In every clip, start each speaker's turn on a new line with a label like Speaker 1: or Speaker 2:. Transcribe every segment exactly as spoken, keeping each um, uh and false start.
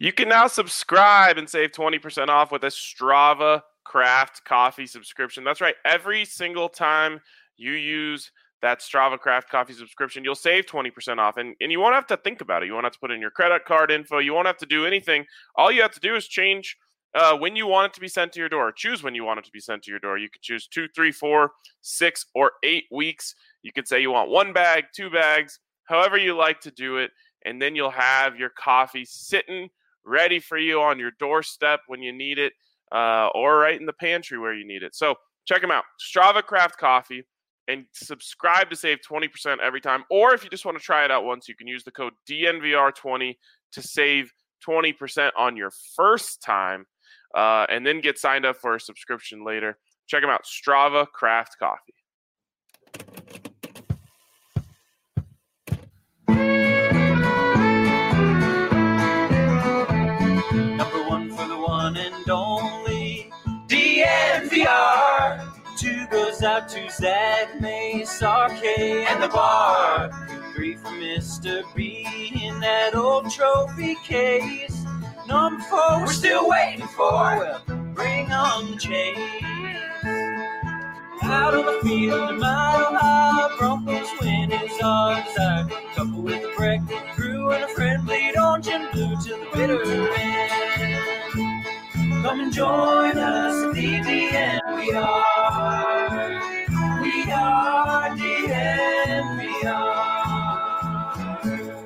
Speaker 1: You can now subscribe and save twenty percent off with a Strava Craft Coffee subscription. That's right. Every single time you use that Strava Craft Coffee subscription, you'll save twenty percent off. And, and you won't have to think about it. You won't have to put in your credit card info. You won't have to do anything. All you have to do is change uh, when you want it to be sent to your door. Choose when you want it to be sent to your door. You could choose two, three, four, six, or eight weeks. You could say you want one bag, two bags, however you like to do it. And then you'll have your coffee sitting ready for you on your doorstep when you need it, uh, or right in the pantry where you need it. So check them out, Strava Craft Coffee, and subscribe to save twenty percent every time. Or if you just want to try it out once, you can use the code D N V R twenty to save twenty percent on your first time, uh, and then get signed up for a subscription later. Check them out, Strava Craft Coffee.
Speaker 2: Number one for the one and only D N V R. Two goes out to Zach Mace, R K, and the bar. Three for Mister B in that old trophy case. Number four, we're still waiting for. Well, bring on the chase. Out on the field, a mile high, Broncos win his odds. A couple with a breakfast crew and a friend bleed orange and blue to the bitter end. Come and join us at the D N V R. We are D N V R.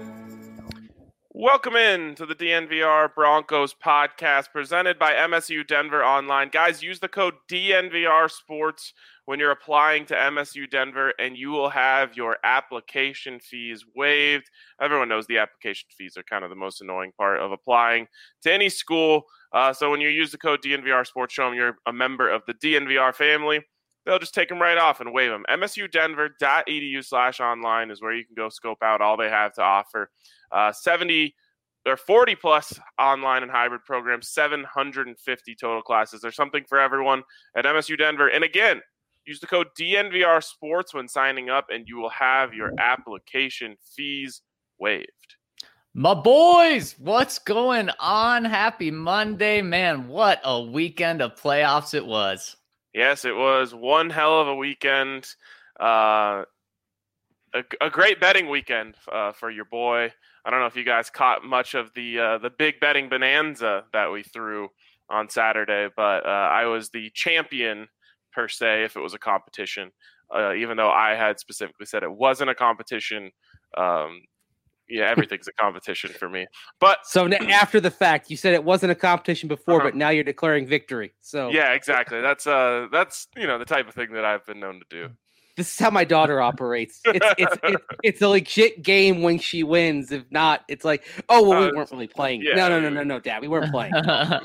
Speaker 1: Welcome in to the D N V R Broncos podcast presented by M S U Denver Online. Guys, use the code D N V R Sports when you're applying to M S U Denver, and you will have your application fees waived. Everyone knows the application fees are kind of the most annoying part of applying to any school. Uh, so when you use the code D N V R Sports, show them you're a member of the D N V R family. They'll just take them right off and waive them. M S U Denver dot E D U slash online is where you can go scope out all they have to offer. Uh, seventy or forty plus online and hybrid programs, seven hundred fifty total classes. There's something for everyone at M S U Denver. And again, use the code D N V R Sports when signing up, and you will have your application fees waived.
Speaker 3: My boys, what's going on? Happy Monday, man. What a weekend of playoffs it was.
Speaker 1: Yes, it was one hell of a weekend. Uh, a, a great betting weekend uh, for your boy. I don't know if you guys caught much of the uh, the big betting bonanza that we threw on Saturday, but uh, I was the champion per se if it was a competition, uh, even though I had specifically said it wasn't a competition. Um, yeah, everything's a competition for me. But
Speaker 4: so after the fact, you said it wasn't a competition before,
Speaker 1: uh-huh.
Speaker 4: but now you're declaring victory. So
Speaker 1: yeah, exactly. That's uh, that's you know the type of thing that I've been known to do.
Speaker 4: This is how my daughter operates. It's it's it's, it's a legit game when she wins. If not, it's like, oh well, we uh, weren't really playing. Yeah, no, no, no, no, no, Dad, we weren't playing.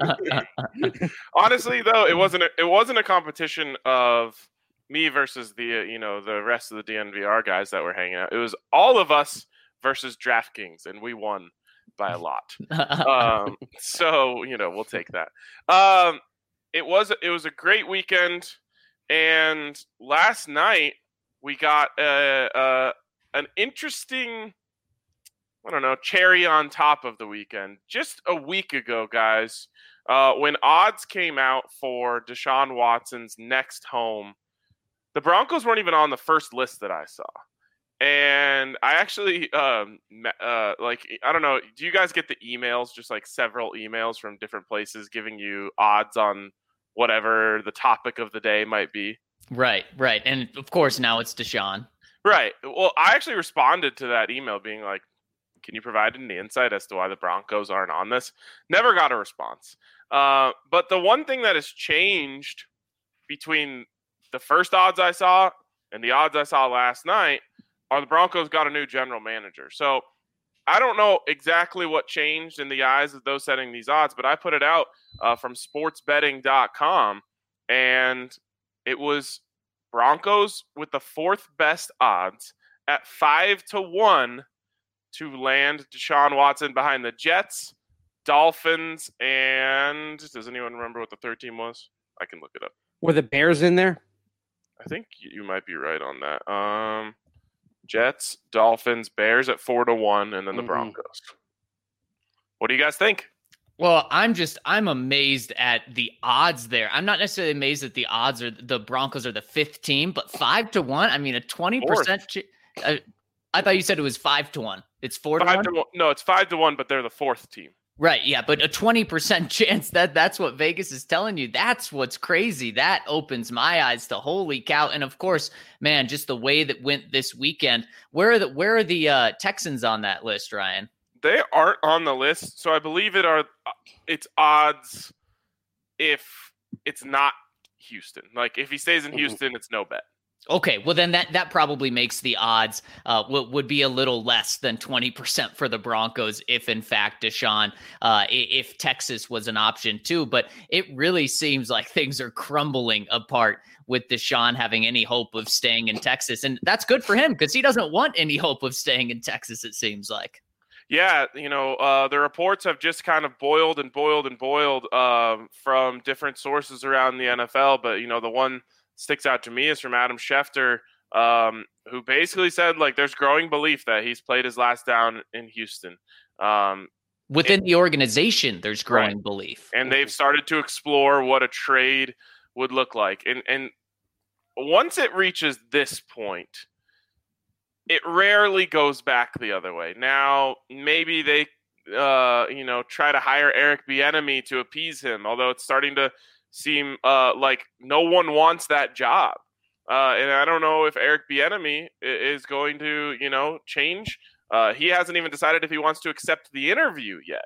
Speaker 1: Honestly, though, it wasn't a, it wasn't a competition of me versus the uh, you know the rest of the D N V R guys that were hanging out. It was all of us versus DraftKings, and we won by a lot. um, so you know we'll take that. Um, it was it was a great weekend, and last night we got a, a an interesting, I don't know, cherry on top of the weekend. Just a week ago, guys, uh, when odds came out for Deshaun Watson's next home, the Broncos weren't even on the first list that I saw. And I actually, um, uh, like, I don't know, do you guys get the emails, just like several emails from different places giving you odds on whatever the topic of the day might be?
Speaker 3: Right, right. And of course, now it's Deshaun.
Speaker 1: Right. Well, I actually responded to that email being like, can you provide any insight as to why the Broncos aren't on this? Never got a response. Uh, but the one thing that has changed between the first odds I saw and the odds I saw last night are the Broncos got a new general manager. So I don't know exactly what changed in the eyes of those setting these odds, but I put it out uh, from sports betting dot com, and it was Broncos with the fourth best odds at five to one to land Deshaun Watson behind the Jets, Dolphins, and does anyone remember what the third team was? I can look it up.
Speaker 4: Were the Bears in there?
Speaker 1: I think you might be right on that. Um, Jets, Dolphins, Bears at four to one, and then the mm-hmm. Broncos. What do you guys think?
Speaker 3: Well, I'm just I'm amazed at the odds there. I'm not necessarily amazed that the odds are the Broncos are the fifth team, but five to one. I mean, a twenty percent. Ch- uh, I thought you said it was five to one. It's four to
Speaker 1: five
Speaker 3: one.
Speaker 1: To one. No, it's five to one, but they're the fourth team.
Speaker 3: Right, yeah, but a twenty percent chance that that's what Vegas is telling you. That's what's crazy. That opens my eyes to holy cow. And of course, man, just the way that went this weekend. Where are the where are the uh, Texans on that list, Ryan?
Speaker 1: They aren't on the list, so I believe it are. It's odds if it's not Houston. Like if he stays in Houston, it's no bet.
Speaker 3: Okay, well then that that probably makes the odds uh, w- would be a little less than twenty percent for the Broncos if in fact Deshaun, uh, if Texas was an option too. But it really seems like things are crumbling apart with Deshaun having any hope of staying in Texas, and that's good for him because he doesn't want any hope of staying in Texas. It seems like.
Speaker 1: Yeah, you know, uh, the reports have just kind of boiled and boiled and boiled um, from different sources around the N F L. But, you know, the one sticks out to me is from Adam Schefter, um, who basically said, like, there's growing belief that he's played his last down in Houston. Um,
Speaker 3: Within and, the organization, there's growing
Speaker 1: right.
Speaker 3: belief.
Speaker 1: And they've started to explore what a trade would look like. And, and once it reaches this point, it rarely goes back the other way. Now, maybe they, uh, you know, try to hire Eric Bieniemy to appease him, although it's starting to seem uh, like no one wants that job. Uh, and I don't know if Eric Bieniemy is going to, you know, change. Uh, he hasn't even decided if he wants to accept the interview yet.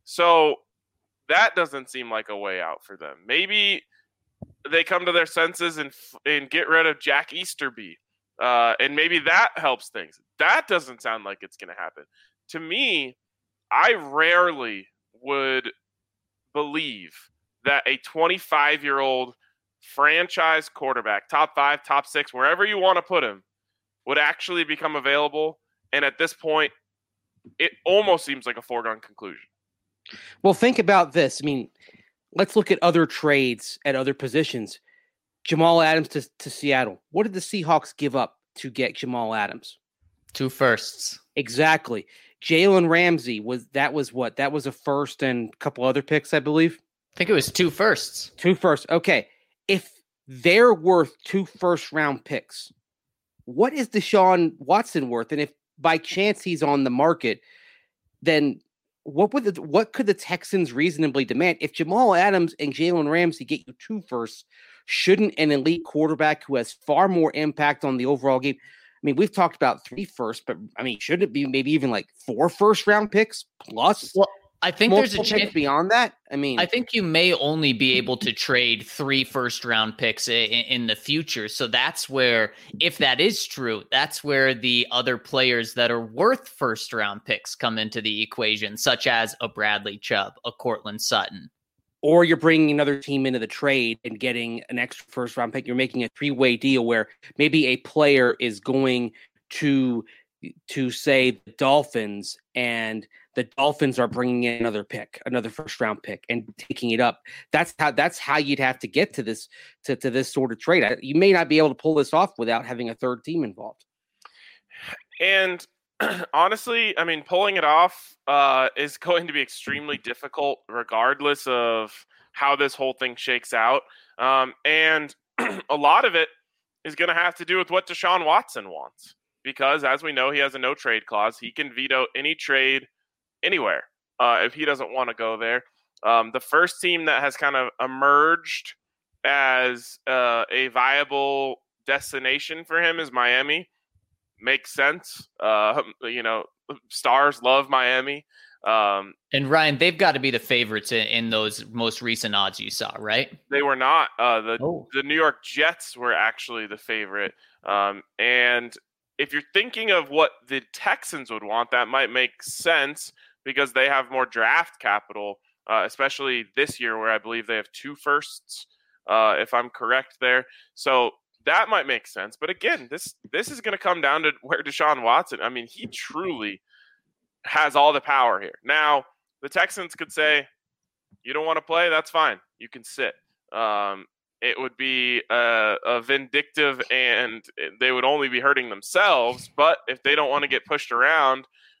Speaker 1: So that doesn't seem like a way out for them. Maybe they come to their senses and and get rid of Jack Easterby. Uh, and maybe that helps things. That doesn't sound like it's going to happen. To me, I rarely would believe that a twenty-five-year-old franchise quarterback, top five, top six, wherever you want to put him, would actually become available. And at this point, it almost seems like a foregone conclusion.
Speaker 4: Well, think about this. I mean, let's look at other trades at other positions. Jamal Adams to, to Seattle. What did the Seahawks give up to get Jamal Adams?
Speaker 3: Two firsts.
Speaker 4: Exactly. Jalen Ramsey, was that was what? That was a first and a couple other picks, I believe.
Speaker 3: I think it was two firsts.
Speaker 4: Two firsts. Okay. If they're worth two first round picks, what is Deshaun Watson worth? And if by chance he's on the market, then what would the, what could the Texans reasonably demand? If Jamal Adams and Jalen Ramsey get you two firsts, shouldn't an elite quarterback who has far more impact on the overall game? I mean, we've talked about three firsts, but I mean, should it be maybe even like four first round picks plus?
Speaker 3: Well, I think there's a chance
Speaker 4: beyond that. I mean,
Speaker 3: I think you may only be able to trade three first round picks in, in the future. So that's where, if that is true, that's where the other players that are worth first round picks come into the equation, such as a Bradley Chubb, a Cortland Sutton.
Speaker 4: Or you're bringing another team into the trade and getting an extra first round pick. You're making a three way deal where maybe a player is going to to say the Dolphins, and the Dolphins are bringing in another pick, another first round pick, and taking it up. That's how that's how you'd have to get to this to, to this sort of trade. You may not be able to pull this off without having a third team involved.
Speaker 1: And honestly, I mean, pulling it off uh, is going to be extremely difficult, regardless of how this whole thing shakes out. Um, and a lot of it is going to have to do with what Deshaun Watson wants. Because, as we know, he has a no-trade clause. He can veto any trade anywhere uh, if he doesn't want to go there. Um, the first team that has kind of emerged as uh, a viable destination for him is Miami. Makes sense. Uh, you know, stars love Miami. Um,
Speaker 3: and Ryan, they've got to be the favorites in, in those most recent odds you saw, right?
Speaker 1: They were not. Uh, the
Speaker 3: oh.
Speaker 1: the New York Jets were actually the favorite. Um, and if you're thinking of what the Texans would want, that might make sense because they have more draft capital, uh, especially this year where I believe they have two firsts, uh, if I'm correct there. So that might make sense. But again, this this is going to come down to where Deshaun Watson, I mean, he truly has all the power here. Now, the Texans could say, you don't want to play? That's fine. You can sit. Um, it would be a, a vindictive, and they would only be hurting themselves. But if they don't want to get pushed around,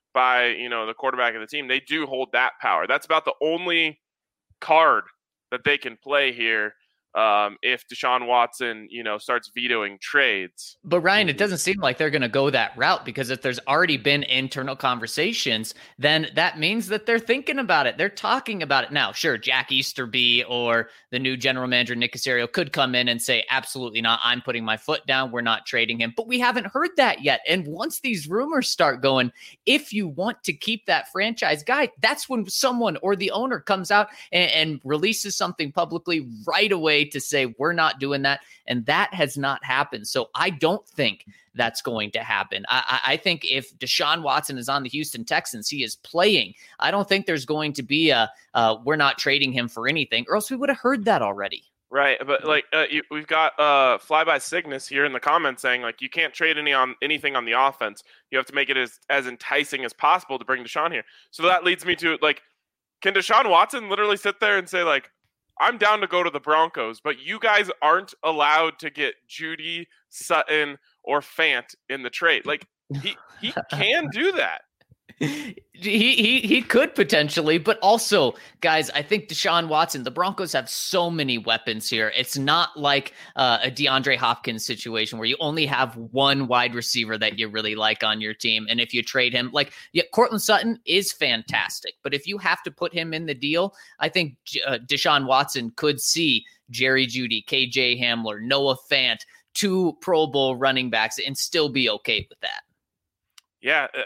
Speaker 1: by, you know, the quarterback of the team, they do hold that power. That's about the only card that they can play here. Um, if Deshaun Watson, you know, starts vetoing trades.
Speaker 3: But Ryan, it doesn't seem like they're going to go that route, because if there's already been internal conversations, then that means that they're thinking about it. They're talking about it now. Sure, Jack Easterby or the new general manager, Nick Caserio, could come in and say, absolutely not. I'm putting my foot down. We're not trading him. But we haven't heard that yet. And once these rumors start going, if you want to keep that franchise guy, that's when someone or the owner comes out and, and releases something publicly right away to say, we're not doing that. And that has not happened. So I don't think that's going to happen. I, I think if Deshaun Watson is on the Houston Texans, he is playing. I don't think there's going to be a, uh, we're not trading him for anything, or else we would have heard that already.
Speaker 1: Right. But like uh, you, we've got uh, Flyby Cygnus here in the comments saying, like, you can't trade any on anything on the offense. You have to make it as, as enticing as possible to bring Deshaun here. So that leads me to, like, can Deshaun Watson literally sit there and say, like, I'm down to go to the Broncos, but you guys aren't allowed to get Judy, Sutton, or Fant in the trade. Like, he he can do that.
Speaker 3: He, he he could potentially, but also, guys, I think Deshaun Watson, the Broncos have so many weapons here. It's not like uh, a DeAndre Hopkins situation where you only have one wide receiver that you really like on your team. And if you trade him, like, yeah, Cortland Sutton is fantastic, but if you have to put him in the deal, I think uh, Deshaun Watson could see Jerry Jeudy, K J Hamler, Noah Fant, two Pro Bowl running backs, and still be okay with that.
Speaker 1: Yeah. Uh,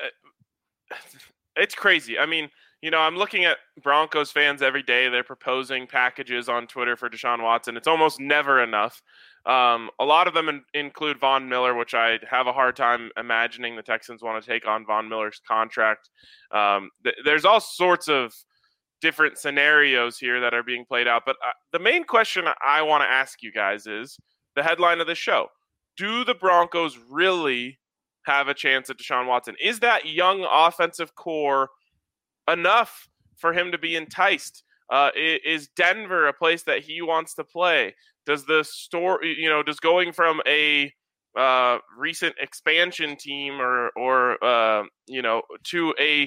Speaker 1: It's crazy. I mean, you know, I'm looking at Broncos fans every day. They're proposing packages on Twitter for Deshaun Watson. It's almost never enough. Um, a lot of them in, include Von Miller, which I have a hard time imagining the Texans want to take on Von Miller's contract. Um, th- there's all sorts of different scenarios here that are being played out. But uh, the main question I want to ask you guys is the headline of the show. Do the Broncos really have a chance at Deshaun Watson? Is that young offensive core enough for him to be enticed? Uh, is Denver a place that he wants to play? Does the store, you know, does going from a uh, recent expansion team or, or uh, you know, to a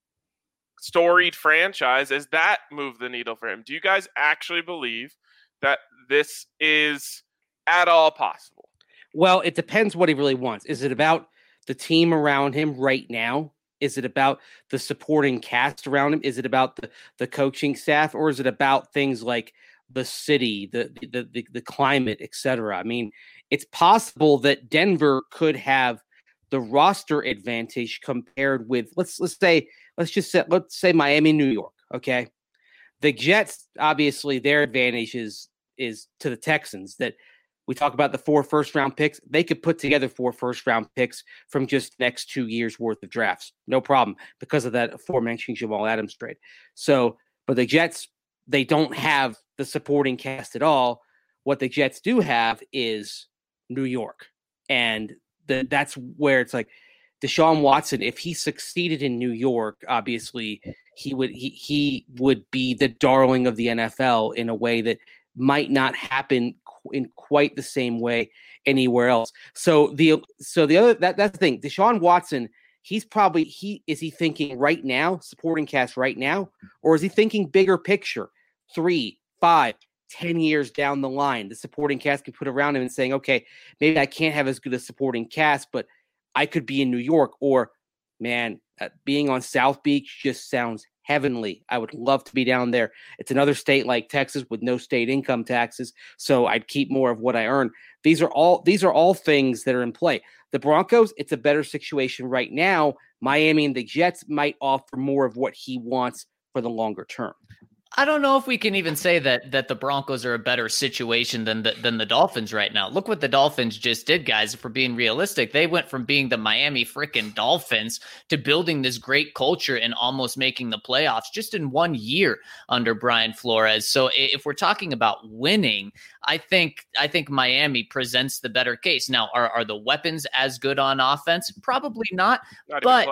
Speaker 1: storied franchise, does that move the needle for him? Do you guys actually believe that this is at all possible?
Speaker 4: Well, it depends what he really wants. Is it about the team around him right now? Is it about the supporting cast around him? Is it about the, the coaching staff, or is it about things like the city, the the the, the climate, et cetera? I mean, it's possible that Denver could have the roster advantage compared with let's let's say let's just say let's say Miami, New York. Okay, the Jets, obviously their advantage is is to the Texans. That we talk about the four first round picks. They could put together four first round picks from just next two years worth of drafts. No problem, because of that aforementioned Jamal Adams trade. So, but the Jets, they don't have the supporting cast at all. What the Jets do have is New York. And the, that's where it's like Deshaun Watson, if he succeeded in New York, obviously he would, he, he would be the darling of the N F L in a way that might not happen in quite the same way anywhere else. So the so the other that that's the thing. Deshaun Watson, he's probably he is he thinking right now, supporting cast right now, or is he thinking bigger picture, three, five, ten years down the line? The supporting cast can put around him and saying, okay, maybe I can't have as good a supporting cast, but I could be in New York, or man, uh, being on South Beach just sounds heavenly. I would love to be down there. It's another state like Texas with no state income taxes, so I'd keep more of what I earn. These are all these are all things that are in play. The Broncos, it's a better situation right now. Miami and the Jets might offer more of what he wants for the longer term.
Speaker 3: I don't know if we can even say that that the Broncos are a better situation than the, than the Dolphins right now. Look what the Dolphins just did, guys. If we're being realistic, they went from being the Miami freaking Dolphins to building this great culture and almost making the playoffs just in one year under Brian Flores. So if we're talking about winning, I think I think Miami presents the better case. Now, are, are the weapons as good on offense? Probably not,
Speaker 1: Not
Speaker 3: but.
Speaker 1: even close.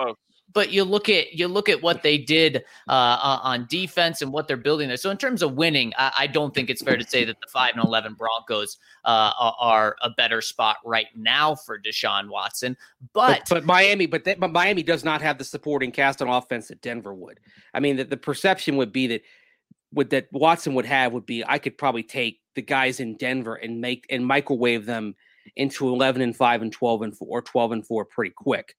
Speaker 3: but you look at you look at what they did uh, on defense and what they're building there. So in terms of winning, I, I don't think it's fair to say that the five and eleven Broncos uh, are a better spot right now for Deshaun Watson. But
Speaker 4: but, but Miami, but, that, but Miami does not have the supporting cast on offense that Denver would. I mean, the, the perception would be that would that Watson would have would be I could probably take the guys in Denver and make and microwave them into eleven and five and twelve and four or twelve and four pretty quick.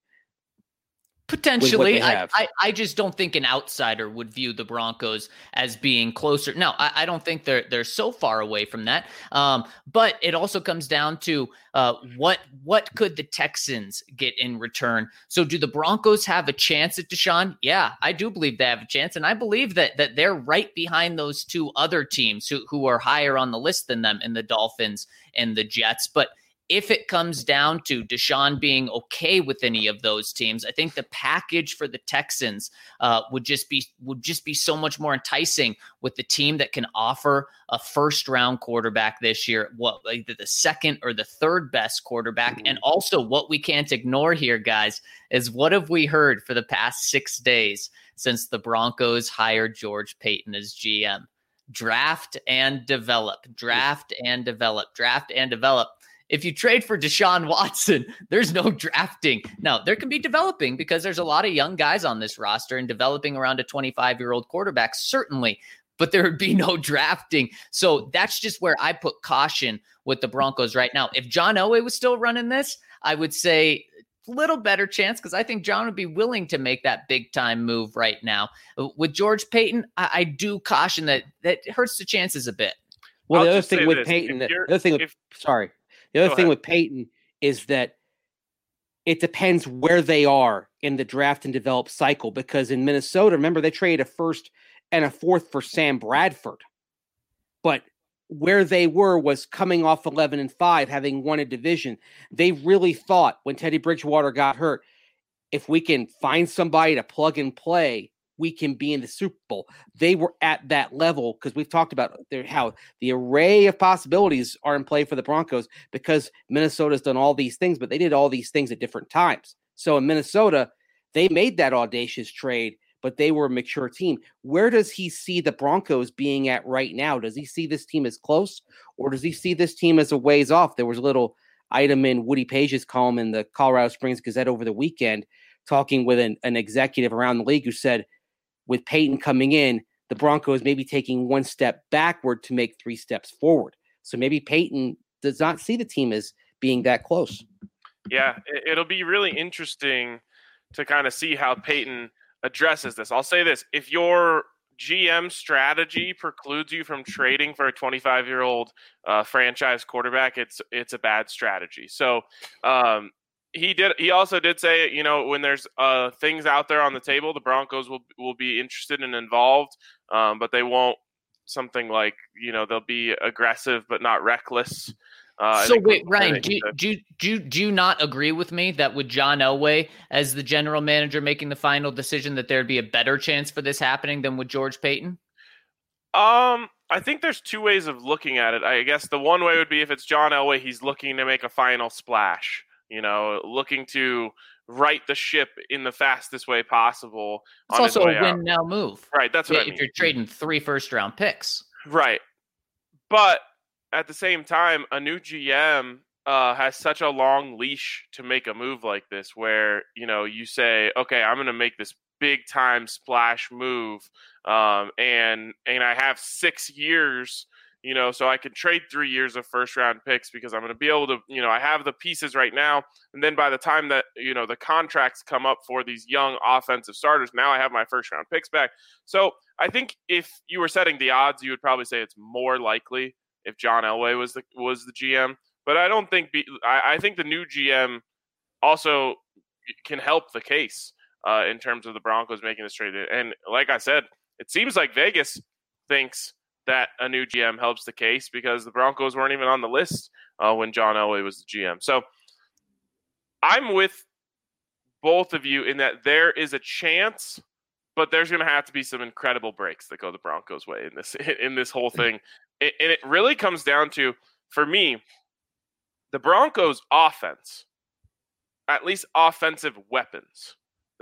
Speaker 3: Potentially. I, I, I just don't think an outsider would view the Broncos as being closer. No, I, I don't think they're they're so far away from that. Um, but it also comes down to uh, what what could the Texans get in return? So do the Broncos have a chance at Deshaun? Yeah, I do believe they have a chance. And I believe that that they're right behind those two other teams who, who are higher on the list than them in the Dolphins and the Jets. But if it comes down to Deshaun being okay with any of those teams, I think the package for the Texans uh, would just be would just be so much more enticing with the team that can offer a first round quarterback this year, what either the second or the third best quarterback. And also what we can't ignore here, guys, is what have we heard for the past six days since the Broncos hired George Paton as G M? Draft and develop, draft and develop, draft and develop. If you trade for Deshaun Watson, there's no drafting. Now, there can be developing because there's a lot of young guys on this roster and developing around a twenty-five-year-old quarterback, certainly, but there would be no drafting. So that's just where I put caution with the Broncos right now. If John Elway was still running this, I would say a little better chance because I think John would be willing to make that big-time move right now. With George Paton, I, I do caution that that hurts the chances a bit.
Speaker 4: Well,
Speaker 1: I'll
Speaker 4: the other
Speaker 1: just
Speaker 4: thing
Speaker 1: say
Speaker 4: with
Speaker 1: this.
Speaker 4: Paton,
Speaker 1: If
Speaker 4: the
Speaker 1: you're-
Speaker 4: other thing with,
Speaker 1: if-
Speaker 4: sorry. The other
Speaker 1: Go
Speaker 4: thing
Speaker 1: ahead.
Speaker 4: with Paton is that it depends where they are in the draft and develop cycle. Because in Minnesota, remember, they traded a first and a fourth for Sam Bradford. But where they were was coming off eleven and five, having won a division. They really thought when Teddy Bridgewater got hurt, if we can find somebody to plug and play, we can be in the Super Bowl. They were at that level because we've talked about their, how the array of possibilities are in play for the Broncos because Minnesota's done all these things, but they did all these things at different times. So in Minnesota, they made that audacious trade, but they were a mature team. Where does he see the Broncos being at right now? Does he see this team as close or does he see this team as a ways off? There was a little item in Woody Page's column in the Colorado Springs Gazette over the weekend talking with an, an executive around the league who said, with Paton coming in, the Broncos may be taking one step backward to make three steps forward. So maybe Paton does not see the team as being that close.
Speaker 1: Yeah, it- it'll be really interesting to kind of see how Paton addresses this. I'll say this. If your G M strategy precludes you from trading for a twenty-five-year-old uh, franchise quarterback, it's it's a bad strategy. So um, he did. He also did say, you know, when there's uh, things out there on the table, the Broncos will will be interested and involved, um, but they won't something like, you know, they'll be aggressive but not reckless. Uh, I
Speaker 3: so
Speaker 1: think
Speaker 3: wait,
Speaker 1: was- I
Speaker 3: Ryan,
Speaker 1: think
Speaker 3: do you,
Speaker 1: that-
Speaker 3: do, you, do, you, do you not agree with me that with John Elway as the general manager making the final decision that there'd be a better chance for this happening than with George Paton?
Speaker 1: Um, I think there's two ways of looking at it. I guess the one way would be if it's John Elway, he's looking to make a final splash, you know, looking to right the ship in the fastest way possible.
Speaker 3: It's
Speaker 1: on his
Speaker 3: also
Speaker 1: way
Speaker 3: a
Speaker 1: out.
Speaker 3: win now move.
Speaker 1: Right, that's what
Speaker 3: Yeah,
Speaker 1: I mean.
Speaker 3: if you're trading three first round picks.
Speaker 1: Right. But at the same time, a new G M uh, has such a long leash to make a move like this where, you know, you say, okay, I'm going to make this big time splash move. Um, and, and I have six years, you know, so I can trade three years of first round picks because I'm going to be able to, you know, I have the pieces right now. And then by the time that, you know, the contracts come up for these young offensive starters, now I have my first round picks back. So I think if you were setting the odds, you would probably say it's more likely if John Elway was the, was the G M. But I don't think, be, I, I think the new G M also can help the case uh, in terms of the Broncos making this trade. And like I said, it seems like Vegas thinks that a new G M helps the case because the Broncos weren't even on the list uh, when John Elway was the G M. So I'm with both of you in that there is a chance, but there's going to have to be some incredible breaks that go the Broncos' way in this in this whole thing. And it really comes down to, for me, the Broncos' offense, at least offensive weapons.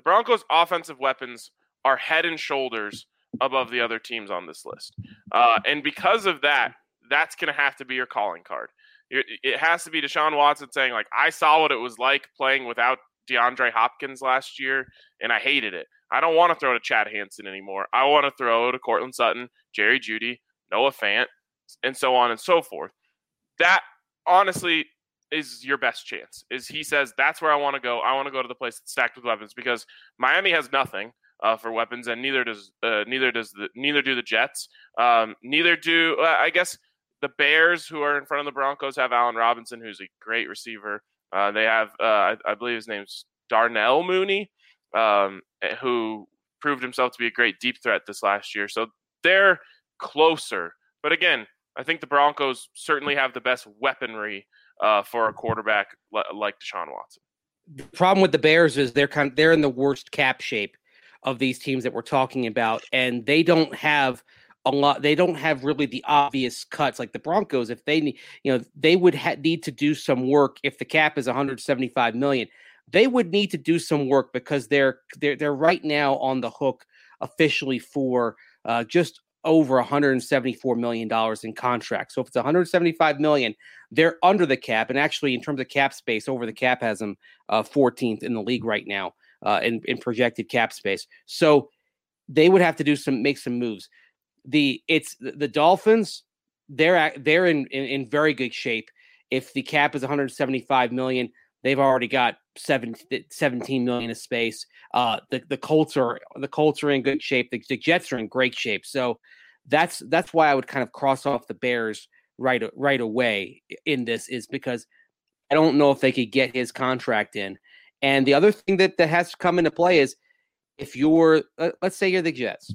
Speaker 1: The Broncos' offensive weapons are head and shoulders above the other teams on this list. Uh, and because of that, that's going to have to be your calling card. It, it has to be Deshaun Watson saying, like, I saw what it was like playing without DeAndre Hopkins last year, and I hated it. I don't want to throw to Chad Hansen anymore. I want to throw to Cortland Sutton, Jerry Jeudy, Noah Fant, and so on and so forth. That, honestly, is your best chance. Is he says, that's where I want to go. I want to go to the place that's stacked with weapons, because Miami has nothing uh, for weapons, and neither does uh, neither does the neither do the Jets. Um, neither do uh, I guess the Bears, who are in front of the Broncos, have Allen Robinson, who's a great receiver. Uh, they have, uh, I, I believe his name's Darnell Mooney, um, who proved himself to be a great deep threat this last year. So they're closer. But again, I think the Broncos certainly have the best weaponry uh, for a quarterback l- like Deshaun Watson.
Speaker 4: The problem with the Bears is they're kind of, they're in the worst cap shape of these teams that we're talking about, and they don't have a lot. They don't have really the obvious cuts like the Broncos. If they need, you know, they would ha- need to do some work. If the cap is one hundred seventy-five million dollars, they would need to do some work, because they're they're they're right now on the hook officially for uh, just over one hundred seventy-four million dollars in contracts. So if it's one hundred seventy-five million dollars, they're under the cap, and actually in terms of cap space, over the cap has them uh, fourteenth in the league right now uh, in in projected cap space. So they would have to do some make some moves. The it's the Dolphins, they're they're in, in in very good shape. If the cap is one hundred seventy-five million dollars, they've already got seventeen million of space. Uh, the the Colts are the Colts are in good shape. The, the Jets are in great shape. So that's that's why I would kind of cross off the Bears right right away in this, is because I don't know if they could get his contract in. And the other thing that, that has to come into play is if you're uh, let's say you're the Jets,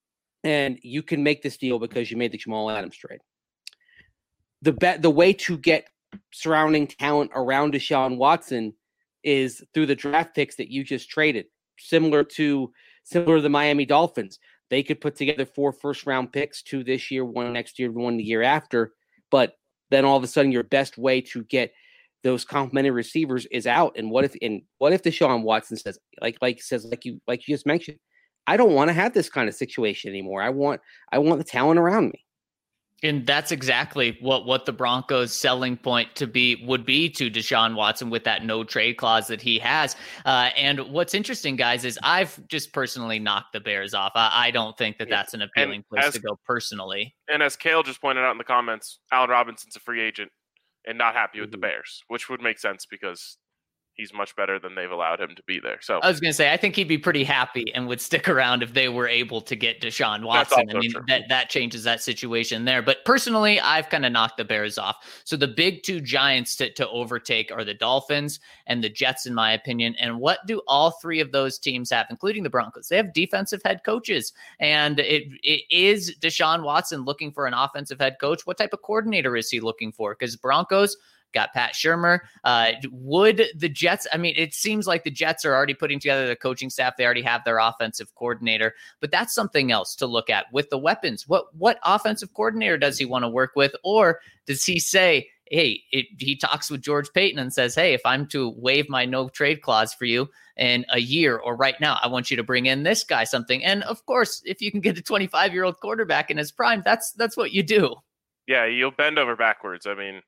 Speaker 4: and you can make this deal because you made the Jamal Adams trade. The bet, the way to get surrounding talent around Deshaun Watson is through the draft picks that you just traded. Similar to similar to the Miami Dolphins, they could put together four first round picks, two this year, one next year, one the year after. But then all of a sudden, your best way to get those complimentary receivers is out. And what if and what if Deshaun Watson says, like like says, like you like you just mentioned, I don't want to have this kind of situation anymore. I want I want the talent around me.
Speaker 3: And that's exactly what, what the Broncos' selling point to be would be to Deshaun Watson with that no trade clause that he has. Uh, and what's interesting, guys, is I've just personally knocked the Bears off. I, I don't think that that's an appealing and place as, to go personally.
Speaker 1: And as Kale just pointed out in the comments, Allen Robinson's a free agent and not happy with mm-hmm. the Bears, which would make sense because he's much better than they've allowed him to be there. So
Speaker 3: I was going to say, I think he'd be pretty happy and would stick around if they were able to get Deshaun Watson. I mean, true. that that changes that situation there. But personally, I've kind of knocked the Bears off. So the big two giants to, to overtake are the Dolphins and the Jets, in my opinion. And what do all three of those teams have, including the Broncos? They have defensive head coaches. And it it is Deshaun Watson looking for an offensive head coach. What type of coordinator is he looking for? Because Broncos got Pat Shurmur. Uh, would the Jets, I mean, it seems like the Jets are already putting together the coaching staff. They already have their offensive coordinator, but that's something else to look at with the weapons. What, what offensive coordinator does he want to work with? Or does he say, hey, it, he talks with George Paton and says, hey, if I'm to waive my no trade clause for you in a year or right now, I want you to bring in this guy something. And of course, if you can get a twenty-five year old quarterback in his prime, that's, that's what you do.
Speaker 1: Yeah. You'll bend over backwards. I mean,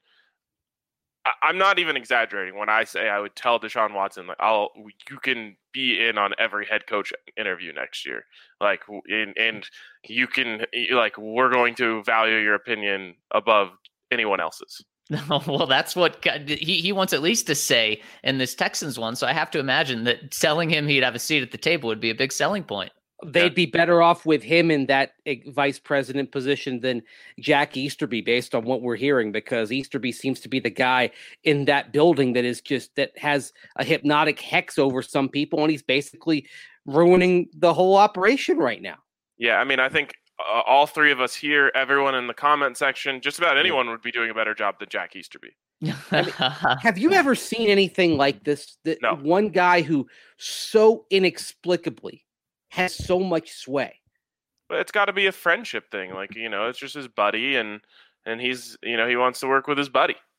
Speaker 1: I'm not even exaggerating when I say I would tell Deshaun Watson, like, I'll, you can be in on every head coach interview next year. Like, and, and you can, like, we're going to value your opinion above anyone else's.
Speaker 3: Well, that's what he, he wants at least to say in this Texans one. So I have to imagine that telling him he'd have a seat at the table would be a big selling point.
Speaker 4: They'd be better off with him in that vice president position than Jack Easterby, based on what we're hearing, because Easterby seems to be the guy in that building that is just that has a hypnotic hex over some people, and he's basically ruining the whole operation right now.
Speaker 1: Yeah, I mean, I think uh, all three of us here, everyone in the comment section, just about anyone would be doing a better job than Jack Easterby.
Speaker 4: I mean, have you ever seen anything like this? That
Speaker 1: no.
Speaker 4: One guy who so inexplicably has so much sway.
Speaker 1: But it's got to be a friendship thing. Like, you know, it's just his buddy, and and he's, you know, he wants to work with his buddy.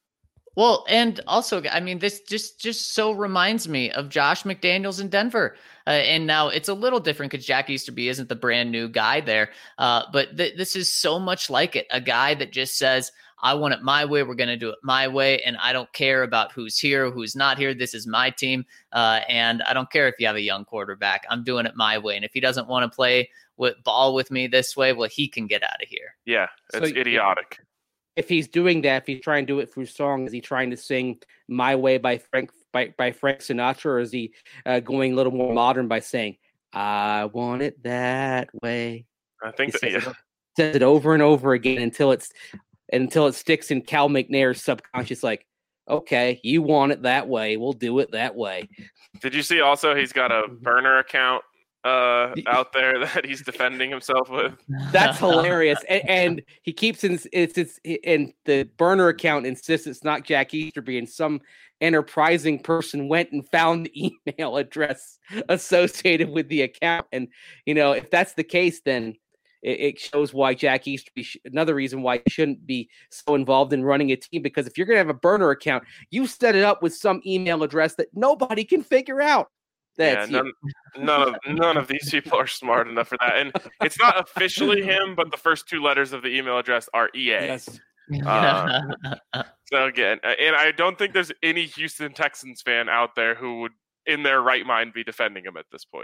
Speaker 3: Well, and also, I mean, this just just so reminds me of Josh McDaniels in Denver. Uh, and now it's a little different because Jack Easterby isn't the brand new guy there. Uh, but th- this is so much like it. A guy that just says, I want it my way. We're going to do it my way. And I don't care about who's here, who's not here. This is my team. Uh, and I don't care if you have a young quarterback. I'm doing it my way. And if he doesn't want to play with ball with me this way, well, he can get out of here.
Speaker 1: Yeah, it's
Speaker 4: So,
Speaker 1: idiotic.
Speaker 4: If he's doing that, if he's trying to do it through song, is he trying to sing "My Way" by Frank by, by Frank Sinatra, or is he uh, going a little more modern by saying "I want it that way"?
Speaker 1: I think
Speaker 4: He
Speaker 1: that,
Speaker 4: says,
Speaker 1: yeah.
Speaker 4: it, says it over and over again until it's until it sticks in Cal McNair's subconscious. Like, okay, you want it that way, we'll do it that way.
Speaker 1: Did you see also he's got a burner account uh, out there that he's defending himself with?
Speaker 4: That's hilarious, and, and he keeps in it's it's and the burner account insists it's not Jack Easterby, and some enterprising person went and found the email address associated with the account. And you know, if that's the case, then it, it shows why Jack Easterby. Sh- another reason why he shouldn't be so involved in running a team, because if you're going to have a burner account, you set it up with some email address that nobody can figure out. That's
Speaker 1: yeah, none, none of none of these people are smart enough for that. And it's not officially him, but the first two letters of the email address are E A.
Speaker 4: Yes.
Speaker 1: Uh, so again, and I don't think there's any Houston Texans fan out there who would, in their right mind, be defending him at this point.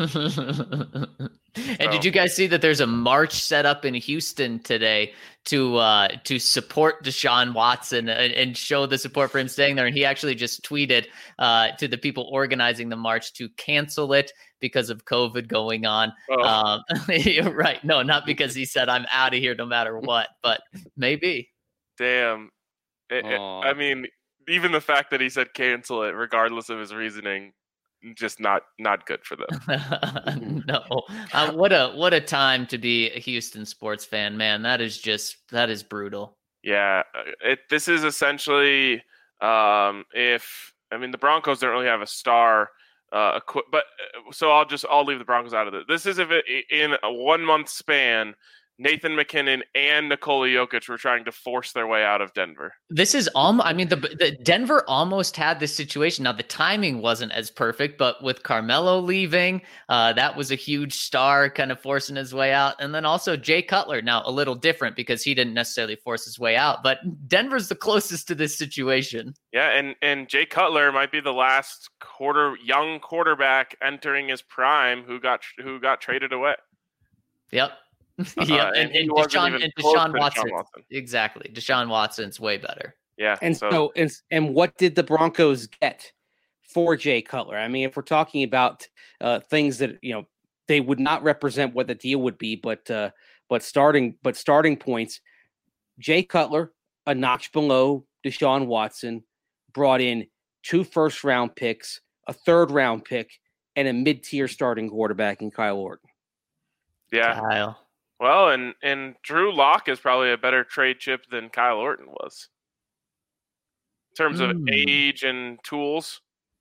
Speaker 3: And
Speaker 1: So.
Speaker 3: did you guys see that there's a march set up in Houston today to uh, to support Deshaun Watson and, and show the support for him staying there? And he actually just tweeted uh, to the people organizing the march to cancel it because of COVID going on.
Speaker 1: Oh.
Speaker 3: Um, you're right. No, not because he said I'm out of here no matter what, but maybe.
Speaker 1: Damn. It- it-
Speaker 4: Aw.
Speaker 1: I mean, even the fact that he said cancel it, regardless of his reasoning, just not not good for them.
Speaker 3: No, uh, what a what a time to be a Houston sports fan, man. That is just that is brutal.
Speaker 1: Yeah, it. This is essentially um, if I mean the Broncos don't really have a star, uh, equi- but so I'll just I'll leave the Broncos out of it. This is if it, in a one month span, Nathan McKinnon and Nikola Jokic were trying to force their way out of Denver.
Speaker 3: This is almost, I mean, the, the Denver almost had this situation. Now, the timing wasn't as perfect, but with Carmelo leaving, uh, that was a huge star kind of forcing his way out. And then also Jay Cutler, now a little different because he didn't necessarily force his way out, but Denver's the closest to this situation.
Speaker 1: Yeah, and, and Jay Cutler might be the last quarter young quarterback entering his prime who got who got traded away.
Speaker 3: Yep.
Speaker 1: Uh,
Speaker 3: yeah,
Speaker 1: and
Speaker 3: and,
Speaker 1: he
Speaker 3: and
Speaker 1: wasn't
Speaker 3: Deshaun,
Speaker 1: even
Speaker 3: and
Speaker 1: close
Speaker 3: Deshaun
Speaker 1: to Deshaun
Speaker 3: Watson,
Speaker 1: Watson.
Speaker 3: exactly. Deshaun Watson's way better.
Speaker 1: Yeah,
Speaker 4: And
Speaker 1: so,
Speaker 4: so, and, and what did the Broncos get for Jay Cutler? I mean, if we're talking about uh, things that, you know, they would not represent what the deal would be, but uh, but starting but starting points, Jay Cutler, a notch below Deshaun Watson, brought in two first round picks, a third round pick, and a mid tier starting quarterback in Kyle Orton.
Speaker 1: yeah.
Speaker 3: Kyle.
Speaker 1: Well, and, and Drew Lock is probably a better trade chip than Kyle Orton was. In terms of
Speaker 3: Hmm.
Speaker 1: age and tools.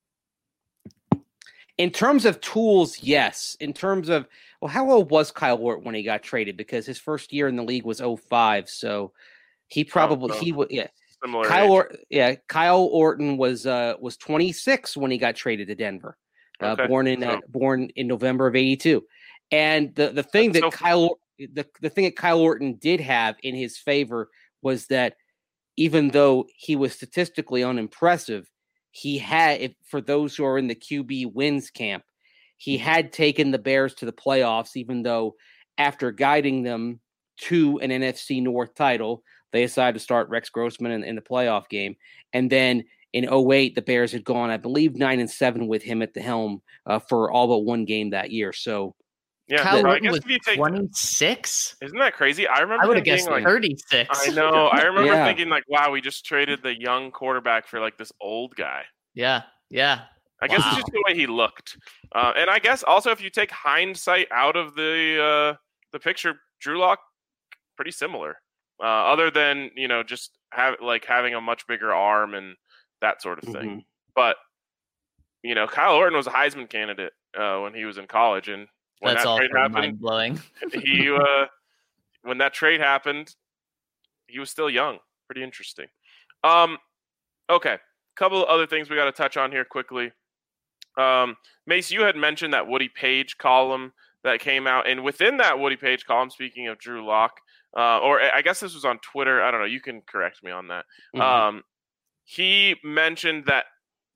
Speaker 4: In terms of tools, yes. In terms of, well, how old was Kyle Orton when he got traded? Because his first year in the league was oh five, so he probably
Speaker 1: so
Speaker 4: he would yeah.
Speaker 1: Similar
Speaker 4: Kyle
Speaker 1: age.
Speaker 4: or, yeah, Kyle Orton was uh was twenty-six when he got traded to Denver. Uh,
Speaker 1: Okay,
Speaker 4: born in uh,
Speaker 1: so-
Speaker 4: born in November of eighty-two. And the the thing
Speaker 1: That's
Speaker 4: that
Speaker 1: so-
Speaker 4: Kyle the, the thing that Kyle Orton did have in his favor was that even though he was statistically unimpressive, he had, if, for those who are in the Q B wins camp, he had taken the Bears to the playoffs, even though after guiding them to an N F C North title, they decided to start Rex Grossman in, in the playoff game. And then in oh eight, the Bears had gone, I believe, nine and seven with him at the helm uh, for all but one game that year. So
Speaker 1: Yeah,
Speaker 3: Kyle
Speaker 1: so I
Speaker 3: Orton
Speaker 1: guess
Speaker 3: was
Speaker 1: if you take,
Speaker 3: twenty-six?
Speaker 1: isn't that crazy? I remember
Speaker 3: I would have
Speaker 1: him being
Speaker 3: guessed
Speaker 1: like,
Speaker 3: thirty-six.
Speaker 1: I know. I remember
Speaker 4: Yeah.
Speaker 1: thinking like, wow, we just traded the young quarterback for like this old guy.
Speaker 3: Yeah, yeah.
Speaker 1: I guess
Speaker 3: Wow.
Speaker 1: it's just the way he looked, uh, and I guess also if you take hindsight out of the uh, the picture, Drew Lock pretty similar, uh, other than you know just have like having a much bigger arm and that sort of thing.
Speaker 4: mhm.
Speaker 1: But you know, Kyle Orton was a Heisman candidate uh, when he was in college, and when
Speaker 3: That's
Speaker 1: that
Speaker 3: all
Speaker 1: trade happened,
Speaker 3: mind blowing.
Speaker 1: he uh, when that trade happened, he was still young. Pretty interesting. Um, Okay. Couple of other things we got to touch on here quickly. Um, Mace, you had mentioned that Woody Page column that came out, and within that Woody Page column, speaking of Drew Lock, uh, or I guess this was on Twitter. I don't know. You can correct me on that. Mm-hmm. Um, he mentioned that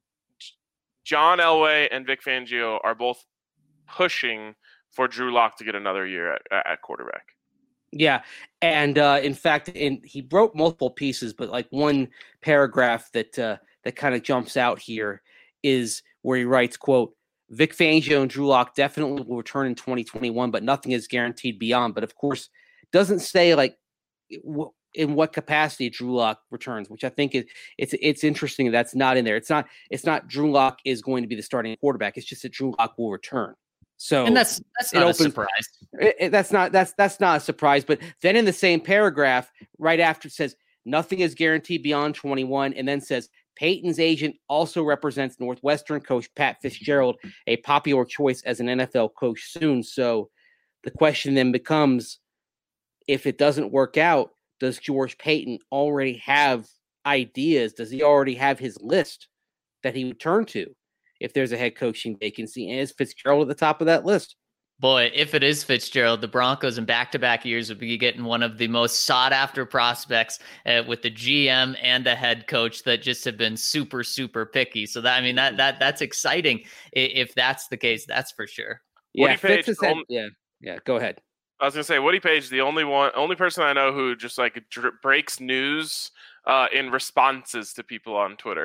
Speaker 1: John Elway and Vic Fangio are both pushing for Drew Lock to get another year at, at quarterback.
Speaker 4: Yeah, and uh, in fact, in, he wrote multiple pieces, but like one paragraph that uh, that kind of jumps out here is where he writes, quote, Vic Fangio and Drew Lock definitely will return in twenty twenty-one, but nothing is guaranteed beyond. But of course, doesn't say like w- in what capacity Drew Lock returns, which I think is it's it's interesting that's not in there. It's not it's not Drew Lock is going to be the starting quarterback. It's just that Drew Lock will return. So
Speaker 3: and that's that's not opens, a surprise.
Speaker 4: It, it, that's not that's that's not a surprise. But then in the same paragraph, right after it says nothing is guaranteed beyond twenty-one, and then says Peyton's agent also represents Northwestern coach Pat Fitzgerald, a popular choice as an N F L coach soon. So the question then becomes, if it doesn't work out, does George Paton already have ideas? Does he already have his list that he would turn to if there's a head coaching vacancy? And is Fitzgerald at the top of that list?
Speaker 3: Boy, if it is Fitzgerald, the Broncos in back-to-back years would be getting one of the most sought-after prospects uh, with the G M and the head coach that just have been super, super picky. So that I mean that that that's exciting if that's the case. That's for sure.
Speaker 4: Yeah, Fitz is had, yeah, yeah. Go ahead.
Speaker 1: I was gonna say Woody Page, the only one, only person I know who just like dr- breaks news uh, in responses to people on Twitter.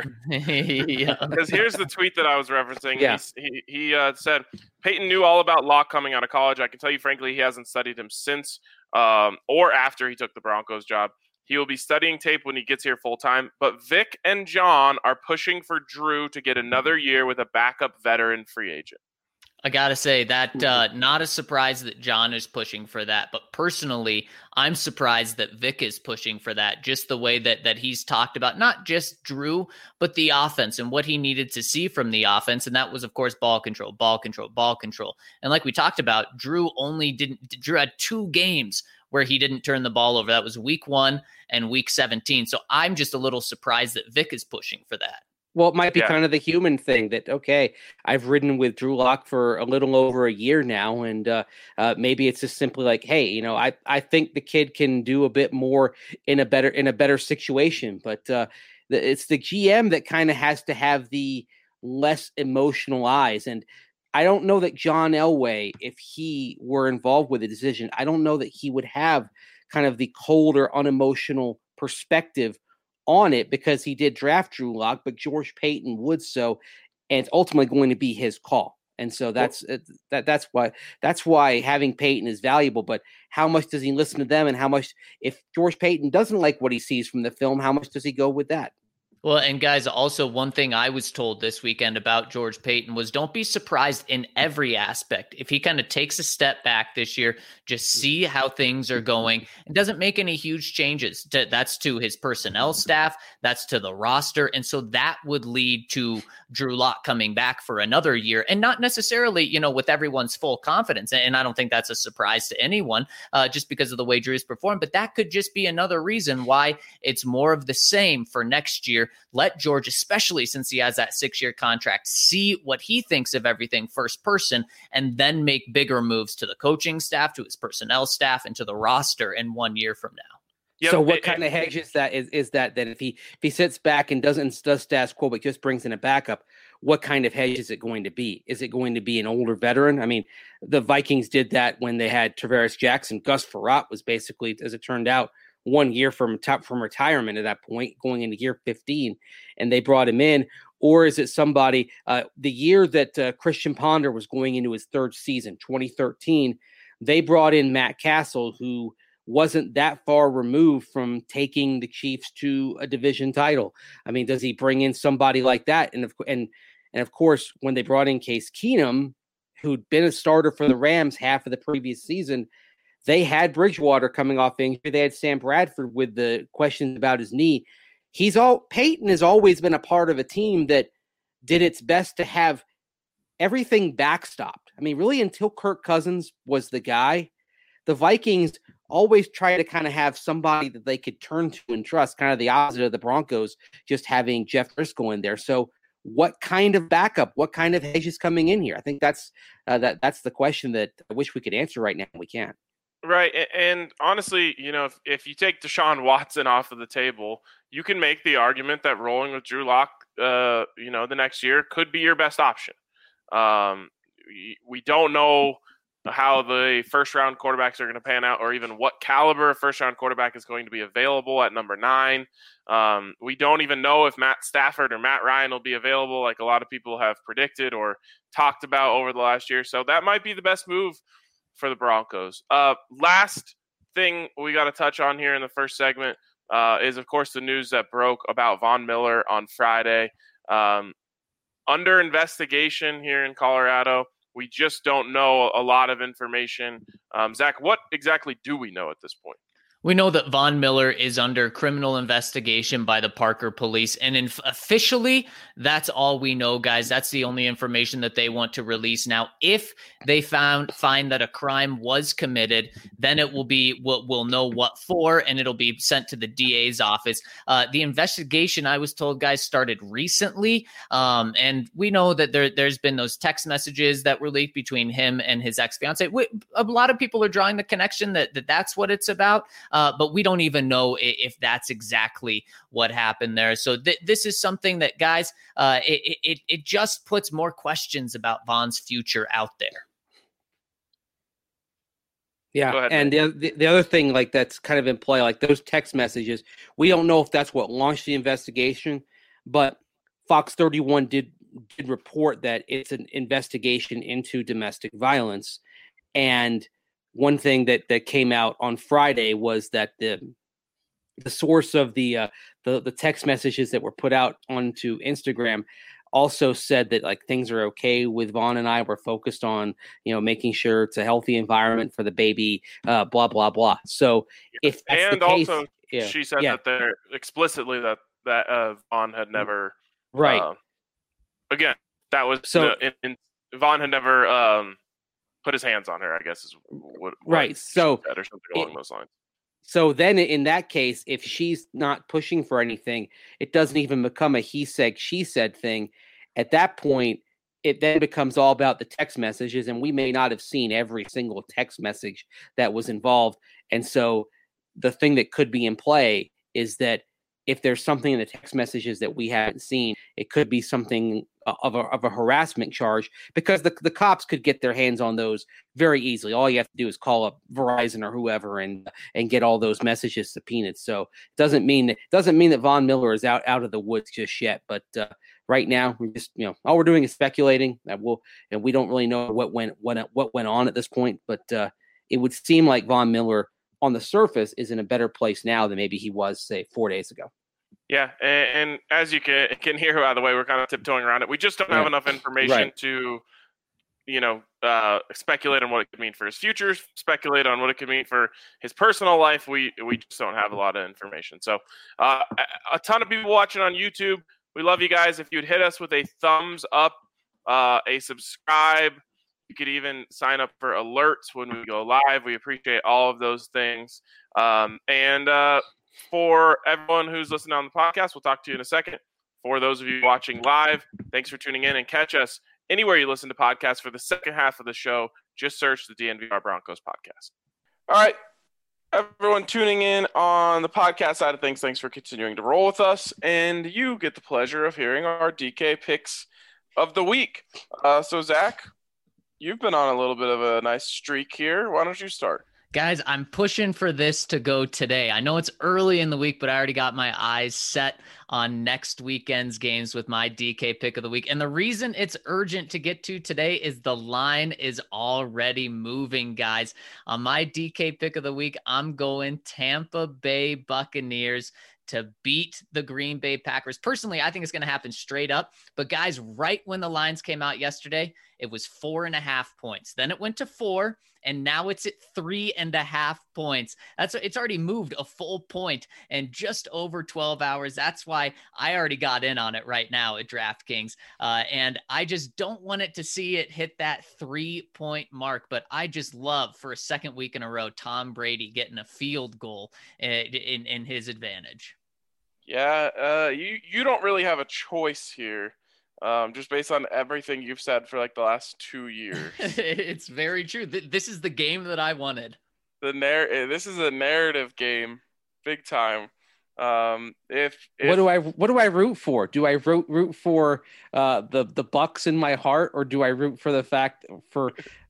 Speaker 3: Yeah.
Speaker 1: Because here's the tweet that I was referencing.
Speaker 4: Yeah.
Speaker 1: He he, he uh, said Peyton knew all about Locke coming out of college. I can tell you frankly, he hasn't studied him since um, or after he took the Broncos job. He will be studying tape when he gets here full time. But Vic and John are pushing for Drew to get another year with a backup veteran free agent.
Speaker 3: I gotta say that uh, not a surprise that John is pushing for that, but personally, I'm surprised that Vic is pushing for that. Just the way that that he's talked about not just Drew, but the offense and what he needed to see from the offense, and that was, of course, ball control, ball control, ball control. And like we talked about, Drew only didn't. Drew had two games where he didn't turn the ball over. That was week one and week seventeen. So I'm just a little surprised that Vic is pushing for that.
Speaker 4: Well, it might be
Speaker 1: yeah.
Speaker 4: kind of the human thing that, okay, I've ridden with Drew Lock for a little over a year now, and uh, uh, maybe it's just simply like, hey, you know, I, I think the kid can do a bit more in a better in a better situation, but uh, the, it's the G M that kind of has to have the less emotional eyes. And I don't know that John Elway, if he were involved with the decision, I don't know that he would have kind of the colder, unemotional perspective on it, because he did draft Drew Lock, but George Paton would so, and it's ultimately going to be his call. And so that's well, that. That's why that's why having Paton is valuable. But how much does he listen to them, and how much, if George Paton doesn't like what he sees from the film, how much does he go with that?
Speaker 3: Well, and guys, also one thing I was told this weekend about George Paton was don't be surprised in every aspect. If he kind of takes a step back this year, just see how things are going and doesn't make any huge changes. To, that's to his personnel staff. That's to the roster. And so that would lead to Drew Lock coming back for another year, and not necessarily, you know, with everyone's full confidence. And I don't think that's a surprise to anyone uh, just because of the way Drew's performed. But that could just be another reason why it's more of the same for next year. Let George, especially since he has that six-year contract, see what he thinks of everything first person, and then make bigger moves to the coaching staff, to his personnel staff, and to the roster in one year from now.
Speaker 4: Yep. So what it, kind it, of hedge is that? Is, is that that if he if he sits back and doesn't does status quo but just brings in a backup, what kind of hedge is it going to be? Is it going to be an older veteran? I mean, the Vikings did that when they had Tavares Jackson. Gus Frerotte was basically, as it turned out, one year from top from retirement at that point, going into year fifteen, and they brought him in. Or is it somebody, uh, the year that uh, Christian Ponder was going into his third season, twenty thirteen, they brought in Matt Castle, who wasn't that far removed from taking the Chiefs to a division title. I mean, does he bring in somebody like that? And of, and, and of course, when they brought in Case Keenum, who'd been a starter for the Rams half of the previous season, they had Bridgewater coming off injury. They had Sam Bradford with the questions about his knee. He's all Peyton has always been a part of a team that did its best to have everything backstopped. I mean, really, until Kirk Cousins was the guy, the Vikings always try to kind of have somebody that they could turn to and trust, kind of the opposite of the Broncos, just having Jeff Driscoll in there. So what kind of backup, what kind of hedge is coming in here? I think that's uh, that that's the question that I wish we could answer right now. We can't.
Speaker 1: Right. And honestly, you know, if, if you take Deshaun Watson off of the table, you can make the argument that rolling with Drew Lock, uh, you know, the next year could be your best option. Um, we, we don't know how the first round quarterbacks are going to pan out, or even what caliber of first round quarterback is going to be available at number nine. Um, we don't even know if Matt Stafford or Matt Ryan will be available, like a lot of people have predicted or talked about over the last year. So that might be the best move for the Broncos. Uh, last thing we got to touch on here in the first segment uh, is, of course, the news that broke about Von Miller on Friday. Um, under investigation here in Colorado. We just don't know a lot of information. Um, Zach, what exactly do we know at this point?
Speaker 3: We know that Von Miller is under criminal investigation by the Parker police. And in, officially, that's all we know, guys. That's the only information that they want to release. Now, if they found find that a crime was committed, then it will be, we'll, we'll know what for, and it'll be sent to the D A's office. Uh, the investigation, I was told, guys, started recently. Um, and we know that there, there's been those text messages that were leaked between him and his ex-fiance. We, a lot of people are drawing the connection that, that that's what it's about. Uh, but we don't even know if, if that's exactly what happened there. So th- this is something that, guys, uh, it, it it just puts more questions about Von's future out there.
Speaker 4: Yeah,
Speaker 1: ahead,
Speaker 4: and the, the the other thing, like that's kind of in play, like those text messages, we don't know if that's what launched the investigation, but Fox thirty-one did did report that it's an investigation into domestic violence, and one thing that, that came out on Friday was that the the source of the uh, the the text messages that were put out onto Instagram also said that like things are okay with Von and I. We're focused on, you know, making sure it's a healthy environment for the baby, uh, blah blah blah. So if that's
Speaker 1: and
Speaker 4: the case,
Speaker 1: also
Speaker 4: yeah,
Speaker 1: she said
Speaker 4: yeah.
Speaker 1: that they're explicitly that that uh, Von had never
Speaker 4: right.
Speaker 1: Uh, again, that was
Speaker 4: So-
Speaker 1: in, in, Von had never. Um, put his hands on her, I guess is what, what
Speaker 4: Right, so
Speaker 1: said, or something along
Speaker 4: it-
Speaker 1: those lines.
Speaker 4: So then in that case, if she's not pushing for anything, it doesn't even become a he said, she said thing. At that point, it then becomes all about the text messages, and we may not have seen every single text message that was involved. And so the thing that could be in play is that if there's something in the text messages that we haven't seen, it could be something of a, of a harassment charge, because the, the cops could get their hands on those very easily. All you have to do is call up Verizon or whoever and and get all those messages subpoenaed. So it doesn't mean that doesn't mean that Von Miller is out, out of the woods just yet. But uh, right now, we're just, you know, all we're doing is speculating. That we'll, and we don't really know what went what what went on at this point. But uh, it would seem like Von Miller on the surface is in a better place now than maybe he was, say, four days ago.
Speaker 1: Yeah, and, and as you can can hear, by the way, we're kind of tiptoeing around it. We just don't have
Speaker 4: Yeah.
Speaker 1: enough information
Speaker 4: Right.
Speaker 1: to, you know, uh, speculate on what it could mean for his future, speculate on what it could mean for his personal life. We we just don't have a lot of information. So uh, a, a ton of people watching on YouTube. We love you guys. If you'd hit us with a thumbs up, uh, a subscribe, you could even sign up for alerts when we go live. We appreciate all of those things. Um, and uh, for everyone who's listening on the podcast, we'll talk to you in a second. For those of you watching live, thanks for tuning in, and catch us anywhere you listen to podcasts for the second half of the show. Just search the D N V R Broncos podcast. All right, everyone tuning in on the podcast side of things, thanks for continuing to roll with us. And you get the pleasure of hearing our D K picks of the week. Uh, so, Zach, you've been on a little bit of a nice streak here. Why don't you start?
Speaker 3: Guys, I'm pushing for this to go today. I know it's early in the week, but I already got my eyes set on next weekend's games with my D K pick of the week. And the reason it's urgent to get to today is the line is already moving, guys. On my D K pick of the week, I'm going Tampa Bay Buccaneers to beat the Green Bay Packers. Personally, I think it's going to happen straight up. But guys, right when the lines came out yesterday, it was four and a half points. Then it went to four. and now it's at three and a half points. That's it's already moved a full point and just over twelve hours. That's why I already got in on it right now at DraftKings. Uh, and I just don't want it to see it hit that three point mark, but I just love for a second week in a row, Tom Brady getting a field goal in, in, in his advantage.
Speaker 1: Yeah, uh, you you don't really have a choice here, um, just based on everything you've said for like the last two years.
Speaker 3: It's very true. This is the game that I wanted.
Speaker 1: The narr- This is a narrative game, big time. Um, if, if
Speaker 4: what do I what do I root for? Do I root root for uh, the the Bucks in my heart, or do I root for the fact for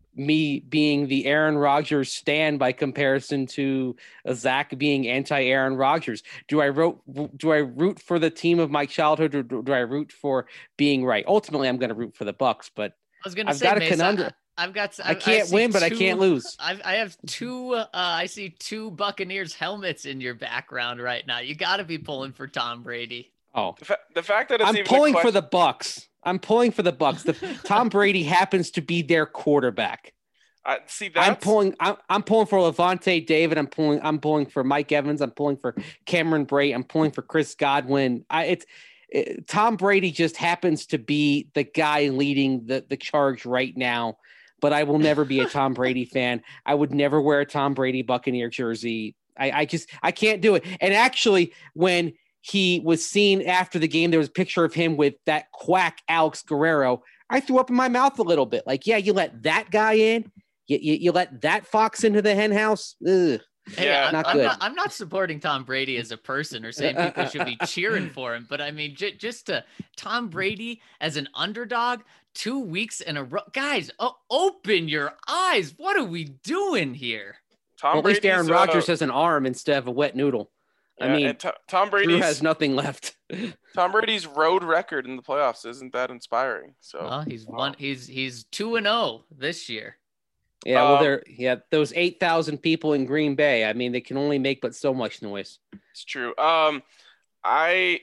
Speaker 4: me being the Aaron Rodgers stan by comparison to uh, Zach being anti-Aaron Rodgers? Do I root do I root for the team of my childhood, or do, do I root for being right? Ultimately, I'm going to root for the Bucks, but
Speaker 3: I was going to
Speaker 4: I've
Speaker 3: say,
Speaker 4: got a
Speaker 3: Mace,
Speaker 4: conundrum.
Speaker 3: I, I've got.
Speaker 4: I, I can't I win, but two, I can't lose.
Speaker 3: I've, I have two. Uh, I see two Buccaneers helmets in your background right now. You got to be pulling for Tom Brady.
Speaker 4: Oh,
Speaker 1: the, fa- the fact that it's
Speaker 4: I'm
Speaker 1: even
Speaker 4: pulling
Speaker 1: question-
Speaker 4: for the Bucks. I'm pulling for the Bucks. The, Tom Brady happens to be their quarterback.
Speaker 1: I see that.
Speaker 4: I'm pulling. I'm, I'm pulling for Levante David. I'm pulling. I'm pulling for Mike Evans. I'm pulling for Cameron Brate. I'm pulling for Chris Godwin. I, it's it, Tom Brady just happens to be the guy leading the the charge right now. But I will never be a Tom Brady fan. I would never wear a Tom Brady Buccaneer jersey. I, I just I can't do it. And actually, when he was seen after the game, there was a picture of him with that quack Alex Guerrero. I threw up in my mouth a little bit. Like, yeah, you let that guy in. You, you, you let that fox into the hen house. Ugh.
Speaker 3: Hey,
Speaker 1: yeah,
Speaker 3: I'm
Speaker 4: not
Speaker 3: I'm
Speaker 4: good.
Speaker 3: Not, I'm not supporting Tom Brady as a person or saying people should be cheering for him, but I mean, j- just to Tom Brady as an underdog, two weeks in a row. Guys, oh, open your eyes. What are we doing here?
Speaker 1: Tom
Speaker 4: Well, at least Aaron
Speaker 1: Brady's,
Speaker 4: Rodgers
Speaker 1: uh,
Speaker 4: has an arm instead of a wet noodle.
Speaker 1: yeah,
Speaker 4: I mean,
Speaker 1: and t- Tom
Speaker 4: Drew
Speaker 1: Brady's
Speaker 4: has nothing left.
Speaker 1: Tom Brady's road record in the playoffs isn't that inspiring. So
Speaker 3: Well, he's
Speaker 1: wow.
Speaker 3: one. He's he's two and zero this year.
Speaker 4: Yeah, well,
Speaker 1: Um,
Speaker 4: they're yeah those eight thousand people in Green Bay. I mean, they can only make but so much noise.
Speaker 1: It's true. Um, I,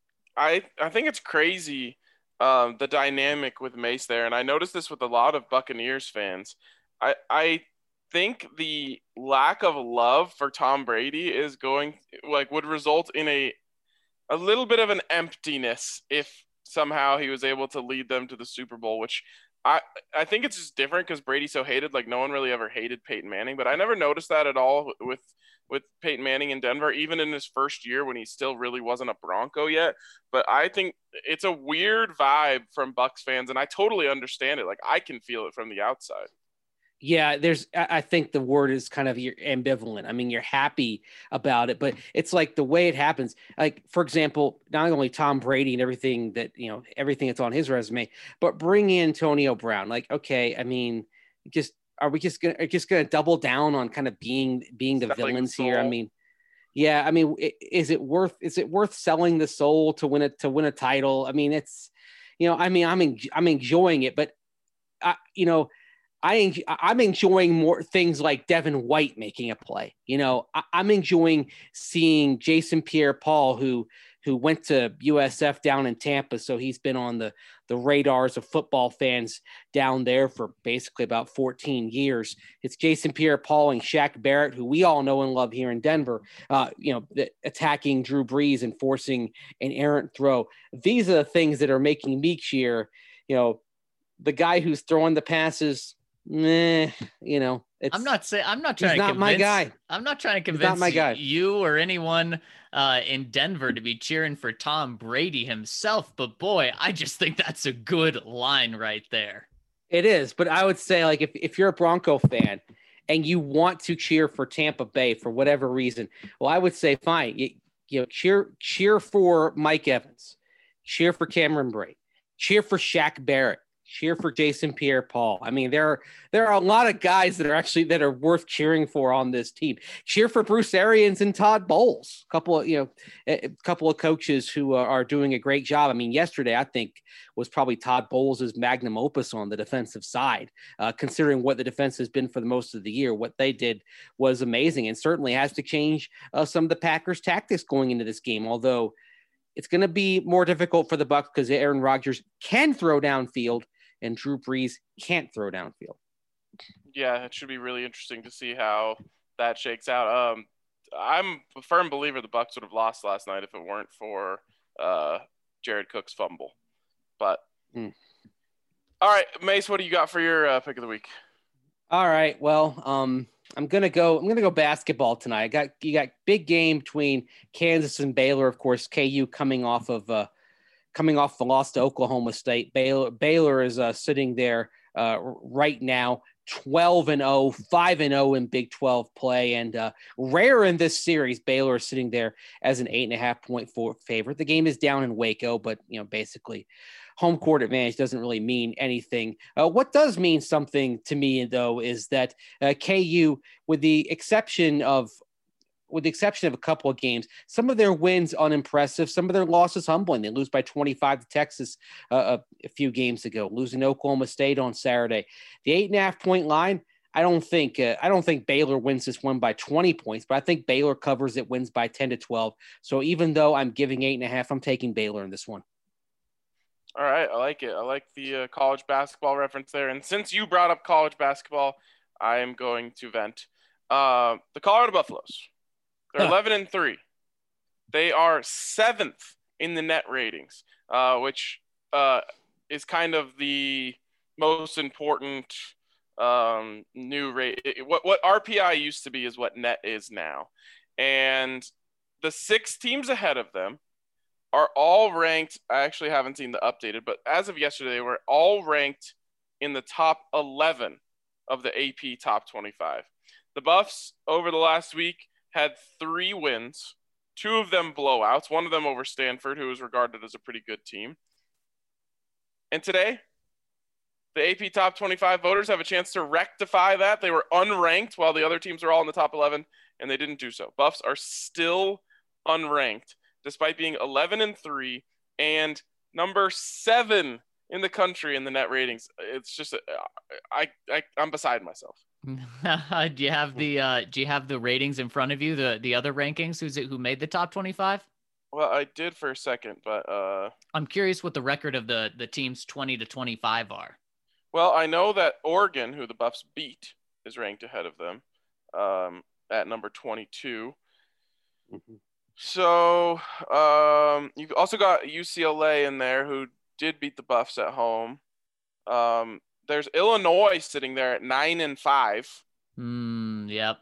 Speaker 1: I, I think it's crazy, um, the dynamic with Mace there, and I noticed this with a lot of Buccaneers fans. I, I think the lack of love for Tom Brady is going like would result in a, a little bit of an emptiness if somehow he was able to lead them to the Super Bowl, which I, I think it's just different because Brady's so hated. Like no one really ever hated Peyton Manning, but I never noticed that at all with with Peyton Manning in Denver, even in his first year when he still really wasn't a Bronco yet. But I think it's a weird vibe from Bucs fans, and I totally understand it. Like I can feel it from the outside.
Speaker 4: Yeah, there's. I think the word is kind of you're ambivalent. I mean, you're happy about it, but it's like the way it happens. Like, for example, not only Tom Brady and everything that you know, everything that's on his resume, but bring in Antonio Brown. Like, okay, I mean, just are we just gonna are just gonna double down on kind of being being the
Speaker 1: Selling
Speaker 4: villains
Speaker 1: the
Speaker 4: here? I
Speaker 1: soul.
Speaker 4: mean, yeah, I mean, is it worth is it worth selling the soul to win it to win a title? I mean, it's you know, I mean, I'm en- I'm enjoying it, but I, you know. I, I'm enjoying more things like Devin White making a play. You know, I, I'm enjoying seeing Jason Pierre-Paul, who who went to U S F down in Tampa, so he's been on the the radars of football fans down there for basically about fourteen years. It's Jason Pierre-Paul and Shaq Barrett, who we all know and love here in Denver. Uh, you know, attacking Drew Brees and forcing an errant throw. These are the things that are making me cheer. You know, the guy who's throwing the passes. Nah, you know, it's,
Speaker 3: I'm not saying I'm not trying to
Speaker 4: not
Speaker 3: convince,
Speaker 4: my guy.
Speaker 3: I'm not trying to
Speaker 4: He's not
Speaker 3: convince
Speaker 4: my guy.
Speaker 3: you or anyone uh, in Denver to be cheering for Tom Brady himself. But boy, I just think that's a good line right there.
Speaker 4: It is, but I would say like if, if you're a Bronco fan and you want to cheer for Tampa Bay for whatever reason, well, I would say fine. You, you know, cheer cheer for Mike Evans, cheer for Cameron Brate, cheer for Shaq Barrett. Cheer for Jason Pierre-Paul. I mean, there are there are a lot of guys that are actually that are worth cheering for on this team. Cheer for Bruce Arians and Todd Bowles. A couple of you know, a couple of coaches who are, are doing a great job. I mean, yesterday I think was probably Todd Bowles' magnum opus on the defensive side, uh, considering what the defense has been for the most of the year. What they did was amazing, and certainly has to change uh, some of the Packers' tactics going into this game. Although it's going to be more difficult for the Bucs because Aaron Rodgers can throw downfield. And Drew Brees can't throw downfield.
Speaker 1: Yeah, it should be really interesting to see how that shakes out. Um, I'm a firm believer the Bucks would have lost last night if it weren't for uh, Jared Cook's fumble. But
Speaker 4: Hmm.
Speaker 1: all right, Mace, what do you got for your uh, pick of the week?
Speaker 4: All right. Well, um, I'm gonna go. I'm gonna go basketball tonight. I got you got big game between Kansas and Baylor. Of course, K U coming off of uh, coming off the loss to Oklahoma State. Baylor Baylor is uh, sitting there uh, right now, twelve and oh, five and oh in Big twelve play, and uh, rare in this series. Baylor is sitting there as an eight and a half point four favorite. The game is down in Waco, but you know basically. Home court advantage doesn't really mean anything. Uh, what does mean something to me, though, is that uh, K U, with the exception of with the exception of a couple of games, some of their wins unimpressive, some of their losses humbling. They lose by twenty-five to Texas uh, a, a few games ago, losing to Oklahoma State on Saturday. The eight and a half point line. I don't think uh, I don't think Baylor wins this one by twenty points, but I think Baylor covers it, wins by ten to twelve. So even though I'm giving eight and a half, I'm taking Baylor in this one.
Speaker 1: All right, I like it. I like the uh, college basketball reference there. And since you brought up college basketball, I am going to vent. Uh, the Colorado Buffaloes, they're
Speaker 4: Huh.
Speaker 1: eleven and three. They are seventh in the net ratings, uh, which uh, is kind of the most important um, new rate. What what R P I used to be is what net is now, and the six teams ahead of them are all ranked. I actually haven't seen the updated, but as of yesterday, they were all ranked in the top eleven of the A P top twenty-five. The Buffs over the last week had three wins, two of them blowouts, one of them over Stanford, who was regarded as a pretty good team. And today, the A P top twenty-five voters have a chance to rectify that. They were unranked while the other teams were all in the top eleven, and they didn't do so. Buffs are still unranked, despite being eleven and three and number seven in the country in the net ratings. It's just, I, I, I'm beside myself.
Speaker 3: do you have the uh, do you have the ratings in front of you? The the other rankings? Who's it? Who made the top twenty-five?
Speaker 1: Well, I did for a second, but uh,
Speaker 3: I'm curious what the record of the the teams twenty to twenty-five are.
Speaker 1: Well, I know that Oregon, who the Buffs beat, is ranked ahead of them um, at number twenty-two.
Speaker 4: Mm-hmm.
Speaker 1: So um, you've also got U C L A in there, who did beat the Buffs at home. Um, there's Illinois sitting there at nine and five.
Speaker 3: Hmm. Yep.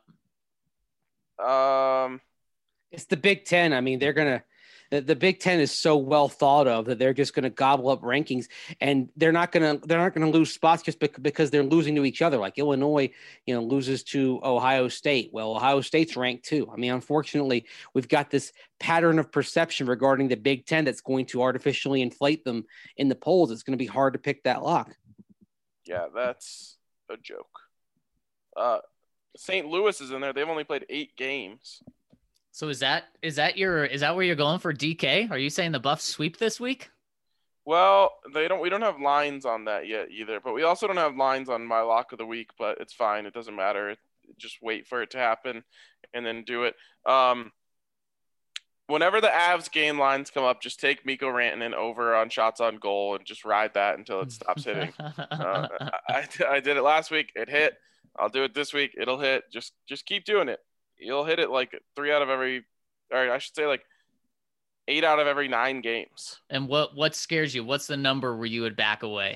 Speaker 1: Um,
Speaker 4: It's the Big Ten. I mean, they're gonna. The, the Big Ten is so well thought of that they're just going to gobble up rankings, and they're not going to they're not going to lose spots just bec- because they're losing to each other. Like Illinois, you know, loses to Ohio State. Well, Ohio State's ranked too. I mean, unfortunately, we've got this pattern of perception regarding the Big Ten that's going to artificially inflate them in the polls. It's going to be hard to pick that lock.
Speaker 1: Yeah, that's a joke. Uh, Saint Louis is in there. They've only played eight games.
Speaker 3: So is that is that your is that where you're going for D K? Are you saying the Buffs sweep this week?
Speaker 1: Well, they don't. We don't have lines on that yet either. But we also don't have lines on my lock of the week. But it's fine. It doesn't matter. It, just wait for it to happen, and then do it. Um, whenever the Avs game lines come up, just take Mikko Rantanen over on shots on goal and just ride that until it stops hitting. uh, I, I did it last week. It hit. I'll do it this week. It'll hit. Just just keep doing it. You'll hit it like three out of every, or I should say like eight out of every nine games.
Speaker 3: And what what scares you? What's the number where you would back away?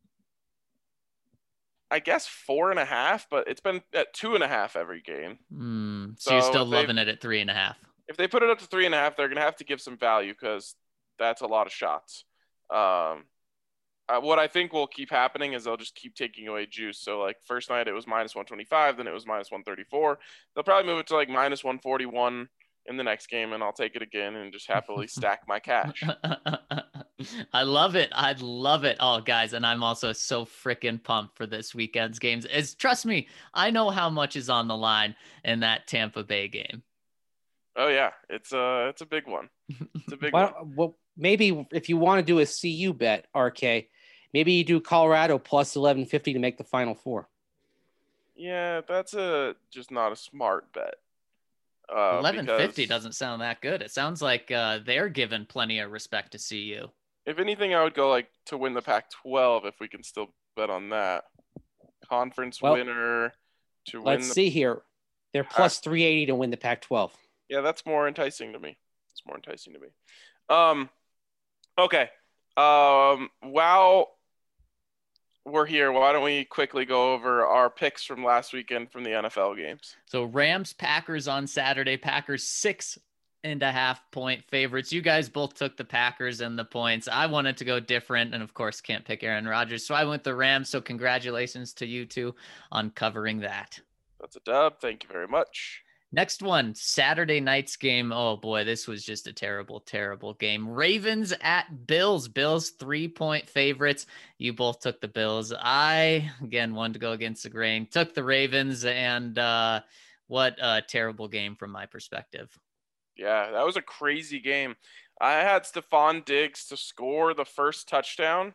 Speaker 1: I guess four and a half, but it's been at two and a half every game.
Speaker 3: Mm, so,
Speaker 1: So
Speaker 3: you're still
Speaker 1: if they-
Speaker 3: loving it at three and a half.
Speaker 1: If they put it up to three and a half, they're going to have to give some value because that's a lot of shots. Um, uh, what I think will keep happening is they'll just keep taking away juice. So like first night it was minus one twenty-five, then it was minus one thirty-four. They'll probably move it to like minus one forty-one in the next game, and I'll take it again and just happily stack my cash.
Speaker 3: I love it. I love it. Oh, guys, and I'm also so freaking pumped for this weekend's games. Is trust me, I know how much is on the line in that Tampa Bay game.
Speaker 1: Oh yeah, it's a it's a big one. It's a big
Speaker 4: Why
Speaker 1: one.
Speaker 4: don't- well, maybe if you want to do a C U bet, R K, maybe you do Colorado plus eleven fifty to make the Final Four.
Speaker 1: Yeah, that's a just not a smart bet. Uh,
Speaker 3: eleven fifty
Speaker 1: because
Speaker 3: doesn't sound that good. It sounds like uh, they're giving plenty of respect to C U.
Speaker 1: If anything, I would go like to win the Pac twelve if we can still bet on that. conference
Speaker 4: Well,
Speaker 1: winner to
Speaker 4: Let's
Speaker 1: win the
Speaker 4: see here. They're plus three eighty to win the Pac twelve.
Speaker 1: Yeah, that's more enticing to me. It's more enticing to me. Um, okay. Um, while we're here, why don't we quickly go over our picks from last weekend from the N F L games?
Speaker 3: So Rams Packers on Saturday. Packers six and a half point favorites. You guys both took the Packers and the points. I wanted to go different, and of course can't pick Aaron Rodgers, so I went the Rams. So congratulations to you two on covering that.
Speaker 1: That's a dub. Thank you very much.
Speaker 3: Next one, Saturday night's game. Oh boy, this was just a terrible, terrible game. Ravens at Bills. Bills three-point favorites. You both took the Bills. I, again, wanted to go against the grain. Took the Ravens, and uh, what a terrible game from my perspective.
Speaker 1: Yeah, that was a crazy game. I had Stephon Diggs to score the first touchdown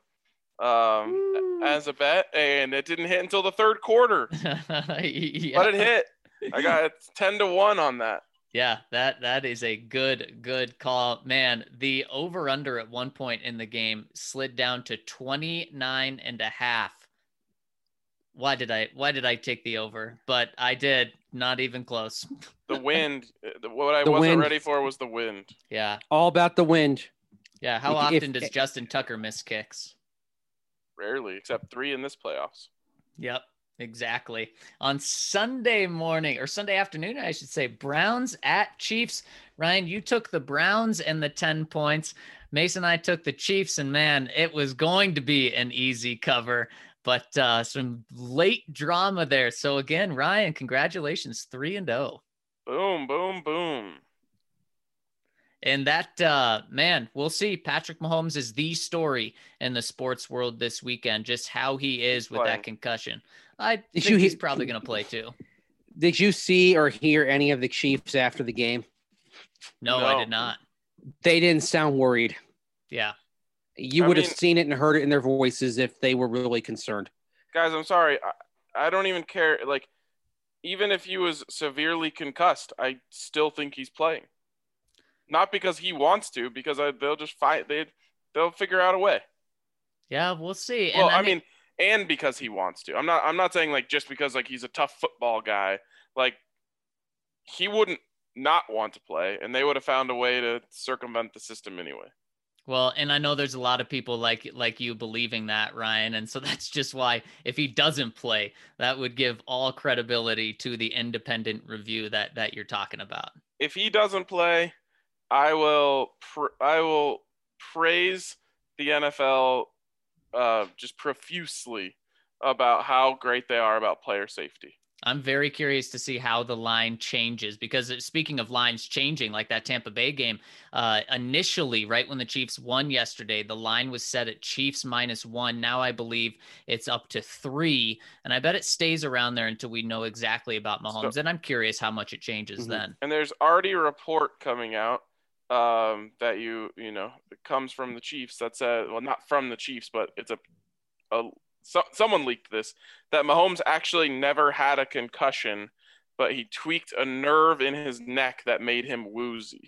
Speaker 1: um, as a bet, and it didn't hit until the third quarter.
Speaker 3: yeah.
Speaker 1: But it hit. I got ten to one on that.
Speaker 3: Yeah, that that is a good good call. Man, the over under at one point in the game slid down to twenty-nine and a half. Why did I why did I take the over? But I did, not even close.
Speaker 1: The wind, what I
Speaker 4: The
Speaker 1: wasn't
Speaker 4: wind.
Speaker 1: ready for was the wind.
Speaker 3: Yeah.
Speaker 4: All about the wind.
Speaker 3: Yeah, how
Speaker 4: If-
Speaker 3: often does Justin Tucker miss kicks?
Speaker 1: Rarely, except three in this playoffs.
Speaker 3: Yep. Exactly. On Sunday morning or Sunday afternoon, I should say, Browns at Chiefs. Ryan, you took the Browns and the ten points. Mason and I took the Chiefs, and man, it was going to be an easy cover, but uh, some late drama there. So again, Ryan, congratulations, three and oh.
Speaker 1: Boom, boom, boom.
Speaker 3: And that, uh, man, we'll see. Patrick Mahomes is the story in the sports world this weekend, just how he is with
Speaker 1: Playing.
Speaker 3: that concussion. I
Speaker 4: Did
Speaker 3: think
Speaker 4: you
Speaker 3: he's
Speaker 4: hear-
Speaker 3: probably going to play too.
Speaker 4: Did you see or hear any of the Chiefs after the game?
Speaker 3: No,
Speaker 1: No.
Speaker 3: I did not.
Speaker 4: They didn't sound worried.
Speaker 3: Yeah.
Speaker 4: You
Speaker 1: I
Speaker 4: would have
Speaker 1: mean-
Speaker 4: seen it and heard it in their voices if they were really concerned.
Speaker 1: Guys, I'm sorry. I, I don't even care. Like, even if he was severely concussed, I still think he's playing. Not because he wants to, because I, they'll just fight. They they'll figure out a way.
Speaker 3: Yeah, we'll see.
Speaker 1: Well,
Speaker 3: and
Speaker 1: I mean, and because he wants to. I'm not. I'm not saying like just because like he's a tough football guy. Like he wouldn't not want to play, and they would have found a way to circumvent the system anyway.
Speaker 3: well, and I know there's a lot of people like like you believing that, Ryan, and so that's just why if he doesn't play, that would give all credibility to the independent review that that you're talking about.
Speaker 1: If he doesn't play, I will. Pr- I will praise the N F L uh, just profusely about how great they are about player safety.
Speaker 3: I'm very curious to see how the line changes because it- speaking of lines changing, like that Tampa Bay game, uh, initially, right when the Chiefs won yesterday, the line was set at Chiefs minus one. Now I believe it's up to three, and I bet it stays around there until we know exactly about Mahomes.
Speaker 1: So-
Speaker 3: and I'm curious how much it changes
Speaker 4: Mhm.
Speaker 3: then.
Speaker 1: And there's already a report coming out um, that you you know it comes from the Chiefs. That said, well, not from the Chiefs, but it's a, a so, someone leaked this that Mahomes actually never had a concussion, but he tweaked a nerve in his neck that made him woozy.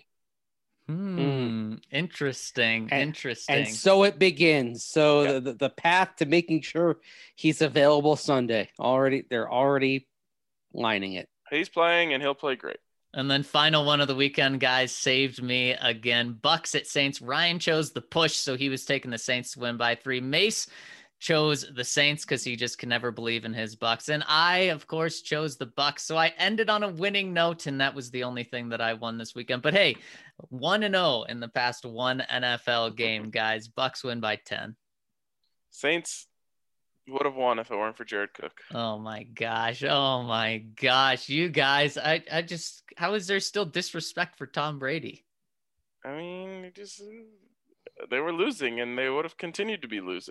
Speaker 3: Hmm. Interesting.
Speaker 4: And-
Speaker 3: Interesting.
Speaker 4: And so it begins. So
Speaker 1: Yeah.
Speaker 4: the, the, the path to making sure he's available Sunday. Already they're already lining it.
Speaker 1: He's playing and he'll play great.
Speaker 3: And then final one of the weekend, guys, saved me again. Bucks at Saints. Ryan chose the push, so he was taking the Saints to win by three. Mace chose the Saints because he just can never believe in his Bucks. And I, of course, chose the Bucks. So I ended on a winning note, and that was the only thing that I won this weekend. But hey, one and oh in the past one N F L game, guys. Bucks win by ten.
Speaker 1: Saints would have won if it weren't for Jared Cook.
Speaker 3: Oh my gosh. Oh my gosh. You guys, I, I just, how is there still disrespect for Tom Brady?
Speaker 1: I mean, it just they were losing and they would have continued to be losing.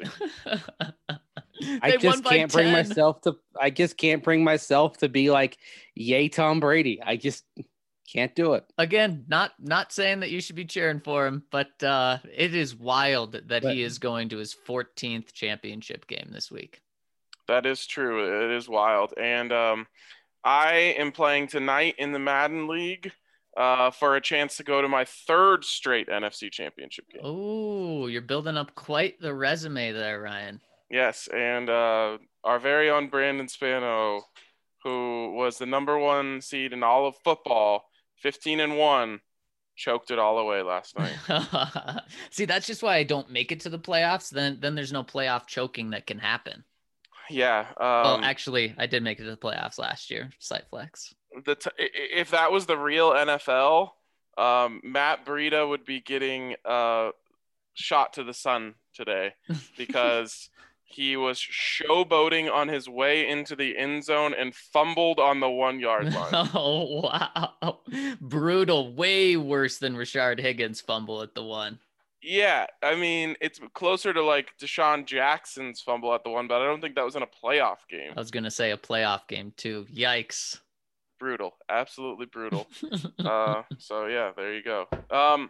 Speaker 4: I
Speaker 3: They won
Speaker 4: just
Speaker 3: by
Speaker 4: can't bring
Speaker 3: ten.
Speaker 4: myself to I just can't bring myself to be like, yay, Tom Brady. I just can't do it.
Speaker 3: Again, not not saying that you should be cheering for him, but uh, it is wild that
Speaker 4: But-
Speaker 3: he is going to his fourteenth championship game this week.
Speaker 1: That is true. It is wild. And um, I am playing tonight in the Madden League uh, for a chance to go to my third straight N F C Championship game.
Speaker 3: Oh, you're building up quite the resume there, Ryan.
Speaker 1: Yes, and uh, our very own Brandon Spano, who was the number one seed in all of football, fifteen and one, choked it all away last night.
Speaker 3: See, that's just why I don't make it to the playoffs. Then, then there's no playoff choking that can happen.
Speaker 1: Yeah. Um,
Speaker 3: well, actually, I did make it to the playoffs last year. Site flex.
Speaker 1: The t- if that was the real N F L, um, Matt Breida would be getting uh, shot to the sun today because he was showboating on his way into the end zone and fumbled on the one yard line.
Speaker 3: Oh, wow. Brutal. Way worse than Rashard Higgins' fumble at the one.
Speaker 1: Yeah, I mean, it's closer to like Deshaun Jackson's fumble at the one, but I don't think that was in a playoff game.
Speaker 3: I was going to say a playoff game too. Yikes.
Speaker 1: Brutal. Absolutely brutal. uh, so, yeah, there you go. Um,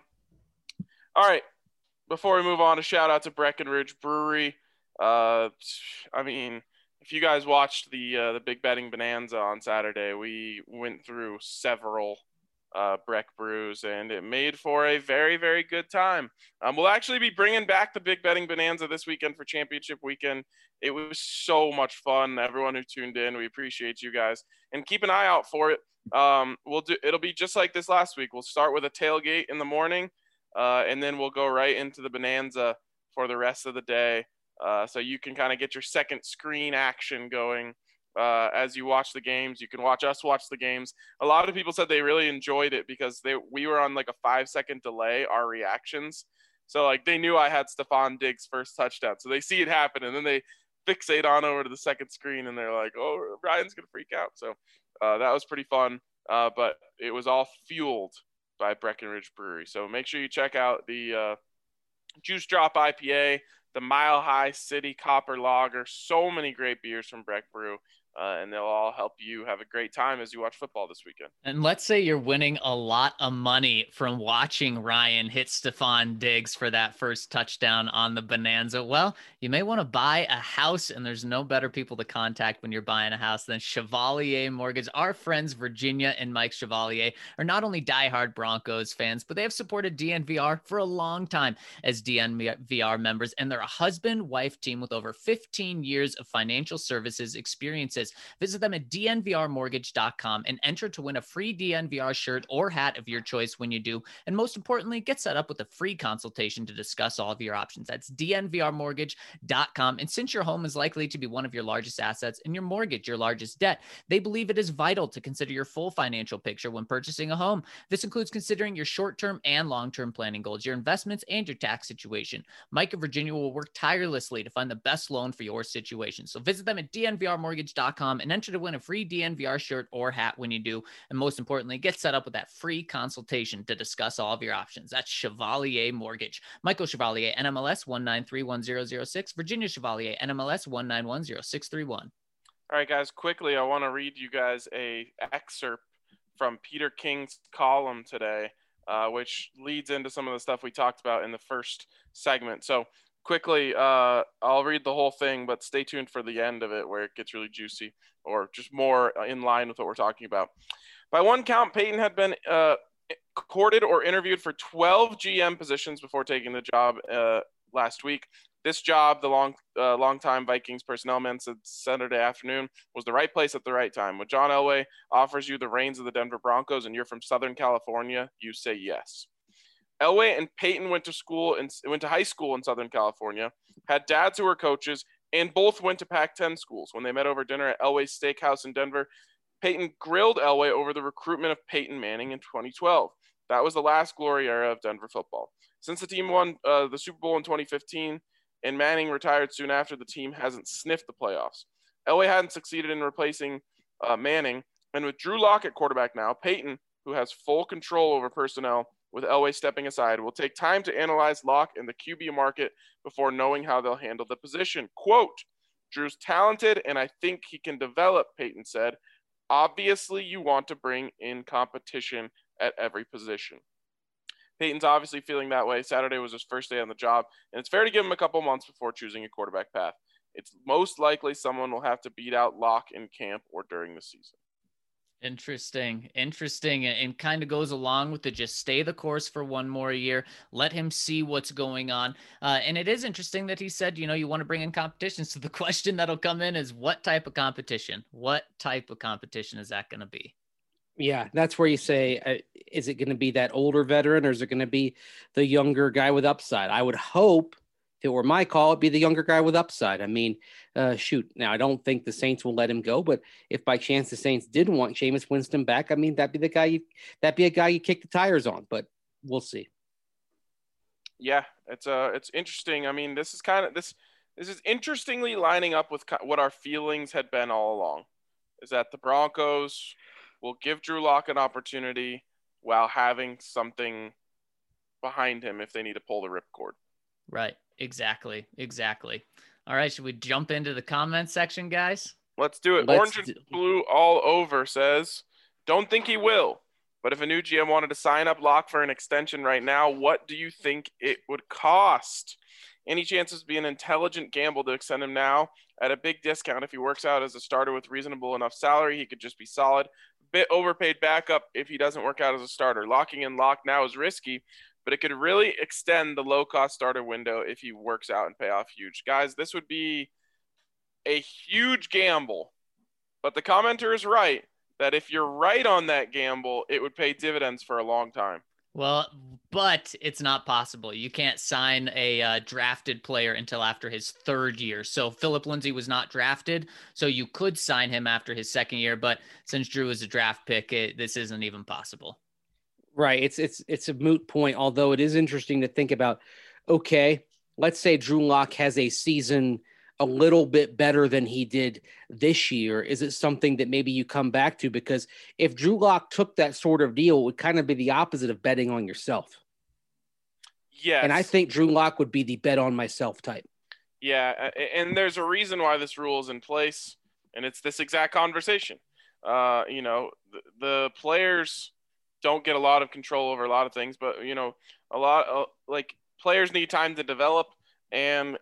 Speaker 1: all right. Before we move on, a shout out to Breckenridge Brewery. Uh, I mean, if you guys watched the uh, the Big Betting Bonanza on Saturday, we went through several uh, Breck brews, and it made for a very, very good time. Um, we'll actually be bringing back the Big Betting Bonanza this weekend for Championship Weekend. It was so much fun. Everyone who tuned in, we appreciate you guys, and keep an eye out for it. Um, we'll do. It'll be just like this last week. We'll start with a tailgate in the morning, uh, and then we'll go right into the Bonanza for the rest of the day. Uh, so you can kind of get your second screen action going uh, as you watch the games. You can watch us watch the games. A lot of people said they really enjoyed it because they we were on like a five second delay, our reactions. So like they knew I had Stephon Diggs' first touchdown. So they see it happen and then they fixate on over to the second screen and they're like, oh, Ryan's going to freak out. So uh, that was pretty fun. Uh, but it was all fueled by Breckenridge Brewery. So make sure you check out the uh, Juice Drop I P A, the Mile High City Copper Lager, so many great beers from Breck Brew, uh, and they'll all help you have a great time as you watch football this weekend.
Speaker 3: And let's say you're winning a lot of money from watching Ryan hit Stephon Diggs for that first touchdown on the Bonanza. Well, you may want to buy a house, and there's no better people to contact when you're buying a house than Chevalier Mortgage. Our friends Virginia and Mike Chevalier are not only diehard Broncos fans, but they have supported D N V R for a long time as D N V R members, and they're a husband-wife team with over fifteen years of financial services experiences. Visit them at D N V R mortgage dot com and enter to win a free D N V R shirt or hat of your choice when you do. And most importantly, get set up with a free consultation to discuss all of your options. That's D N V R mortgage dot com. And since your home is likely to be one of your largest assets and your mortgage your largest debt, they believe it is vital to consider your full financial picture when purchasing a home. This includes considering your short-term and long-term planning goals, your investments, and your tax situation. Mike and Virginia will work tirelessly to find the best loan for your situation. So visit them at D N V R mortgage dot com and enter to win a free D N V R shirt or hat when you do. And most importantly, get set up with that free consultation to discuss all of your options. That's Chevalier Mortgage. Michael Chevalier, N M L S one nine three one zero zero six. Virginia Chevalier, N M L S one nine one zero six three one.
Speaker 1: All right, guys, quickly, I want to read you guys a excerpt from Peter King's column today, uh, which leads into some of the stuff we talked about in the first segment. So quickly, uh, I'll read the whole thing, but stay tuned for the end of it where it gets really juicy or just more in line with what we're talking about. By one count, Peyton had been uh, courted or interviewed for twelve G M positions before taking the job uh, last week. This job, the long, uh, long-time Vikings personnel man said Saturday afternoon, was the right place at the right time. When John Elway offers you the reins of the Denver Broncos and you're from Southern California, you say yes. Elway and Peyton went to school and went to high school in Southern California, had dads who were coaches, and both went to Pac ten schools. When they met over dinner at Elway's Steakhouse in Denver, Peyton grilled Elway over the recruitment of Peyton Manning in twenty twelve. That was the last glory era of Denver football. Since the team won uh, the Super Bowl in twenty fifteen and Manning retired soon after, the team hasn't sniffed the playoffs. Elway hadn't succeeded in replacing uh, Manning, and with Drew Lock at quarterback now, Peyton, who has full control over personnel, with Elway stepping aside, will take time to analyze Lock and the Q B market before knowing how they'll handle the position. Quote, Drew's talented, and I think he can develop, Peyton said. Obviously, you want to bring in competition at every position. Peyton's obviously feeling that way. Saturday was his first day on the job, and it's fair to give him a couple months before choosing a quarterback path. It's most likely someone will have to beat out Lock in camp or during the season.
Speaker 3: Interesting, interesting, and, and kind of goes along with the just stay the course for one more year, let him see what's going on. Uh, and it is interesting that he said, you know, you want to bring in competition. So the question that'll come in is what type of competition? What type of competition is that going to be?
Speaker 4: Yeah, that's where you say, uh, is it going to be that older veteran or is it going to be the younger guy with upside? I would hope if it were my call, it'd be the younger guy with upside. I mean, uh, shoot. Now, I don't think the Saints will let him go, but if by chance the Saints did want Jameis Winston back, I mean, that'd be the guy you, that'd be a guy you kick the tires on, but we'll see.
Speaker 1: Yeah, it's uh, it's interesting. I mean, this is kind of this this is interestingly lining up with what our feelings had been all along. Is that the Broncos will give Drew Lock an opportunity while having something behind him if they need to pull the ripcord.
Speaker 3: Right. Exactly. Exactly. All right. Should we jump into the comment section, guys?
Speaker 1: Let's do it.
Speaker 4: Let's
Speaker 1: Orange and
Speaker 4: do-
Speaker 1: Blue all over says, don't think he will. But if a new G M wanted to sign up Lock for an extension right now, what do you think it would cost? Any chances be an intelligent gamble to extend him now at a big discount? If he works out as a starter with reasonable enough salary, he could just be solid. Bit overpaid backup if he doesn't work out as a starter. Locking in Lock now is risky, but it could really extend the low-cost starter window if he works out and pay off huge. Guys, this would be a huge gamble, but the commenter is right that if you're right on that gamble, it would pay dividends for a long time.
Speaker 3: Well, but it's not possible. You can't sign a uh, drafted player until after his third year. So Philip Lindsay was not drafted, so you could sign him after his second year. But since Drew is a draft pick, it, this isn't even possible.
Speaker 4: Right. It's it's it's a moot point, although it is interesting to think about, okay, let's say Drew Lock has a season a little bit better than he did this year. Is it something that maybe you come back to? Because if Drew Lock took that sort of deal, it would kind of be the opposite of betting on yourself.
Speaker 1: Yes.
Speaker 4: And I think Drew Lock would be the bet on myself type.
Speaker 1: Yeah, and there's a reason why this rule is in place, and it's this exact conversation. Uh, you know, the, the players don't get a lot of control over a lot of things, but, you know, a lot of, like, players need time to develop, and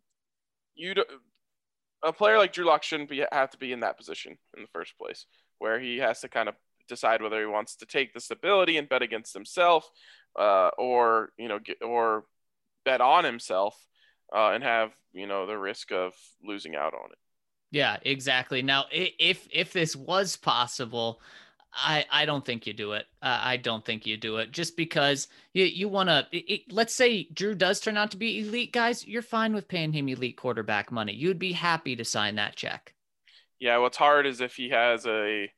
Speaker 1: you do, a player like Drew Lock shouldn't be have to be in that position in the first place, where he has to kind of decide whether he wants to take the stability and bet against himself, uh, or you know, get, or bet on himself, uh, and have you know the risk of losing out on it.
Speaker 3: Yeah, exactly. Now, if if this was possible, I, I don't think you do it. Uh, I don't think you do it just because you, you want to, let's say Drew does turn out to be elite, guys, you're fine with paying him elite quarterback money. You'd be happy to sign that check.
Speaker 1: Yeah. What's hard is if he has a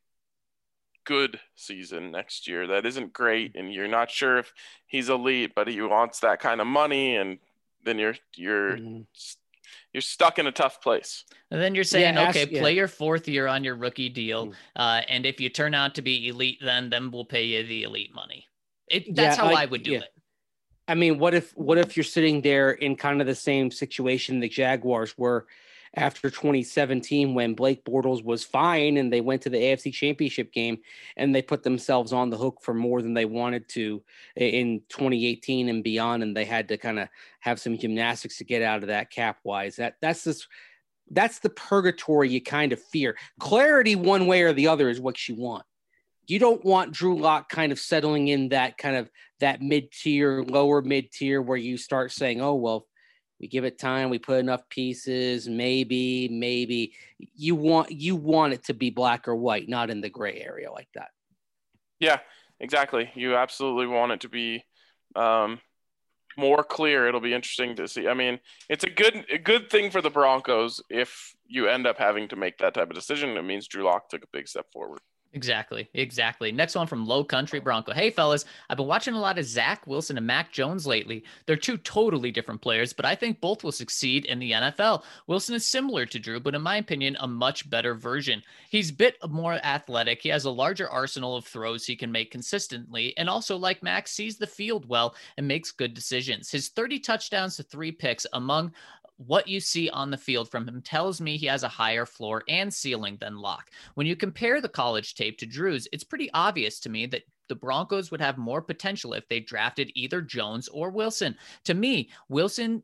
Speaker 1: good season next year that isn't great and you're not sure if he's elite, but he wants that kind of money, and then you're, you're, mm-hmm. you're stuck in a tough place.
Speaker 3: And then you're saying,
Speaker 4: yeah,
Speaker 3: okay,
Speaker 4: ask, yeah.
Speaker 3: play your fourth year on your rookie deal.
Speaker 4: Mm.
Speaker 3: Uh, and if you turn out to be elite, then, then we'll pay you the elite money. It, that's
Speaker 4: yeah,
Speaker 3: how
Speaker 4: like,
Speaker 3: I would do
Speaker 4: yeah.
Speaker 3: it.
Speaker 4: I mean, what if, what if you're sitting there in kind of the same situation the Jaguars were after twenty seventeen when Blake Bortles was fine and they went to the A F C Championship game and they put themselves on the hook for more than they wanted to in twenty eighteen and beyond, and they had to kind of have some gymnastics to get out of that cap wise. That that's this that's the purgatory you kind of fear. Clarity one way or the other is what you want. You don't want Drew Lock kind of settling in that kind of that mid-tier, lower mid-tier where you start saying, oh, well, we give it time. We put enough pieces. Maybe, maybe you want you want it to be black or white, not in the gray area like that.
Speaker 1: Yeah, exactly. You absolutely want it to be um, more clear. It'll be interesting to see. I mean, it's a good a good thing for the Broncos if you end up having to make that type of decision. It means Drew Lock took a big step forward.
Speaker 3: Exactly. Exactly. Next one from Low Country Bronco. Hey, fellas, I've been watching a lot of Zach Wilson and Mac Jones lately. They're two totally different players, but I think both will succeed in the N F L. Wilson is similar to Drew, but in my opinion, a much better version. He's a bit more athletic. He has a larger arsenal of throws he can make consistently, and also, like Mac, sees the field well and makes good decisions. His thirty touchdowns to three picks among what you see on the field from him tells me he has a higher floor and ceiling than Lock. When you compare the college tape to Drew's, it's pretty obvious to me that the Broncos would have more potential if they drafted either Jones or Wilson. To me, Wilson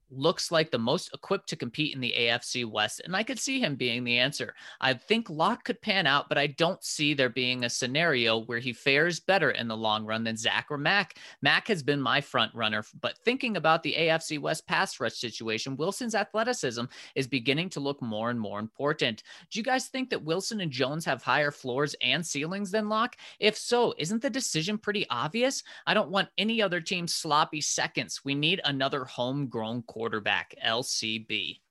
Speaker 3: looks like the most equipped to compete in the A F C West, and I could see him being the answer. I think Locke could pan out, but I don't see there being a scenario where he fares better in the long run than Zach or Mac. Mac has been my front runner, but thinking about the A F C West pass rush situation, Wilson's athleticism is beginning to look more and more important. Do you guys think that Wilson and Jones have higher floors and ceilings than Locke? If so, isn't the decision pretty obvious? I don't want any other team's sloppy seconds. We need another homegrown quarterback, L C B.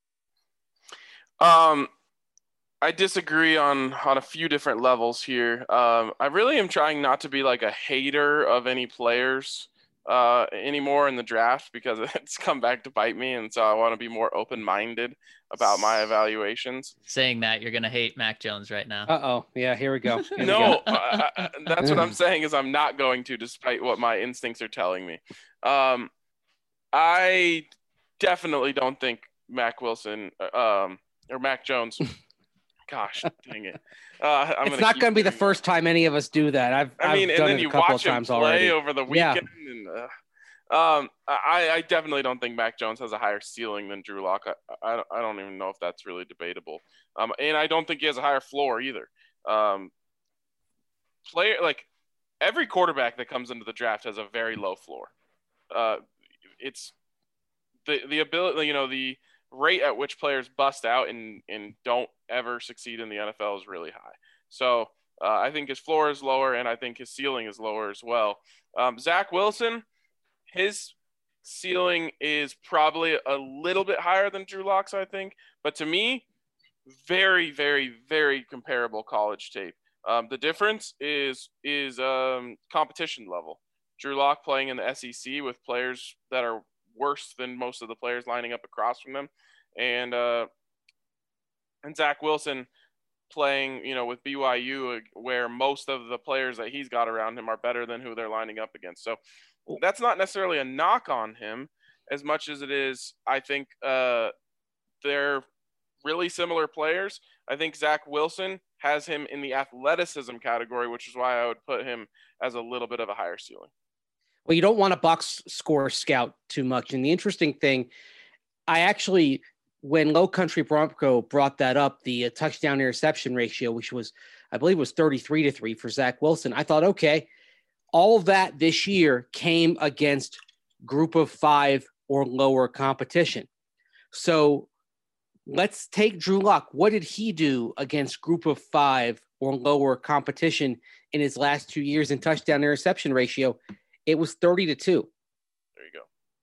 Speaker 1: Um, I disagree on on a few different levels here. Um, I really am trying not to be like a hater of any players uh, anymore in the draft because it's come back to bite me, and so I want to be more open-minded about my evaluations.
Speaker 3: Saying that, you're gonna hate Mac Jones right now.
Speaker 4: Uh-oh. Yeah, here we go. Here
Speaker 1: no,
Speaker 4: we go.
Speaker 1: I, I, that's what I'm saying is I'm not going to, despite what my instincts are telling me. Um, I definitely don't think Mac Wilson um, or Mac Jones. Gosh, dang it! Uh, I'm
Speaker 4: it's not going to be the
Speaker 1: that.
Speaker 4: first time any of us do that. I've,
Speaker 1: I mean,
Speaker 4: I've
Speaker 1: and
Speaker 4: done
Speaker 1: then
Speaker 4: it
Speaker 1: you
Speaker 4: a couple
Speaker 1: watch
Speaker 4: of
Speaker 1: him
Speaker 4: times
Speaker 1: play
Speaker 4: already.
Speaker 1: over the weekend. Yeah. And, uh, um, I, I definitely don't think Mac Jones has a higher ceiling than Drew Lock. I, I, I don't even know if that's really debatable. Um, and I don't think he has a higher floor either. Um, player like every quarterback that comes into the draft has a very low floor. Uh, it's the the ability, you know, the rate at which players bust out and, and don't ever succeed in the N F L is really high. So uh, I think his floor is lower, and I think his ceiling is lower as well. Um, Zach Wilson, his ceiling is probably a little bit higher than Drew Lock's, I think. But to me, very, very, very comparable college tape. Um, the difference is is um, competition level. Drew Lock playing in the S E C with players that are worse than most of the players lining up across from them, and uh, and Zach Wilson playing, you know, with B Y U, where most of the players that he's got around him are better than who they're lining up against. So that's not necessarily a knock on him as much as it is, I think uh, they're really similar players. I think Zach Wilson has him in the athleticism category, which is why I would put him as a little bit of a higher ceiling.
Speaker 4: Well, you don't want to box score scout too much. And the interesting thing, I actually, when Low Country Bronco brought that up, the uh, touchdown interception ratio, which was, I believe was thirty-three to three for Zach Wilson, I thought, okay, all of that this year came against group of five or lower competition. So let's take Drew Lock. What did he do against group of five or lower competition in his last two years in touchdown interception ratio? It was thirty to two.
Speaker 1: There you go.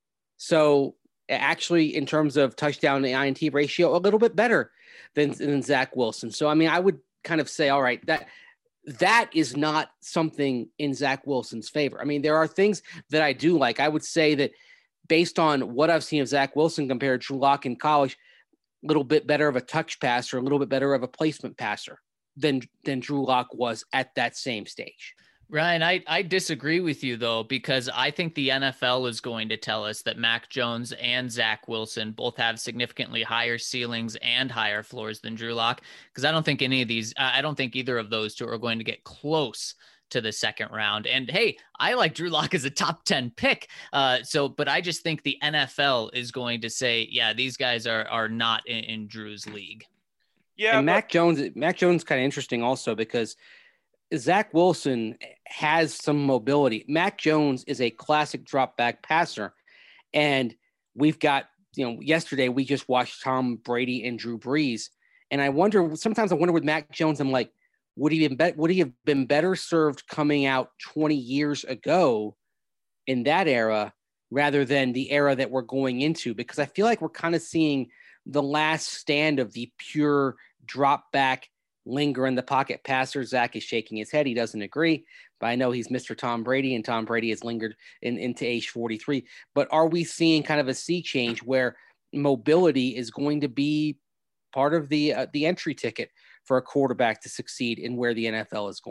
Speaker 4: So actually, in terms of touchdown to I N T ratio, a little bit better than, than Zach Wilson. So, I mean, I would kind of say, all right, that that is not something in Zach Wilson's favor. I mean, there are things that I do like. I would say that based on what I've seen of Zach Wilson compared to Drew Lock in college, a little bit better of a touch passer, a little bit better of a placement passer than, than Drew Lock was at that same stage.
Speaker 3: Ryan, I, I disagree with you, though, because I think the N F L is going to tell us that Mac Jones and Zach Wilson both have significantly higher ceilings and higher floors than Drew Lock, because I don't think any of these, I don't think either of those two are going to get close to the second round. And hey, I like Drew Lock as a top ten pick. Uh, so, but I just think the N F L is going to say, yeah, these guys are are not in, in Drew's league.
Speaker 1: Yeah,
Speaker 4: and
Speaker 1: but-
Speaker 4: Mac Jones, Mac Jones, kind of interesting also because Zach Wilson has some mobility. Mac Jones is a classic drop back passer. And we've got, you know, yesterday we just watched Tom Brady and Drew Brees. And I wonder, sometimes I wonder with Mac Jones, I'm like, would he been be- would he have been better served coming out twenty years ago in that era rather than the era that we're going into? Because I feel like we're kind of seeing the last stand of the pure drop back, linger in the pocket passer. Zach is shaking his head. He doesn't agree, but I know he's Mister Tom Brady, and Tom Brady has lingered in, into age forty-three. But are we seeing kind of a sea change where mobility is going to be part of the uh, the entry ticket for a quarterback to succeed in where the N F L is going?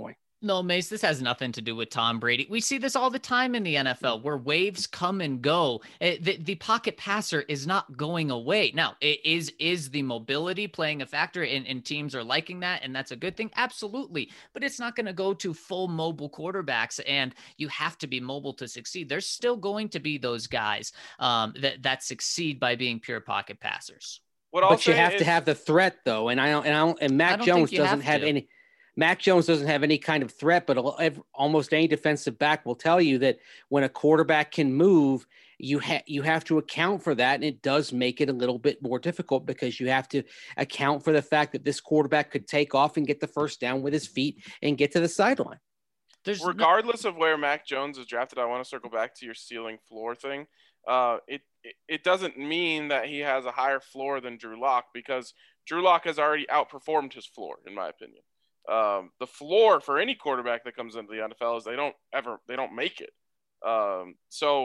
Speaker 3: No, Mace, this has nothing to do with Tom Brady. We see this all the time in the N F L where waves come and go. It, the, the pocket passer is not going away. Now, it is is the mobility playing a factor, and, and teams are liking that, and that's a good thing? Absolutely. But it's not going to go to full mobile quarterbacks, and you have to be mobile to succeed. There's still going to be those guys um, that, that succeed by being pure pocket passers.
Speaker 1: What I'll
Speaker 4: But you
Speaker 1: say
Speaker 4: have
Speaker 1: is-
Speaker 4: to have the threat, though, and I don't, and I don't, and
Speaker 3: I
Speaker 4: Mac
Speaker 3: don't
Speaker 4: Jones
Speaker 3: think you
Speaker 4: doesn't
Speaker 3: have
Speaker 4: have
Speaker 3: to.
Speaker 4: any. Mac Jones doesn't have any kind of threat, but al- ev- almost any defensive back will tell you that when a quarterback can move, you have you have to account for that, and it does make it a little bit more difficult because you have to account for the fact that this quarterback could take off and get the first down with his feet and get to the sideline.
Speaker 3: There's no-
Speaker 1: regardless of where Mac Jones is drafted, I want to circle back to your ceiling floor thing. Uh, it, it it doesn't mean that he has a higher floor than Drew Lock, because Drew Lock has already outperformed his floor, in my opinion. Um, the floor for any quarterback that comes into the N F L is they don't ever they don't make it. Um, so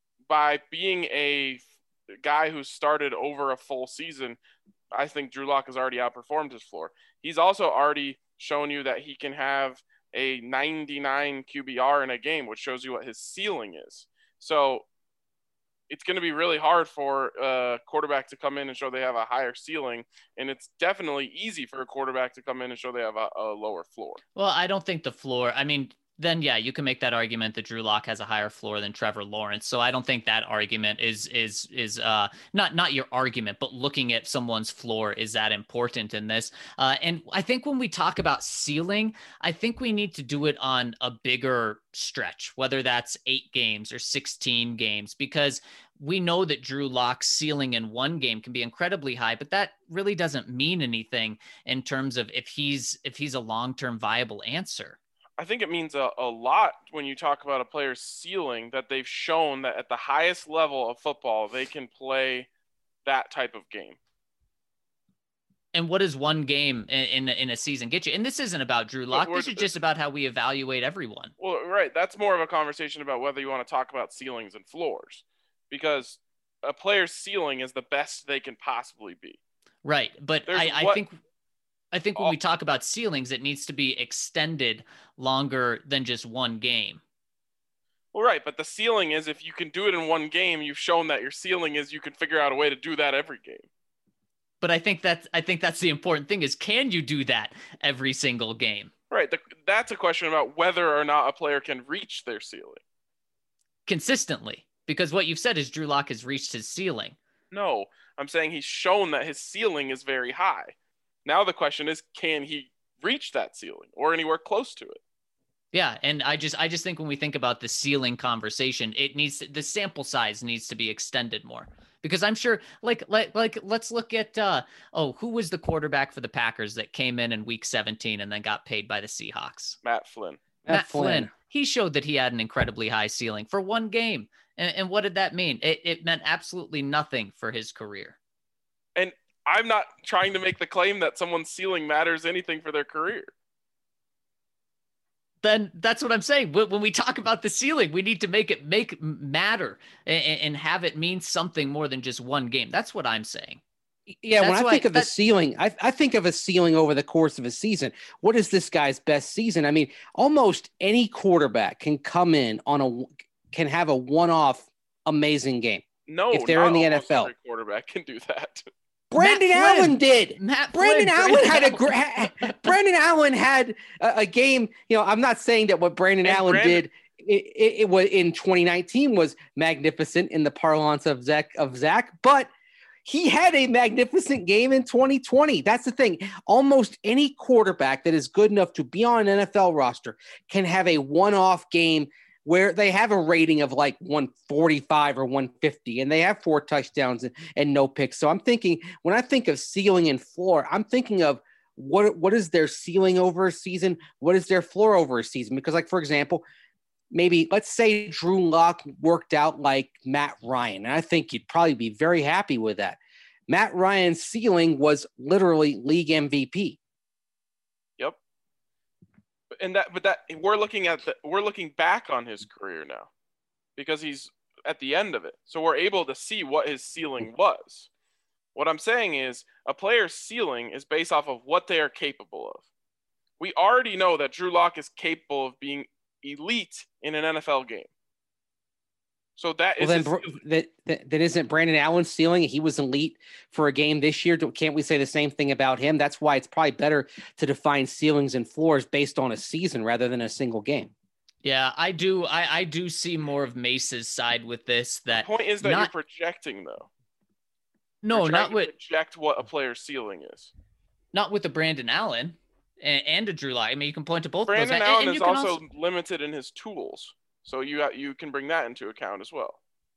Speaker 1: by being a guy who started over a full season, I think Drew Lock has already outperformed his floor. He's also already shown you that he can have a ninety-nine Q B R in a game, which shows you what his ceiling is. So it's going to be really hard for a quarterback to come in and show they have a higher ceiling, and it's definitely easy for a quarterback to come in and show they have a, a lower floor.
Speaker 3: Well, I don't think the floor, I mean, then yeah, you can make that argument that Drew Lock has a higher floor than Trevor Lawrence. So I don't think that argument is is is uh not not your argument, but looking at someone's floor is that important in this. Uh, and I think when we talk about ceiling, I think we need to do it on a bigger stretch, whether that's eight games or sixteen games, because we know that Drew Lock's ceiling in one game can be incredibly high, but that really doesn't mean anything in terms of if he's if he's a long-term viable answer.
Speaker 1: I think it means a, a lot when you talk about a player's ceiling, that they've shown that at the highest level of football, they can play that type of game.
Speaker 3: And what does one game in, in, in a season get you? And this isn't about Drew Lock. This is just about how we evaluate everyone.
Speaker 1: Well, right. That's more of a conversation about whether you want to talk about ceilings and floors, because a player's ceiling is the best they can possibly be.
Speaker 3: Right. But I, I
Speaker 1: what,
Speaker 3: think I think when we talk about ceilings, it needs to be extended longer than just one game.
Speaker 1: Well, right. But the ceiling is, if you can do it in one game, you've shown that your ceiling is you can figure out a way to do that every game.
Speaker 3: But I think that's I think that's the important thing is, can you do that every single game?
Speaker 1: Right. The, that's a question about whether or not a player can reach their ceiling
Speaker 3: consistently, because what you've said is Drew Lock has reached his ceiling.
Speaker 1: No, I'm saying he's shown that his ceiling is very high. Now the question is, can he reach that ceiling or anywhere close to it?
Speaker 3: Yeah, and I just I just think when we think about the ceiling conversation, it needs to, the sample size needs to be extended more. Because I'm sure, like, like, like, let's look at, uh, oh, who was the quarterback for the Packers that came in in week seventeen and then got paid by the Seahawks?
Speaker 1: Matt Flynn.
Speaker 3: Matt,
Speaker 4: Matt
Speaker 3: Flynn.
Speaker 4: Flynn.
Speaker 3: He showed that he had an incredibly high ceiling for one game. And, and what did that mean? It, it meant absolutely nothing for his career.
Speaker 1: And I'm not trying to make the claim that someone's ceiling matters anything for their career.
Speaker 3: Then that's what I'm saying. When we talk about the ceiling, we need to make it make matter and, and have it mean something more than just one game. That's what I'm saying.
Speaker 4: Yeah,
Speaker 3: That's
Speaker 4: when I
Speaker 3: why-
Speaker 4: think of the
Speaker 3: that-
Speaker 4: ceiling, I, I think of a ceiling over the course of a season. What is this guy's best season? I mean, almost any quarterback can come in on a can have a one-off amazing game.
Speaker 1: No,
Speaker 4: If they're
Speaker 1: not
Speaker 4: in the
Speaker 1: almost
Speaker 4: N F L.
Speaker 1: every quarterback can do that.
Speaker 4: Brandon
Speaker 3: Flynn.
Speaker 4: Allen did.
Speaker 3: Matt
Speaker 4: Brandon
Speaker 3: Flynn,
Speaker 4: Allen had a
Speaker 3: Allen.
Speaker 4: gra- Brandon Allen had a, a game. You know, I'm not saying that what Brandon
Speaker 1: And
Speaker 4: Allen
Speaker 1: Brandon-
Speaker 4: did it, it, it was in twenty nineteen was magnificent in the parlance of Zach of Zach, but he had a magnificent game in twenty twenty. That's the thing. Almost any quarterback that is good enough to be on an N F L roster can have a one-off game where they have a rating of like one forty-five or one fifty, and they have four touchdowns and, and no picks. So I'm thinking, when I think of ceiling and floor, I'm thinking of what what is their ceiling over a season? What is their floor over a season? Because, like, for example, maybe let's say Drew Lock worked out like Matt Ryan, and I think you'd probably be very happy with that. Matt Ryan's ceiling was literally league M V P.
Speaker 1: Yep. And that, but that we're looking at the, we're looking back on his career now, because he's at the end of it. So we're able to see what his ceiling was. What I'm saying is, a player's ceiling is based off of what they are capable of. We already know that Drew Lock is capable of being elite in an N F L game. So that
Speaker 4: well,
Speaker 1: is
Speaker 4: then, that, that that isn't Brandon Allen's ceiling. He was elite for a game this year. Can't we say the same thing about him? That's why it's probably better to define ceilings and floors based on a season rather than a single game.
Speaker 3: Yeah, I do. I, I do see more of Mace's side with this. That
Speaker 1: the point is that
Speaker 3: not,
Speaker 1: you're projecting, though.
Speaker 3: No, not with
Speaker 1: project what a player's ceiling is.
Speaker 3: Not with the Brandon Allen and, and a Drew Lock. I mean, you can point to both.
Speaker 1: Brandon
Speaker 3: of those.
Speaker 1: Allen
Speaker 3: and, and
Speaker 1: is also, also limited in his tools, so you got, you can bring that into account as well.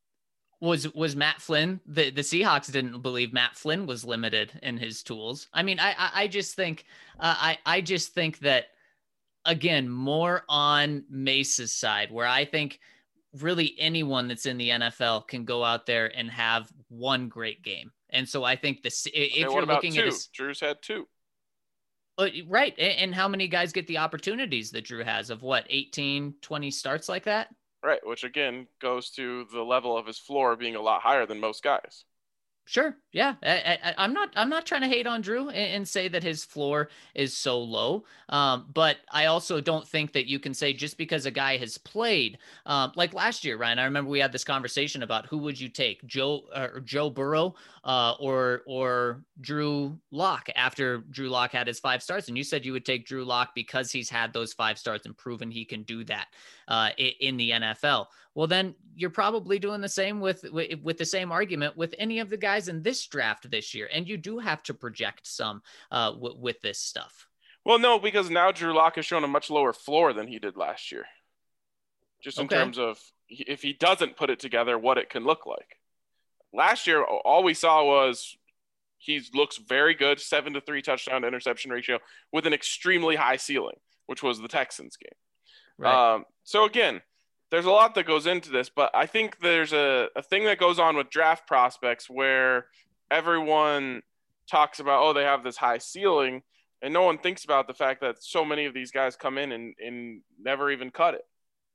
Speaker 3: Was was Matt Flynn? The the Seahawks didn't believe Matt Flynn was limited in his tools. I mean, I I, I just think uh, I I just think that again more on Mace's side, where I think really anyone that's in the N F L can go out there and have one great game. And so I think this if
Speaker 1: okay,
Speaker 3: you're
Speaker 1: what about
Speaker 3: looking
Speaker 1: two?
Speaker 3: at his,
Speaker 1: Drew's had two.
Speaker 3: Uh, right. And, and how many guys get the opportunities that Drew has of what, eighteen, twenty starts like that?
Speaker 1: Right, which again goes to the level of his floor being a lot higher than most guys.
Speaker 3: Sure. Yeah. I, I, I'm not, I'm not trying to hate on Drew and, and say that his floor is so low. Um, but I also don't think that you can say just because a guy has played, um, like last year, Ryan, I remember we had this conversation about who would you take, Joe uh, or Joe Burrow uh, or, or Drew Lock after Drew Lock had his five starts. And you said you would take Drew Lock because he's had those five starts and proven he can do that uh, in the N F L. Well, then you're probably doing the same with, with, with the same argument with any of the guys in this draft this year. And you do have to project some uh, w- with this stuff.
Speaker 1: Well, no, because now Drew Lock has shown a much lower floor than he did last year. Just in
Speaker 3: okay.
Speaker 1: terms of if he doesn't put it together, what it can look like. Last year, all we saw was he looks very good, seven to three touchdown to interception ratio with an extremely high ceiling, which was the Texans game.
Speaker 3: Right.
Speaker 1: Um, so again, there's a lot that goes into this, but I think there's a, a thing that goes on with draft prospects where everyone talks about, oh, they have this high ceiling, and no one thinks about the fact that so many of these guys come in and, and never even cut it.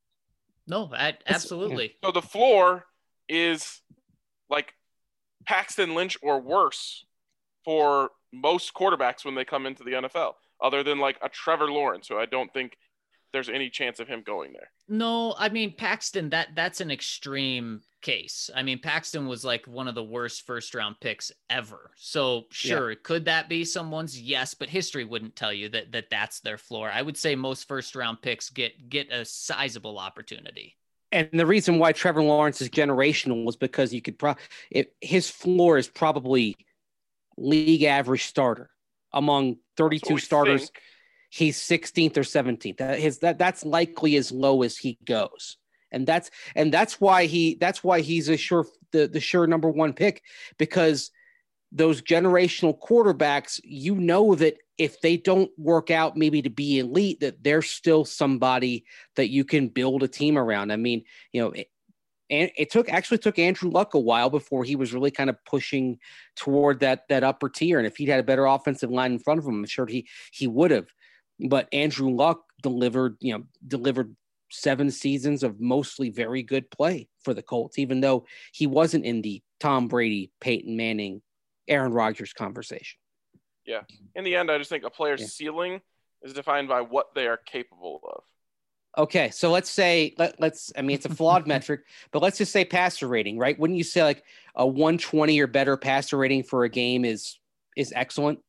Speaker 3: No, I, absolutely.
Speaker 1: So the floor is like Paxton Lynch or worse for most quarterbacks when they come into the N F L, other than like a Trevor Lawrence, who I don't think there's any chance of him going there.
Speaker 3: No, I mean, Paxton, that that's an extreme case. I mean, Paxton was like one of the worst first round picks ever. So sure, yeah. Could that be someone's? Yes, but history wouldn't tell you that, that that's their floor. I would say most first round picks get, get a sizable opportunity.
Speaker 4: And the reason why Trevor Lawrence is generational was because you could probably, his floor is probably league average starter among thirty-two starters. Think. He's sixteenth or seventeenth. That his that that's likely as low as he goes, and that's and that's why he that's why he's a sure the the sure number one pick, because those generational quarterbacks, you know that if they don't work out maybe to be elite, that they're still somebody that you can build a team around. I mean, you know, it, and it took actually took Andrew Luck a while before he was really kind of pushing toward that that upper tier. And if he'd had a better offensive line in front of him, I'm sure he he would have. But Andrew Luck delivered, you know, delivered seven seasons of mostly very good play for the Colts, even though he wasn't in the Tom Brady, Peyton Manning, Aaron Rodgers conversation.
Speaker 1: Yeah. In the end, I just think a player's yeah. ceiling is defined by what they are capable of.
Speaker 4: Okay. So let's say, let, let's, I mean, it's a flawed metric, but let's just say passer rating, right? Wouldn't you say like a one twenty or better passer rating for a game is, is excellent?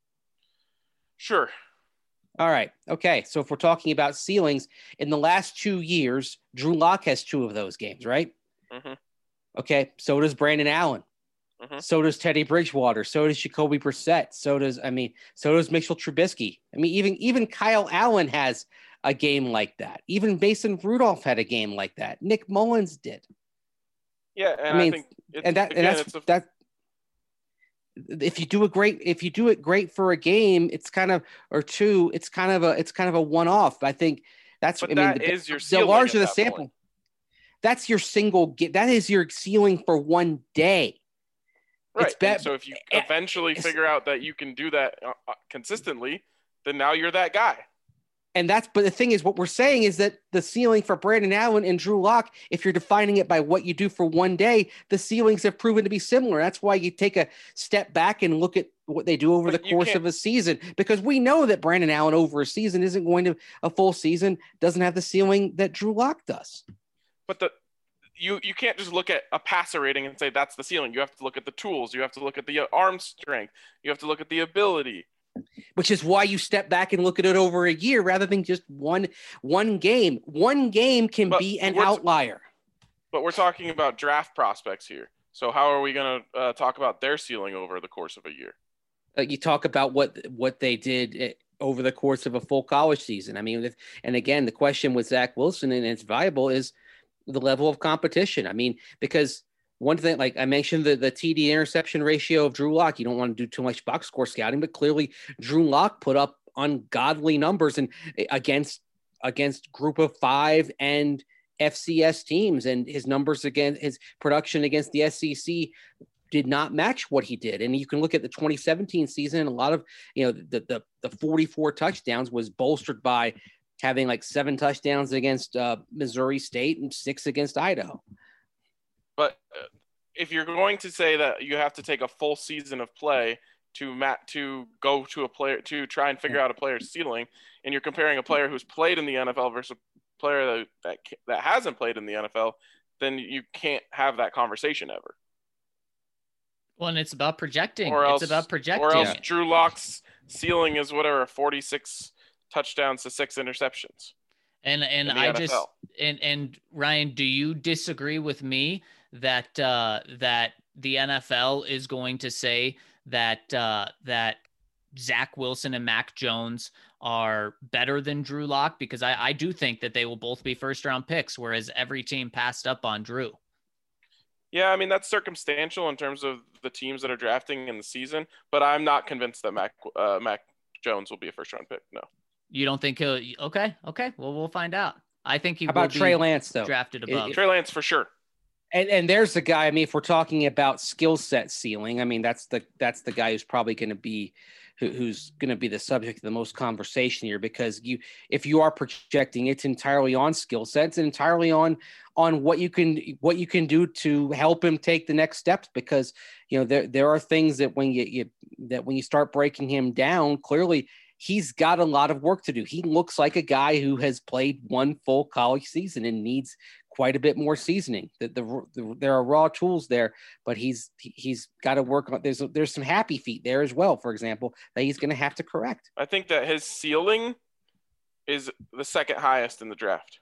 Speaker 1: Sure.
Speaker 4: All right. Okay. So if we're talking about ceilings, in the last two years, Drew Lock has two of those games, right?
Speaker 1: Mm-hmm.
Speaker 4: Okay. So does Brandon Allen.
Speaker 1: Mm-hmm.
Speaker 4: So does Teddy Bridgewater. So does Jacoby Brissett. So does, I mean, so does Mitchell Trubisky. I mean, even, even Kyle Allen has a game like that. Even Mason Rudolph had a game like that. Nick Mullins did.
Speaker 1: Yeah. And
Speaker 4: I mean,
Speaker 1: I think it's,
Speaker 4: and that,
Speaker 1: again,
Speaker 4: and that's,
Speaker 1: it's a,
Speaker 4: that, if you do a great, if you do it great for a game, it's kind of, or two, it's kind of a, it's kind of a one-off. I think that's,
Speaker 1: but
Speaker 4: I
Speaker 1: that
Speaker 4: mean,
Speaker 1: is
Speaker 4: the,
Speaker 1: your
Speaker 4: the larger the sample,
Speaker 1: point.
Speaker 4: That's your single, that is your ceiling for one day.
Speaker 1: Right.
Speaker 4: It's bad,
Speaker 1: so if you eventually figure out that you can do that uh, consistently, then now you're that guy.
Speaker 4: And that's, but the thing is, what we're saying is that the ceiling for Brandon Allen and Drew Lock, if you're defining it by what you do for one day, the ceilings have proven to be similar. That's why you take a step back and look at what they do over
Speaker 1: But
Speaker 4: the
Speaker 1: you
Speaker 4: course
Speaker 1: can't-
Speaker 4: of a season, because we know that Brandon Allen over a season isn't going to a full season, doesn't have the ceiling that Drew Lock does.
Speaker 1: But the you you can't just look at a passer rating and say that's the ceiling. You have to look at the tools. You have to look at the uh, arm strength. You have to look at the ability.
Speaker 4: Which is why you step back and look at it over a year rather than just one one game. One game can
Speaker 1: But
Speaker 4: be an
Speaker 1: we're-
Speaker 4: outlier.
Speaker 1: But we're talking about draft prospects here. So how are we going to uh, talk about their ceiling over the course of a year?
Speaker 4: Uh, you talk about what what they did eh, over the course of a full college season. I mean, and again, the question with Zach Wilson, and it's valuable, is the level of competition. I mean, because one thing, like I mentioned, the, the T D interception ratio of Drew Lock, you don't want to do too much box score scouting, but clearly Drew Lock put up ungodly numbers and against against group of five and F C S teams, and his numbers against his production against the S E C did not match what he did. And you can look at the twenty seventeen season, and a lot of, you know, the the, the forty-four touchdowns was bolstered by having like seven touchdowns against uh, Missouri State and six against Idaho.
Speaker 1: But uh, if you're going to say that you have to take a full season of play to mat to go to a player to try and figure out a player's ceiling, and you're comparing a player who's played in the N F L versus a player that that, that hasn't played in the N F L, then you can't have that conversation ever.
Speaker 3: Well, and it's about projecting.
Speaker 1: Or else,
Speaker 3: it's about projecting.
Speaker 1: Or else
Speaker 4: Yeah.
Speaker 1: Drew Lock's ceiling is whatever, forty-six touchdowns to six interceptions.
Speaker 3: And and
Speaker 1: in the
Speaker 3: I
Speaker 1: N F L.
Speaker 3: just and and Ryan, do you disagree with me that uh, that the N F L is going to say that uh, that Zach Wilson and Mac Jones are better than Drew Lock? Because I, I do think that they will both be first round picks, whereas every team passed up on Drew.
Speaker 1: Yeah, I mean, that's circumstantial in terms of the teams that are drafting in the season, but I'm not convinced that Mac uh, Mac Jones will be a first round pick. No.
Speaker 3: You don't think he'll? Okay, okay. Well, we'll find out. I think he
Speaker 4: How about
Speaker 3: will be
Speaker 4: Trey Lance, though?
Speaker 3: drafted
Speaker 4: It-
Speaker 3: above.
Speaker 4: it-
Speaker 1: Trey Lance for sure.
Speaker 4: And and there's the guy. I mean, if we're talking about skill set ceiling, I mean, that's the that's the guy who's probably going to be who, who's going to be the subject of the most conversation here, because you if you are projecting, it's entirely on skill sets and entirely on on what you can what you can do to help him take the next steps. Because you know there there are things that when you, you that when you start breaking him down, clearly he's got a lot of work to do. He looks like a guy who has played one full college season and needs quite a bit more seasoning. The, the, the there are raw tools there, but he's he's got to work on. There's there's some happy feet there as well, for example, that he's going to have to correct.
Speaker 1: I think that his ceiling is the second highest in the draft.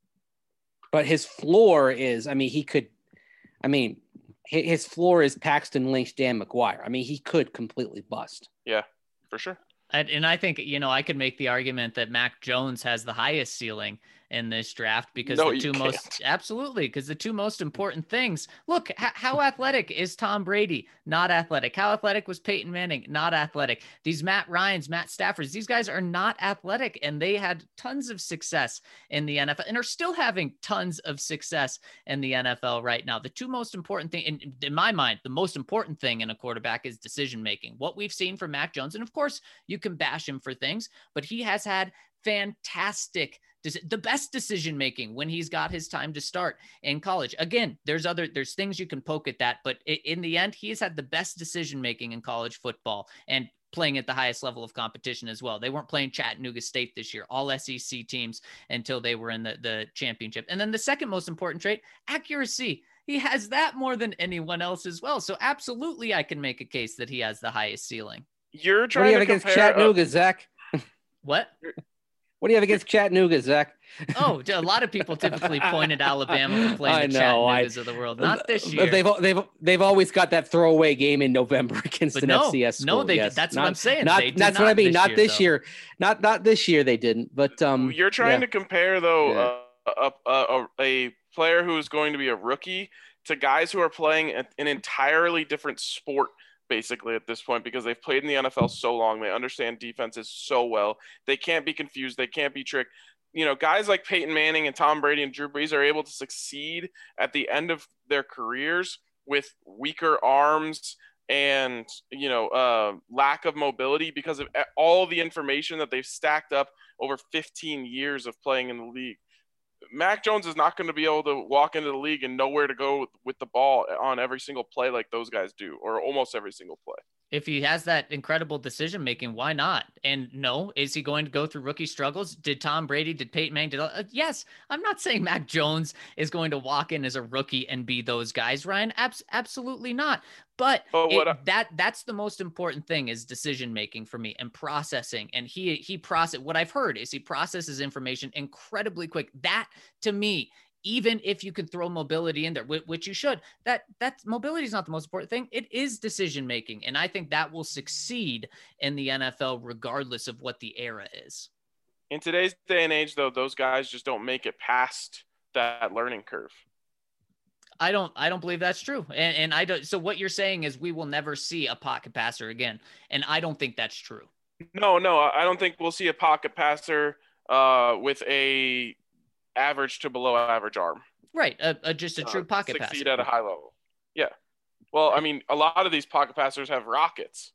Speaker 4: But his floor is, I mean, he could, I mean, hi- his floor is Paxton Lynch, Dan McGuire. I mean, he could completely bust.
Speaker 1: Yeah, for sure.
Speaker 3: And, and I think, you know, I could make the argument that Mac Jones has the highest ceiling in this draft because
Speaker 1: No,
Speaker 3: the
Speaker 1: you
Speaker 3: two most
Speaker 1: can't.
Speaker 3: absolutely because the two most important things. Look, h- how athletic is Tom Brady? Not athletic. How athletic was Peyton Manning? Not athletic. These Matt Ryans, Matt Staffords, these guys are not athletic, and they had tons of success in the N F L and are still having tons of success in the N F L right now. The two most important thing, in, in my mind, the most important thing in a quarterback is decision making. What we've seen from Mac Jones, and of course, you can bash him for things, but he has had fantastic, the best decision making when he's got his time to start in college. Again, there's other there's things you can poke at that, but in the end, he's had the best decision making in college football and playing at the highest level of competition as well. They weren't playing Chattanooga State this year, all S E C teams until they were in the, the championship. And then the second most important trait, accuracy. He has that more than anyone else as well. So absolutely, I can make a case that he has the highest ceiling.
Speaker 1: You're
Speaker 4: What do
Speaker 1: trying
Speaker 4: you have
Speaker 1: to
Speaker 4: against
Speaker 1: compare.
Speaker 4: Chattanooga, Zach?
Speaker 3: What?
Speaker 4: What do you have against Chattanooga, Zach?
Speaker 3: Oh, a lot of people typically pointed Alabama for playing
Speaker 4: I
Speaker 3: the
Speaker 4: know, I-
Speaker 3: Chattanoogas of the world. Not this
Speaker 4: But
Speaker 3: year.
Speaker 4: They've they've they've always got that throwaway game in November against
Speaker 3: But
Speaker 4: an
Speaker 3: no,
Speaker 4: F C S school.
Speaker 3: no, they
Speaker 4: yes.
Speaker 3: that's
Speaker 4: Not-
Speaker 3: what I'm saying.
Speaker 4: Not,
Speaker 3: They did
Speaker 4: that's what
Speaker 3: not
Speaker 4: I mean.
Speaker 3: this
Speaker 4: Not
Speaker 3: year,
Speaker 4: this
Speaker 3: though.
Speaker 4: year. Not not this year. They didn't. But um,
Speaker 1: You're trying
Speaker 4: yeah.
Speaker 1: to compare though
Speaker 4: Yeah.
Speaker 1: uh, a, a, a player who is going to be a rookie to guys who are playing an entirely different sport basically at this point, because they've played in the N F L so long. They understand defenses so well. They can't be confused. They can't be tricked. You know, guys like Peyton Manning and Tom Brady and Drew Brees are able to succeed at the end of their careers with weaker arms and, you know, uh, lack of mobility because of all the information that they've stacked up over fifteen years of playing in the league. Mac Jones is not going to be able to walk into the league and know where to go with the ball on every single play like those guys do, or almost every single play.
Speaker 3: If he has that incredible decision making, why not? And no, is he going to go through rookie struggles? Did Tom Brady, did Peyton Manning, did uh, yes? I'm not saying Mac Jones is going to walk in as a rookie and be those guys, Ryan. Abs- absolutely not. But,
Speaker 1: But what
Speaker 3: it,
Speaker 1: I-
Speaker 3: that that's the most important thing is decision making for me and processing. And he he process what I've heard is he processes information incredibly quick. That to me, even if you could throw mobility in there, which you should, that that mobility is not the most important thing. It is decision making, and I think that will succeed in the N F L regardless of what the era is.
Speaker 1: In today's day and age, though, those guys just don't make it past that learning curve.
Speaker 3: I don't I don't believe that's true. And, and I don't. So what you're saying is we will never see a pocket passer again, and I don't think that's true.
Speaker 1: No, no, I don't think we'll see a pocket passer uh, with a average to below average arm.
Speaker 3: Right, uh, uh, just a true
Speaker 1: uh,
Speaker 3: pocket
Speaker 1: succeed
Speaker 3: passer.
Speaker 1: at a high level. Yeah. Well, I mean, a lot of these pocket passers have rockets.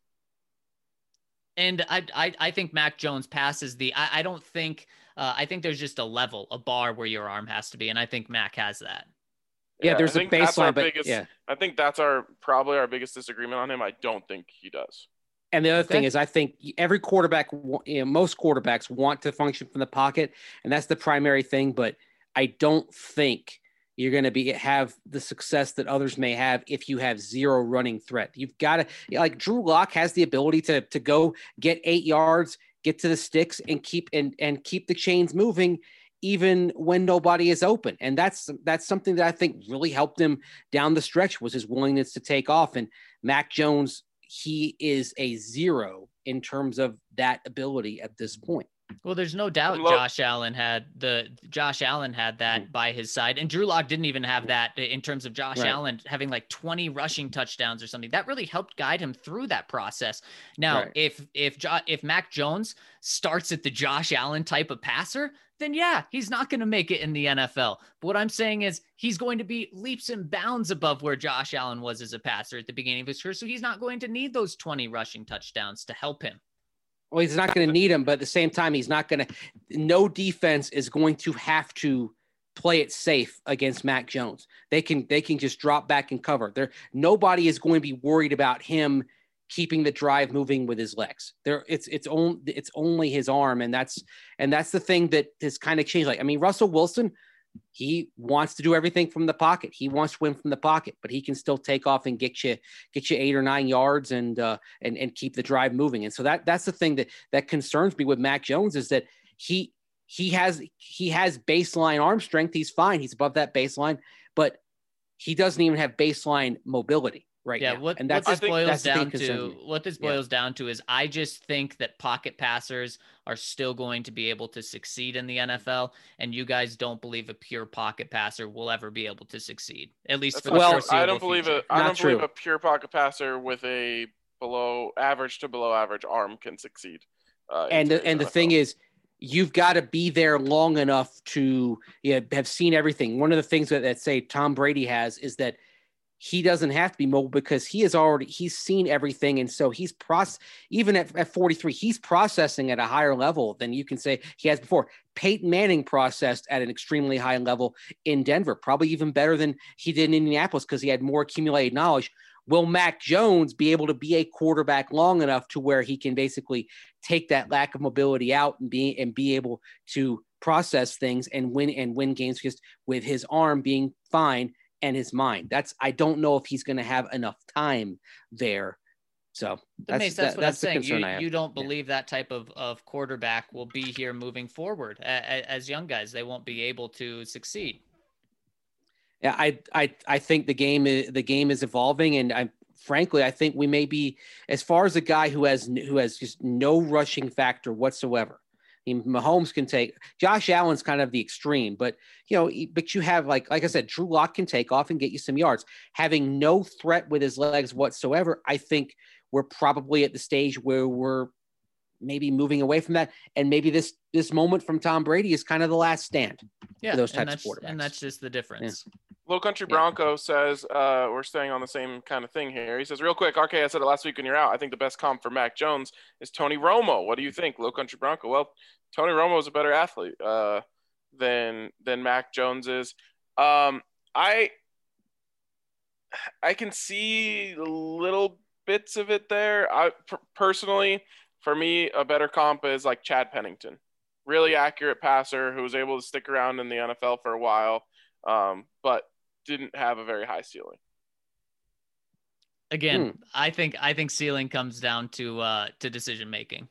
Speaker 3: And I, I, I think Mac Jones passes the. I, I don't think. Uh, I think there's just a level, a bar where your arm has to be, and I think Mac has that.
Speaker 4: Yeah, there's
Speaker 1: I
Speaker 4: a
Speaker 1: think that's our
Speaker 4: baseline, but
Speaker 1: biggest,
Speaker 4: yeah.
Speaker 1: I think that's our probably our biggest disagreement on him. I don't think he does.
Speaker 4: And the other
Speaker 3: Okay.
Speaker 4: thing is, I think every quarterback, wa- you know, most quarterbacks want to function from the pocket, and that's the primary thing. But I don't think you're going to be have the success that others may have if you have zero running threat. You've got to like Drew Lock has the ability to to go get eight yards, get to the sticks, and keep and and keep the chains moving, even when nobody is open. And that's that's something that I think really helped him down the stretch was his willingness to take off. And Mac Jones, he is a zero in terms of that ability at this point.
Speaker 3: Well, there's no doubt
Speaker 1: Lo-
Speaker 3: Josh Allen had the Josh Allen had that
Speaker 4: Mm.
Speaker 3: by his side, and Drew Lock didn't even have that in terms of Josh
Speaker 4: Right.
Speaker 3: Allen having like twenty rushing touchdowns or something. That really helped guide him through that process. Now,
Speaker 4: Right.
Speaker 3: if if jo- if Mac Jones starts at the Josh Allen type of passer, then yeah, he's not going to make it in the N F L. But what I'm saying is he's going to be leaps and bounds above where Josh Allen was as a passer at the beginning of his career, so he's not going to need those twenty rushing touchdowns to help him.
Speaker 4: Well, he's not going to need him, but at the same time, he's not going to. No defense is going to have to play it safe against Mac Jones. They can they can just drop back and cover. There, nobody is going to be worried about him keeping the drive moving with his legs. There, it's it's only it's only his arm, and that's and that's the thing that has kind of changed. Like I mean, Russell Wilson, he wants to do everything from the pocket. He wants to win from the pocket, but he can still take off and get you get you eight or nine yards and uh, and and keep the drive moving. And so that that's the thing that that concerns me with Mac Jones is that he he has he has baseline arm strength. He's fine. He's above that baseline, but he doesn't even have baseline mobility right
Speaker 3: Yeah,
Speaker 4: now.
Speaker 3: what,
Speaker 4: and
Speaker 3: what
Speaker 4: that's
Speaker 3: this
Speaker 1: think
Speaker 3: boils
Speaker 4: that's the thing
Speaker 3: down
Speaker 4: concerns
Speaker 3: to,
Speaker 4: me.
Speaker 3: what this
Speaker 4: Yeah.
Speaker 3: boils down to is I just think that pocket passers are still going to be able to succeed in the N F L, and you guys don't believe a pure pocket passer will ever be able to succeed, at least
Speaker 1: That's
Speaker 3: for
Speaker 1: not
Speaker 3: the
Speaker 4: Well,
Speaker 1: true. I
Speaker 3: foreseeable
Speaker 1: don't believe
Speaker 3: future.
Speaker 1: a I
Speaker 4: Not
Speaker 1: don't believe
Speaker 4: true.
Speaker 1: a pure pocket passer with a below average to below average arm can succeed. Uh, in
Speaker 4: and the,
Speaker 1: today's
Speaker 4: and the
Speaker 1: N F L.
Speaker 4: thing is, you've got to be there long enough to you know, have seen everything. One of the things that, that say Tom Brady has is that he doesn't have to be mobile because he has already he's seen everything, and so he's process even at, at forty-three, he's processing at a higher level than you can say he has before. Peyton Manning processed at an extremely high level in Denver, probably even better than he did in Indianapolis because he had more accumulated knowledge. Will Mac Jones be able to be a quarterback long enough to where he can basically take that lack of mobility out and be and be able to process things and win and win games just with his arm being fine and his mind? That's I don't know if he's going to have enough time there. So
Speaker 3: That
Speaker 4: that's
Speaker 3: makes, that's
Speaker 4: that-
Speaker 3: what I'm
Speaker 4: that's the
Speaker 3: saying.
Speaker 4: concern
Speaker 3: You,
Speaker 4: I have.
Speaker 3: you don't
Speaker 4: Yeah.
Speaker 3: believe that type of, of quarterback will be here moving forward a, a, as young guys. They won't be able to succeed.
Speaker 4: Yeah, I I I think the game is the game is evolving, and I frankly I think we may be as far as a guy who has who has just no rushing factor whatsoever. I mean, Mahomes can take Josh Allen's kind of the extreme, but you know, but you have like like I said, Drew Lock can take off and get you some yards. Having no threat with his legs whatsoever, I think we're probably at the stage where we're maybe moving away from that, and maybe this this moment from Tom Brady is kind of the last stand.
Speaker 3: Yeah,
Speaker 4: those
Speaker 3: and
Speaker 4: types of
Speaker 3: that's, and
Speaker 4: quarterbacks.
Speaker 3: that's just the difference.
Speaker 1: Low Country
Speaker 4: Yeah.
Speaker 1: Bronco says uh, we're staying on the same kind of thing here. He says, real quick, R K, I said it last week when you're out. I think the best comp for Mac Jones is Tony Romo. What do you think, Low Country Bronco? Well, Tony Romo is a better athlete uh, than than Mac Jones is. Um, I I can see a little bits of it there. I p- personally, for me, a better comp is like Chad Pennington, really accurate passer who was able to stick around in the N F L for a while, um, but didn't have a very high ceiling.
Speaker 3: Again,
Speaker 4: Hmm.
Speaker 3: I think I think ceiling comes down to uh, to decision making.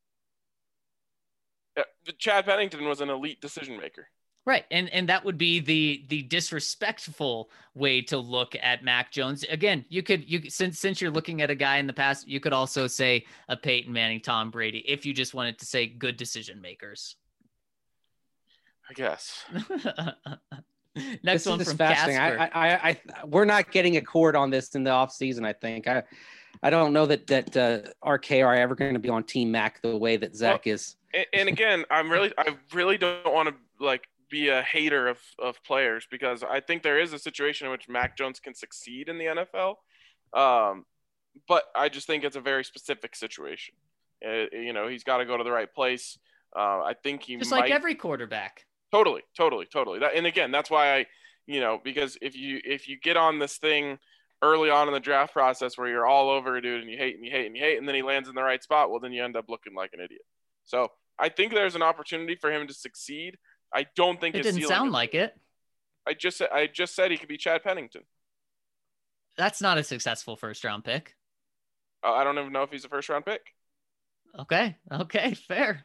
Speaker 1: Yeah, Chad Pennington was an elite decision maker.
Speaker 3: Right. And and that would be the the disrespectful way to look at Mac Jones. Again, you could you since since you're looking at a guy in the past, you could also say a Peyton Manning, Tom Brady, if you just wanted to say good decision makers.
Speaker 1: I guess.
Speaker 3: Next
Speaker 4: this
Speaker 3: one
Speaker 4: is
Speaker 3: from
Speaker 4: fascinating.
Speaker 3: Casper.
Speaker 4: I, I, I, we're not getting a chord on this in the off season. I think I, I don't know that that uh, R K are ever going to be on Team Mac the way that Zach well, is.
Speaker 1: And, and again, I'm really, I really don't want to like be a hater of of players because I think there is a situation in which Mac Jones can succeed in the N F L, um, but I just think it's a very specific situation. Uh, you know, he's got to go to the right place. Uh, I think he
Speaker 3: just
Speaker 1: might,
Speaker 3: like every quarterback.
Speaker 1: Totally, totally, totally. That, and again, that's why I, you know, because if you if you get on this thing early on in the draft process where you're all over a dude and you hate and you hate and you hate, and then he lands in the right spot, well, then you end up looking like an idiot. So I think there's an opportunity for him to succeed. I don't think
Speaker 3: it
Speaker 1: his
Speaker 3: didn't sound
Speaker 1: is,
Speaker 3: like it.
Speaker 1: I just I just said he could be Chad Pennington.
Speaker 3: That's not a successful first round pick.
Speaker 1: Uh, I don't even know if he's a first round pick.
Speaker 3: Okay. Okay. Fair.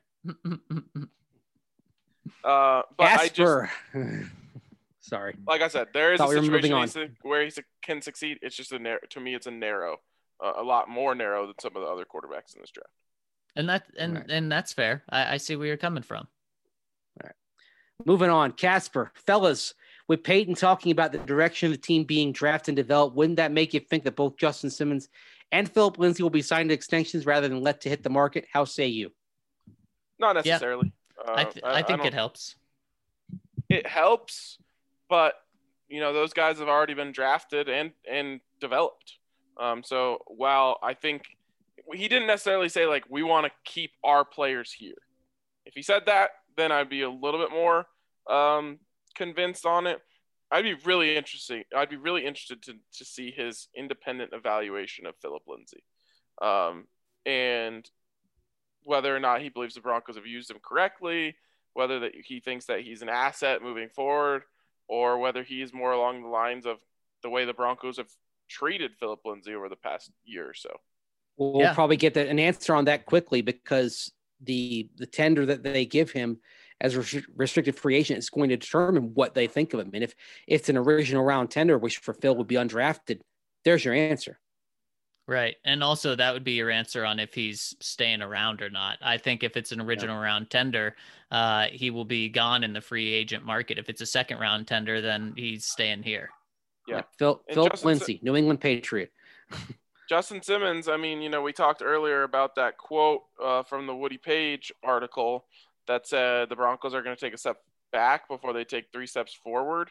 Speaker 1: Uh, but
Speaker 4: Casper.
Speaker 1: I just,
Speaker 4: sorry.
Speaker 1: Like I said, there is
Speaker 4: Thought
Speaker 1: a
Speaker 4: we
Speaker 1: situation where he can succeed. It's just a narrow, to me, it's a narrow, uh, a lot more narrow than some of the other quarterbacks in this draft.
Speaker 3: And that, and,
Speaker 4: right.
Speaker 3: and that's fair. I, I see where you're coming from.
Speaker 4: All right. Moving on. Casper, fellas, with Peyton talking about the direction of the team being drafted and developed, wouldn't that make you think that both Justin Simmons and Philip Lindsay will be signed to extensions rather than let to hit the market? How say you?
Speaker 1: Not necessarily.
Speaker 3: Yeah.
Speaker 1: Uh,
Speaker 3: I, th- I think
Speaker 1: I
Speaker 3: it helps.
Speaker 1: It helps, but you know those guys have already been drafted and and developed. Um, so while I think he didn't necessarily say like we want to keep our players here. If he said that, then I'd be a little bit more um, convinced on it. I'd be really interesting. I'd be really interested to to see his independent evaluation of Philip Lindsay, um, and whether or not he believes the Broncos have used him correctly, whether that he thinks that he's an asset moving forward, or whether he's more along the lines of the way the Broncos have treated Philip Lindsay over the past year or so.
Speaker 4: We'll yeah. probably get the, an answer on that quickly because the the tender that they give him as a restricted free agent is going to determine what they think of him. And if, if it's an original round tender, which for Phil would be undrafted, there's your answer.
Speaker 3: Right. And also that would be your answer on if he's staying around or not. I think if it's an original yeah. round tender, uh, he will be gone in the free agent market. If it's a second round tender, then he's staying here.
Speaker 1: Yeah.
Speaker 4: Phil, Phil Lindsay, New England Patriot.
Speaker 1: Justin Simmons, I mean, you know, we talked earlier about that quote uh, from the Woody Page article that said the Broncos are going to take a step back before they take three steps forward.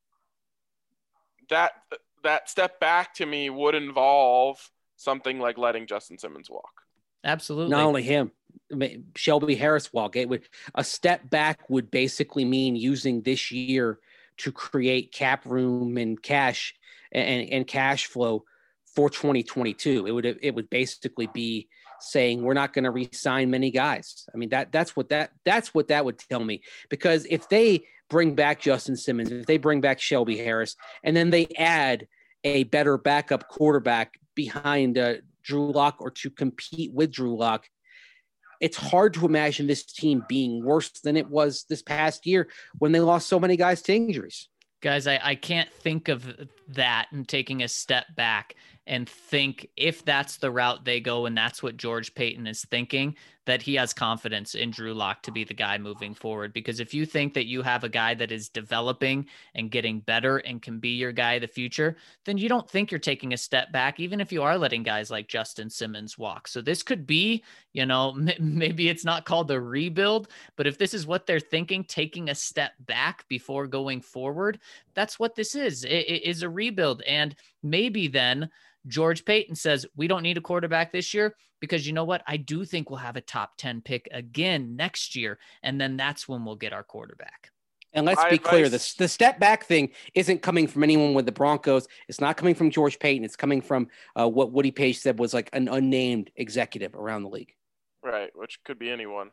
Speaker 1: That that step back to me would involve something like letting Justin Simmons walk.
Speaker 3: Absolutely.
Speaker 4: Not only him, Shelby Harris walk. It would a step back would basically mean using this year to create cap room and cash and, and cash flow for twenty twenty-two. It would it would basically be saying we're not going to re-sign many guys. I mean that that's what that that's what that would tell me, because if they bring back Justin Simmons, if they bring back Shelby Harris, and then they add a better backup quarterback behind uh, Drew Lock or to compete with Drew Lock, it's hard to imagine this team being worse than it was this past year when they lost so many guys to injuries.
Speaker 3: Guys, I, I can't think of that and taking a step back and think if that's the route they go and that's what George Paton is thinking, that he has confidence in Drew Lock to be the guy moving forward. Because if you think that you have a guy that is developing and getting better and can be your guy of the future, then you don't think you're taking a step back, even if you are letting guys like Justin Simmons walk. So this could be, you know, m- maybe it's not called a rebuild, but if this is what they're thinking, taking a step back before going forward, that's what this is. It, it is a rebuild. And maybe then George Paton says, we don't need a quarterback this year because you know what? I do think we'll have a top ten pick again next year. And then that's when we'll get our quarterback.
Speaker 4: And let's
Speaker 1: My
Speaker 4: be clear,
Speaker 1: advice-
Speaker 4: the, the step back thing isn't coming from anyone with the Broncos. It's not coming from George Payton. It's coming from uh, what Woody Page said was like an unnamed executive around the league.
Speaker 1: Right, which could be anyone.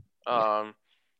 Speaker 1: Um,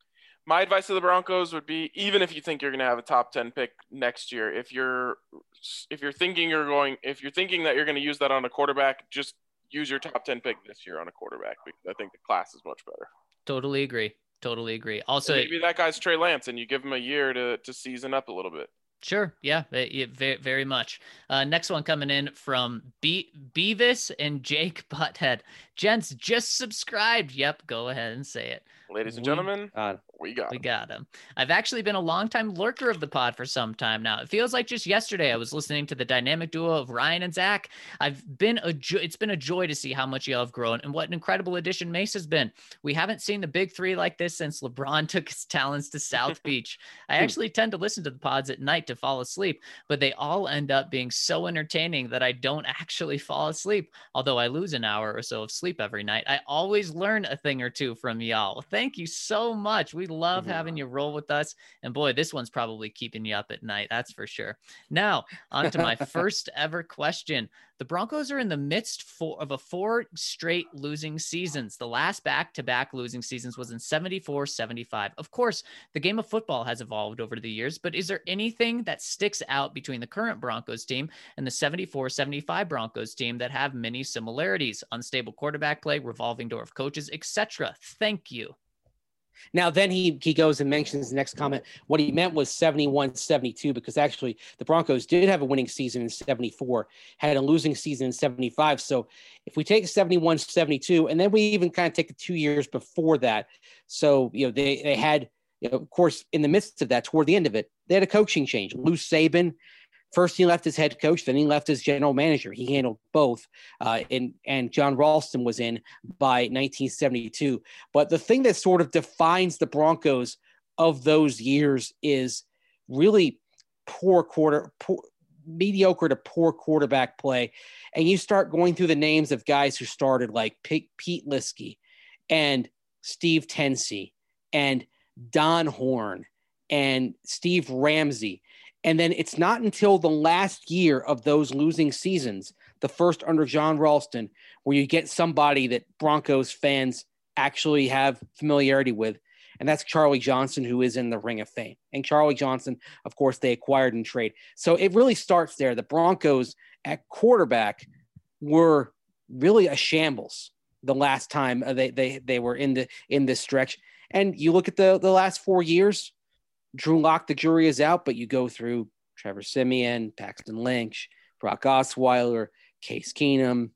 Speaker 1: my advice to the Broncos would be, even if you think you're going to have a top ten pick next year, if you're if you're thinking you're going, if you're thinking that you're going to use that on a quarterback, just use your top ten pick this year on a quarterback, because I think the class is much better.
Speaker 3: Totally agree. Totally agree. Also,
Speaker 1: And maybe that guy's Trey Lance, and you give him a year to to season up a little bit.
Speaker 3: sure. Yeah, very, very much. Uh, next one coming in from Be- Beavis and Jake Butthead. Gents, just subscribed. Yep, go ahead and say it.
Speaker 1: Ladies and
Speaker 4: We-
Speaker 1: gentlemen,
Speaker 4: Uh,
Speaker 1: we got
Speaker 3: We
Speaker 1: him.
Speaker 3: got him. I've actually been a longtime lurker of the pod for some time now. It feels like just yesterday I was listening to the dynamic duo of Ryan and Zach. I've been a jo- it's been a joy to see how much y'all have grown and what an incredible addition Mace has been. We haven't seen the big three like this since LeBron took his talents to South Beach. I actually tend to listen to the pods at night to fall asleep, but they all end up being so entertaining that I don't actually fall asleep. Although I lose an hour or so of sleep every night, I always learn a thing or two from y'all. Thank you so much. We love
Speaker 4: Mhm.
Speaker 3: having you roll with us. And boy, this one's probably keeping you up at night. That's for sure. Now, on to my first ever question. The Broncos are in the midst for, of a four straight losing seasons. The last back-to-back losing seasons was in seventy-four seventy-five. Of course, the game of football has evolved over the years, but is there anything that sticks out between the current Broncos team and the seventy-four seventy-five Broncos team that have many similarities? Unstable quarterback play, revolving door of coaches, et cetera. Thank you.
Speaker 4: Now, then he he goes and mentions the next comment. What he meant was seventy-one seventy-two, because actually the Broncos did have a winning season in seventy-four, had a losing season in seventy-five. So if we take seventy-one seventy-two, and then we even kind of take the two years before that. So, you know, they, they had, you know, of course, in the midst of that, toward the end of it, they had a coaching change. Lou Saban, first he left as head coach, then he left as general manager. He handled both. Uh, and, and John Ralston was in by nineteen seventy-two. But the thing that sort of defines the Broncos of those years is really poor quarter, poor, mediocre to poor quarterback play. And you start going through the names of guys who started, like Pete, Pete Liskey and Steve Tensey and Don Horn and Steve Ramsey. And then it's not until the last year of those losing seasons, the first under John Ralston, where you get somebody that Broncos fans actually have familiarity with. And that's Charlie Johnson, who is in the Ring of Fame. And Charlie Johnson, of course, they acquired in trade. So it really starts there. The Broncos at quarterback were really a shambles the last time they they they were in the in this stretch. And you look at the the last four years, Drew Lock, the jury is out, but you go through Trevor Siemian, Paxton Lynch, Brock Osweiler, Case Keenum,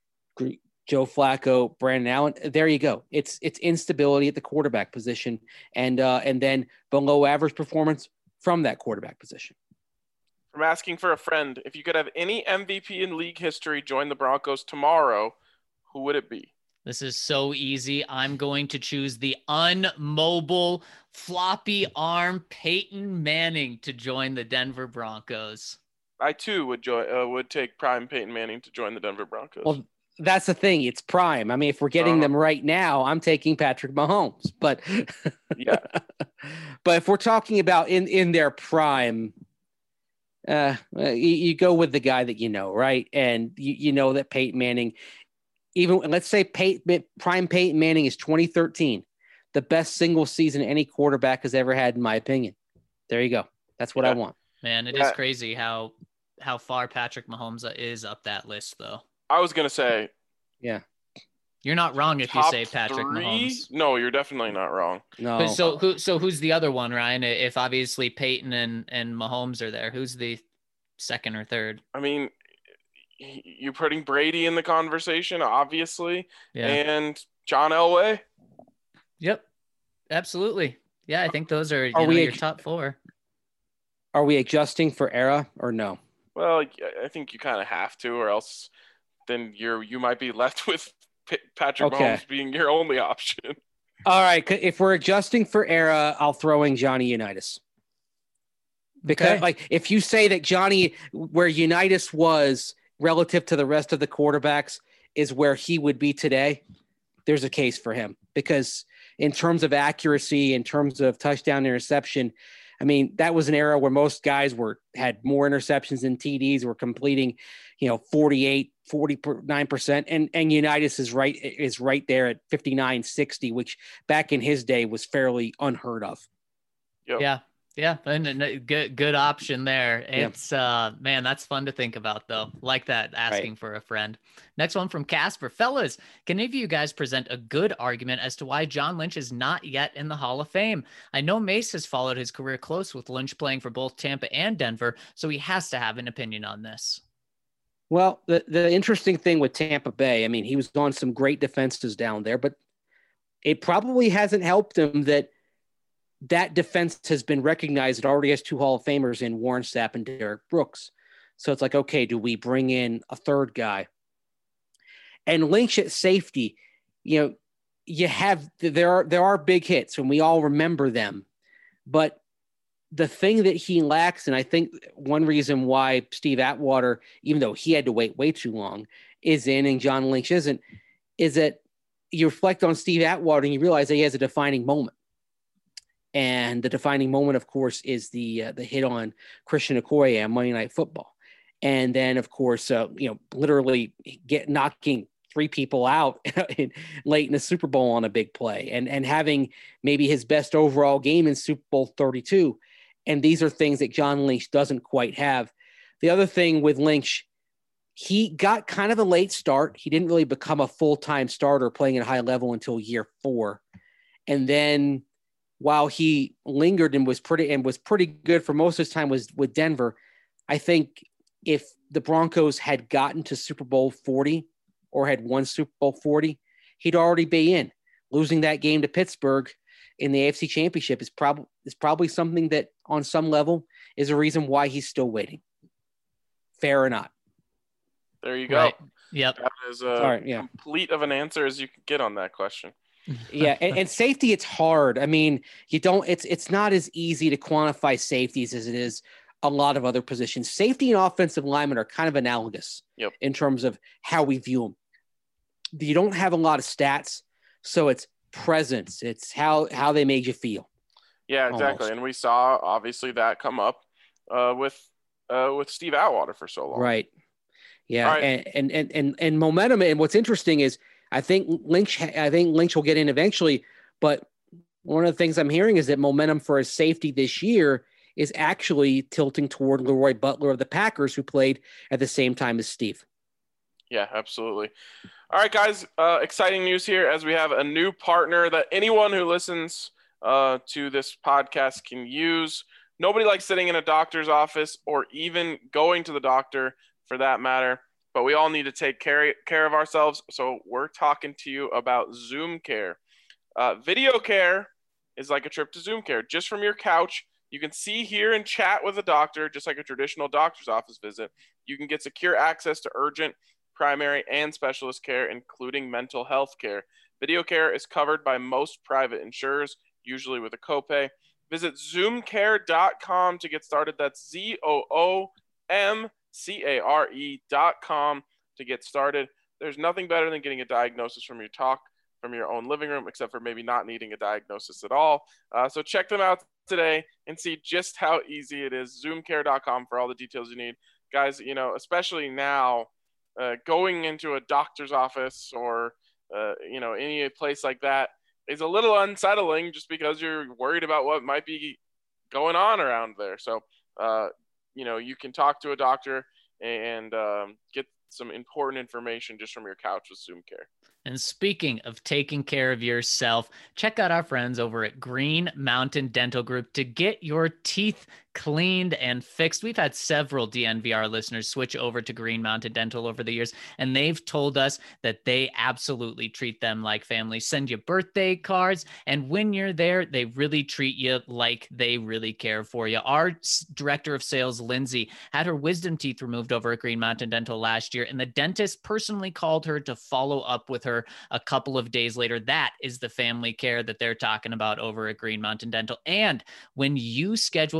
Speaker 4: Joe Flacco, Brandon Allen. There you go. It's it's instability at the quarterback position, and uh, and then below average performance from that quarterback position.
Speaker 1: From asking for a friend, if you could have any M V P in league history join the Broncos tomorrow, who would it be?
Speaker 3: This is so easy. I'm going to choose the unmobile floppy arm Peyton Manning to join the Denver Broncos.
Speaker 1: I too would join. Uh, would take prime Peyton Manning to join the Denver Broncos.
Speaker 4: Well, that's the thing. It's prime. I mean, if we're getting
Speaker 1: Uh-huh.
Speaker 4: them right now, I'm taking Patrick Mahomes. But
Speaker 1: Yeah.
Speaker 4: but if we're talking about in in their prime, uh, you, you go with the guy that you know, right? And you, you know that Peyton Manning, even let's say Peyton, prime Peyton Manning is twenty thirteen, the best single season any quarterback has ever had, in my opinion. There you go. That's what
Speaker 1: Yeah.
Speaker 4: I want.
Speaker 3: Man, it
Speaker 1: Yeah.
Speaker 3: is crazy how how far Patrick Mahomes is up that list, though.
Speaker 1: I was gonna say
Speaker 3: You're not wrong if you
Speaker 1: top
Speaker 3: say Patrick
Speaker 1: three.
Speaker 3: Mahomes.
Speaker 1: No, you're definitely not wrong.
Speaker 4: No,
Speaker 3: But So who so who's the other one, Ryan? If obviously Peyton and, and Mahomes are there, who's the second or third?
Speaker 1: I mean, y- you're putting Brady in the conversation, obviously,
Speaker 3: Yeah.
Speaker 1: and John Elway.
Speaker 3: Yep. Absolutely. Yeah, I think those are, you
Speaker 4: Are
Speaker 3: know,
Speaker 4: we-
Speaker 3: your top four.
Speaker 4: are we adjusting for era or no?
Speaker 1: Well, y- I think you kind of have to, or else then you're you might be left with P- Patrick
Speaker 4: Okay.
Speaker 1: Mahomes being your only option.
Speaker 4: All right. c- If we're adjusting for era, I'll throw in Johnny Unitas. Because,
Speaker 3: Okay.
Speaker 4: like, if you say that Johnny, where Unitas was relative to the rest of the quarterbacks, is where he would be today, there's a case for him. Because in terms of accuracy, in terms of touchdown interception, I mean, that was an era where most guys were had more interceptions than T Ds, were completing, you know, forty-eight, forty-nine percent. And, and Unitas is right, is right there at fifty-nine, sixty, which back in his day was fairly unheard of.
Speaker 1: Yep.
Speaker 3: Yeah. Yeah. And, and good, good option there. It's, yeah. uh, man, that's fun to think about though. Like that, asking right. for a friend. Next one from Casper. Fellas, can any of you guys present a good argument as to why John Lynch is not yet in the Hall of Fame? I know Mace has followed his career close with Lynch playing for both Tampa and Denver, so he has to have an opinion on this.
Speaker 4: Well, the, the interesting thing with Tampa Bay, I mean, he was on some great defenses down there, but it probably hasn't helped him that that defense has been recognized. It already has two Hall of Famers in Warren Sapp and Derek Brooks. So it's like, okay, do we bring in a third guy? And Lynch at safety, you know, you have, there are, there are big hits and we all remember them, but the thing that he lacks, and I think one reason why Steve Atwater, even though he had to wait way too long, is in and John Lynch isn't, is that you reflect on Steve Atwater and you realize that he has a defining moment. And the defining moment, of course, is the uh, the hit on Christian Okoye on Monday Night Football. And then, of course, uh, you know, literally get knocking three people out in, late in the Super Bowl on a big play and, and having maybe his best overall game in Super Bowl thirty-two. And these are things that John Lynch doesn't quite have. The other thing with Lynch, he got kind of a late start. He didn't really become a full-time starter playing at a high level until year four. And then while he lingered and was pretty and was pretty good for most of his time was with Denver, I think if the Broncos had gotten to Super Bowl forty or had won Super Bowl forty, he'd already be in. Losing that game to Pittsburgh in the A F C Championship is probably is probably something that on some level is a reason why he's still waiting. Fair or not.
Speaker 1: There you go.
Speaker 3: Right. Yep.
Speaker 1: That is a
Speaker 4: right, yeah.
Speaker 1: complete of an answer as you could get on that question.
Speaker 4: yeah, and, and safety, it's hard. I mean, you don't. It's it's not as easy to quantify safeties as it is a lot of other positions. Safety and offensive linemen are kind of analogous
Speaker 1: yep.
Speaker 4: in terms of how we view them. You don't have a lot of stats, so it's presence. It's how how they made you feel.
Speaker 1: Yeah, exactly.
Speaker 4: Almost.
Speaker 1: And we saw obviously that come up uh, with uh, with Steve Atwater for so long.
Speaker 4: Right. Yeah,
Speaker 1: right.
Speaker 4: And, and and and and momentum. And what's interesting is, I think Lynch, I think Lynch will get in eventually, but one of the things I'm hearing is that momentum for his safety this year is actually tilting toward Leroy Butler of the Packers, who played at the same time as Steve.
Speaker 1: Yeah, absolutely. All right, guys, uh, exciting news here as we have a new partner that anyone who listens uh, to this podcast can use. Nobody likes sitting in a doctor's office or even going to the doctor for that matter. But we all need to take care, care of ourselves. So we're talking to you about Zoom Care. Uh, video care is like a trip to Zoom Care. Just from your couch, you can see, hear, and chat with a doctor, just like a traditional doctor's office visit. You can get secure access to urgent, primary, and specialist care, including mental health care. Video care is covered by most private insurers, usually with a copay. Visit zoom care dot com to get started. That's Z O O M C A R E dot com to get started. There's nothing better than getting a diagnosis from your talk from your own living room, except for maybe not needing a diagnosis at all. Uh, so check them out today and see just how easy it is. zoom care dot com for all the details you need. Guys, you know, especially now, uh, going into a doctor's office or, uh, you know, any place like that is a little unsettling just because you're worried about what might be going on around there. So, uh, you know, you can talk to a doctor and um, get some important information just from your couch with Zoom Care.
Speaker 3: And speaking of taking care of yourself, check out our friends over at Green Mountain Dental Group to get your teeth cleaned and fixed. We've had several D N V R listeners switch over to Green Mountain Dental over the years, and they've told us that they absolutely treat them like family, send you birthday cards, and when you're there, they really treat you like they really care for you. Our director of sales, Lindsay, had her wisdom teeth removed over at Green Mountain Dental last year, and the dentist personally called her to follow up with her a couple of days later. That is the family care that they're talking about over at Green Mountain Dental. And when you schedule a cleaning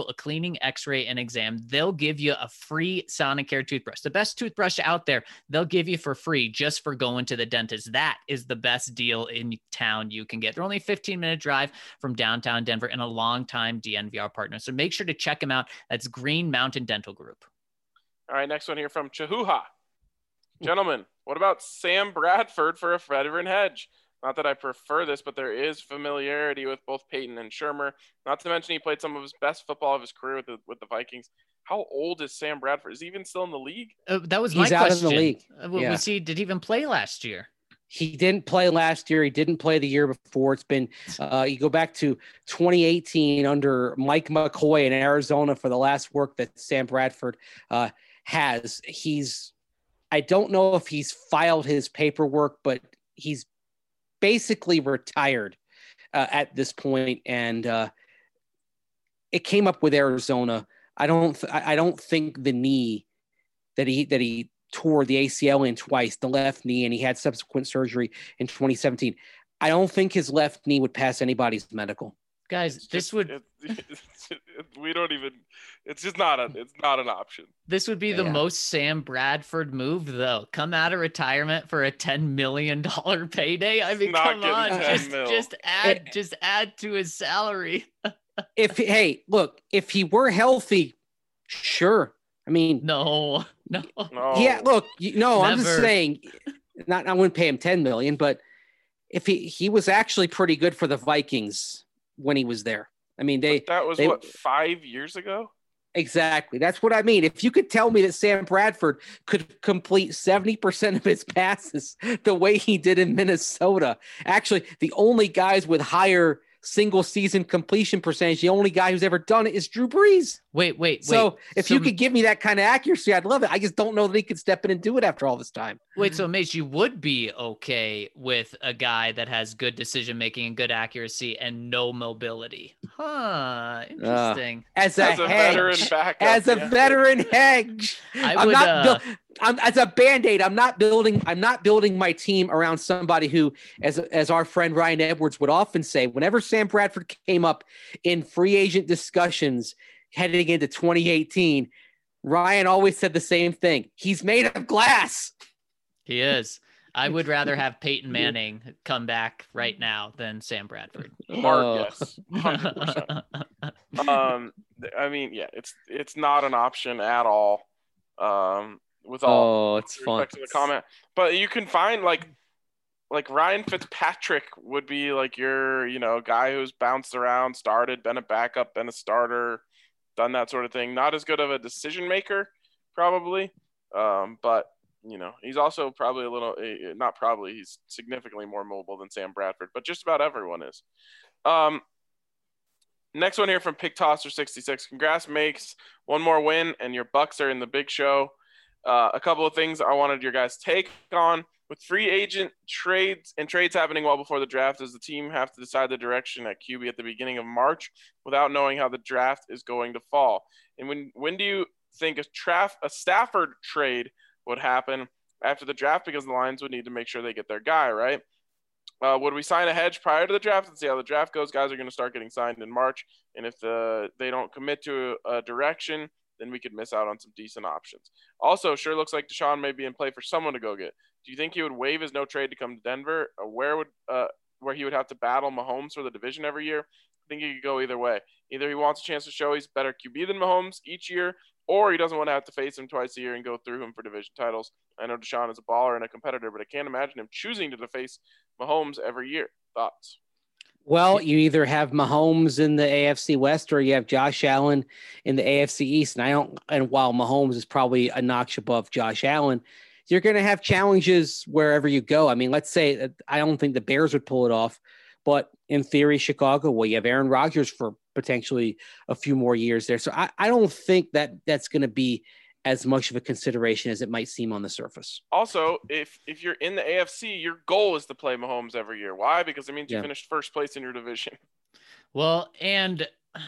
Speaker 3: screening, x-ray, and exam. They'll give you a free Sonicare toothbrush, the best toothbrush out there. They'll give you for free just for going to the dentist. That is the best deal in town you can get. They're only a fifteen minute drive from downtown Denver and a longtime D N V R partner. So make sure to check them out. That's Green Mountain Dental Group.
Speaker 1: All right, next one here from Chahuha. Gentlemen, what about Sam Bradford for a veteran hedge? Not that I prefer this, but there is familiarity with both Peyton and Shermer. Not to mention he played some of his best football of his career with the with the Vikings. How old is Sam Bradford? Is he even still in the league?
Speaker 3: Uh, that was my
Speaker 4: He's out
Speaker 3: question.
Speaker 4: of the league.
Speaker 3: Uh, yeah. Was he? Did he even play last year?
Speaker 4: He didn't play last year. He didn't play the year before. It's been uh, you go back to twenty eighteen under Mike McCoy in Arizona for the last work that Sam Bradford uh, has. He's I don't know if he's filed his paperwork, but he's basically retired uh, at this point, and uh, it came up with Arizona. I don't. Th- I don't think the knee that he that he tore the A C L in twice, the left knee, and he had subsequent surgery in twenty seventeen. I don't think his left knee would pass anybody's medical.
Speaker 3: Guys,
Speaker 1: It's
Speaker 3: this
Speaker 1: just-
Speaker 3: would
Speaker 1: it- it's- it- we don't even. It's just not a. It's not an option.
Speaker 3: this would be the
Speaker 4: Yeah.
Speaker 3: most Sam Bradford move, though. Come out of retirement for a ten million dollar payday. I mean,
Speaker 1: not
Speaker 3: come
Speaker 1: getting
Speaker 3: on,
Speaker 1: ten
Speaker 3: just
Speaker 1: mil.
Speaker 3: just add just add to his salary.
Speaker 4: If hey, look, if he were healthy, sure. I mean,
Speaker 3: No, no.
Speaker 1: No.
Speaker 4: yeah. Look, you, no, I'm just
Speaker 3: Never.
Speaker 4: saying. Not, I wouldn't pay him ten million, but if he he was actually pretty good for the Vikings when he was there. I mean, they
Speaker 1: But that was
Speaker 4: they-
Speaker 1: what five years ago.
Speaker 4: exactly. That's what I mean. If you could tell me that Sam Bradford could complete seventy percent of his passes the way he did in Minnesota, actually, the only guys with higher single season completion percentage, the only guy who's ever done it is Drew Brees.
Speaker 3: Wait, wait,
Speaker 4: So
Speaker 3: wait.
Speaker 4: if
Speaker 3: So-
Speaker 4: you could give me that kind of accuracy, I'd love it. I just don't know that he could step in and do it after all this time.
Speaker 3: Wait, so Mace, you would be okay with a guy that has good decision making and good accuracy and no mobility? Huh. Interesting.
Speaker 4: As a,
Speaker 1: As a
Speaker 4: hedge,
Speaker 1: veteran backup.
Speaker 4: as a
Speaker 1: yeah.
Speaker 4: veteran hedge.
Speaker 3: I
Speaker 4: I'm
Speaker 3: would,
Speaker 4: not
Speaker 3: uh,
Speaker 4: buil- I'm as a band-aid. I'm not building. I'm not building my team around somebody who, as as our friend Ryan Edwards would often say, whenever Sam Bradford came up in free agent discussions heading into twenty eighteen, Ryan always said the same thing. He's made of glass.
Speaker 3: He is. I would rather have Peyton Manning come back right now than Sam Bradford.
Speaker 1: Hard
Speaker 4: Oh.
Speaker 1: yes, hundred percent. Um, th- I mean, yeah, it's it's not an option at all. Um, with all
Speaker 4: Oh, it's fun.
Speaker 1: respect to the comment, but you can find like like Ryan Fitzpatrick would be like your you know guy who's bounced around, started, been a backup, been a starter, done that sort of thing. Not as good of a decision maker, probably, um, but you know he's also probably a little eh, not probably he's significantly more mobile than Sam Bradford, but just about everyone is. Um, next one here from Pig Tosser sixty-six. Congrats, makes one more win, and your Bucks are in the big show. Uh, a couple of things I wanted your guys' take on. With free agent trades and trades happening well before the draft, does the team have to decide the direction at Q B at the beginning of March without knowing how the draft is going to fall? And when when do you think a, traf- a Stafford trade would happen after the draft? Because the Lions would need to make sure they get their guy, right? Uh, would we sign a hedge prior to the draft and see how the draft goes? Guys are going to start getting signed in March, and if the, they don't commit to a, a direction, then we could miss out on some decent options. Also, sure looks like Deshaun may be in play for someone to go get. Do you think he would waive his no trade to come to Denver? Or where would uh, where he would have to battle Mahomes for the division every year? I think he could go either way. Either he wants a chance to show he's better Q B than Mahomes each year, or he doesn't want to have to face him twice a year and go through him for division titles. I know Deshaun is a baller and a competitor, but I can't imagine him choosing to face Mahomes every year. Thoughts?
Speaker 4: Well, you either have Mahomes in the A F C West or you have Josh Allen in the A F C East. And I don't, and while Mahomes is probably a notch above Josh Allen, you're going to have challenges wherever you go. I mean, let's say I don't think the Bears would pull it off, but in theory, Chicago, well, you have Aaron Rodgers for potentially a few more years there. So I, I don't think that that's going to be as much of a consideration as it might seem on the surface.
Speaker 1: Also, if if you're in the A F C, your goal is to play Mahomes every year. Why? Because it means you
Speaker 4: Yeah.
Speaker 1: finished first place in your division.
Speaker 3: Well, and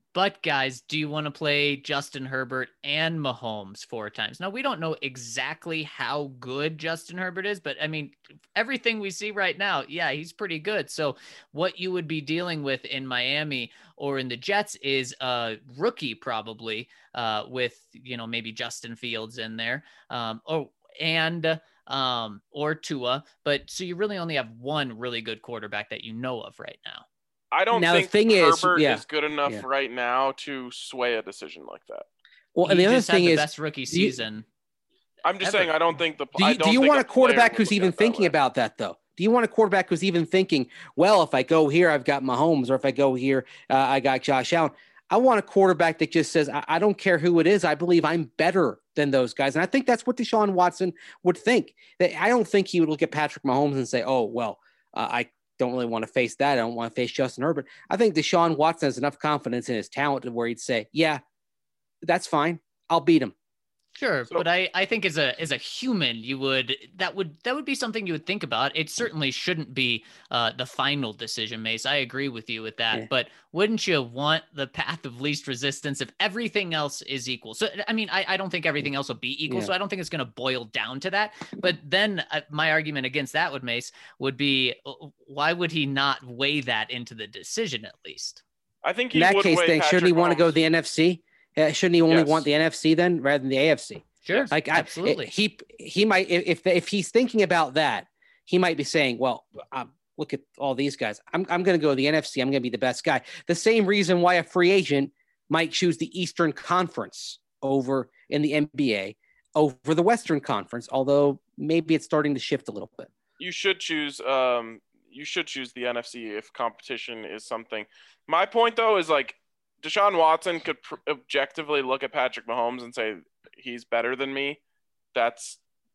Speaker 3: But guys, do you want to play Justin Herbert and Mahomes four times? Now, we don't know exactly how good Justin Herbert is, but I mean, everything we see right now, yeah, he's pretty good. So what you would be dealing with in Miami or in the Jets is a rookie probably uh, with, you know, maybe Justin Fields in there. Um, oh, and um, or Tua. But so you really only have one really good quarterback that you know of right now.
Speaker 1: I don't
Speaker 4: Now,
Speaker 1: think
Speaker 4: the thing
Speaker 1: Herbert
Speaker 4: is, yeah,
Speaker 1: is good enough
Speaker 4: yeah.
Speaker 1: right now to sway a decision like that.
Speaker 4: Well,
Speaker 3: he
Speaker 4: and the other
Speaker 3: just
Speaker 4: thing
Speaker 3: had the
Speaker 4: is,
Speaker 3: best rookie
Speaker 4: you-
Speaker 3: season.
Speaker 1: I'm just
Speaker 3: ever.
Speaker 1: saying I don't think the
Speaker 4: do
Speaker 1: I
Speaker 4: you,
Speaker 1: don't
Speaker 4: do you
Speaker 1: think
Speaker 4: want a
Speaker 1: player
Speaker 4: quarterback
Speaker 1: would
Speaker 4: who's
Speaker 1: look
Speaker 4: even
Speaker 1: at it that
Speaker 4: thinking
Speaker 1: way.
Speaker 4: about that, though? Do you want a quarterback who's even thinking, well, if I go here, I've got Mahomes, or if I go here, uh, I got Josh Allen? I want a quarterback that just says, I, I don't care who it is. I believe I'm better than those guys. And I think that's what Deshaun Watson would think. That I don't think he would look at Patrick Mahomes and say, oh, well, uh, I don't really want to face that. I don't want to face Justin Herbert. I think Deshaun Watson has enough confidence in his talent to where he'd say, yeah, that's fine. I'll beat him.
Speaker 3: Sure,
Speaker 1: So-
Speaker 3: but I, I think as a as a human, you would that would that would be something you would think about. It certainly shouldn't be uh, the final decision, Mace. I agree with you with that.
Speaker 4: Yeah.
Speaker 3: But wouldn't you want the path of least resistance if everything else is equal? So I mean, I, I don't think everything else will be equal.
Speaker 4: Yeah.
Speaker 3: So I don't think it's going to boil down to that. But then uh, my argument against that would Mace would be uh, why would he not weigh that into the decision at least?
Speaker 1: I think he
Speaker 4: In that
Speaker 1: would
Speaker 4: case,
Speaker 1: weigh
Speaker 4: then, shouldn't he
Speaker 1: Patrick
Speaker 4: want to go to
Speaker 1: Mahomes.
Speaker 4: the N F C? Uh, shouldn't he only
Speaker 1: Yes.
Speaker 4: want the N F C then rather than the A F C?
Speaker 3: Sure,
Speaker 1: Yes.
Speaker 4: Like, I,
Speaker 3: absolutely.
Speaker 4: he he might if if he's thinking about that, he might be saying, "Well, um, look at all these guys. I'm I'm going to go to the N F C. I'm going to be the best guy." The same reason why a free agent might choose the Eastern Conference over in the N B A over the Western Conference, although maybe it's starting to shift a little bit.
Speaker 1: You should choose um you should choose the N F C if competition is something. My point though is like Deshaun Watson could pr- objectively look at Patrick Mahomes and say he's better than me. That's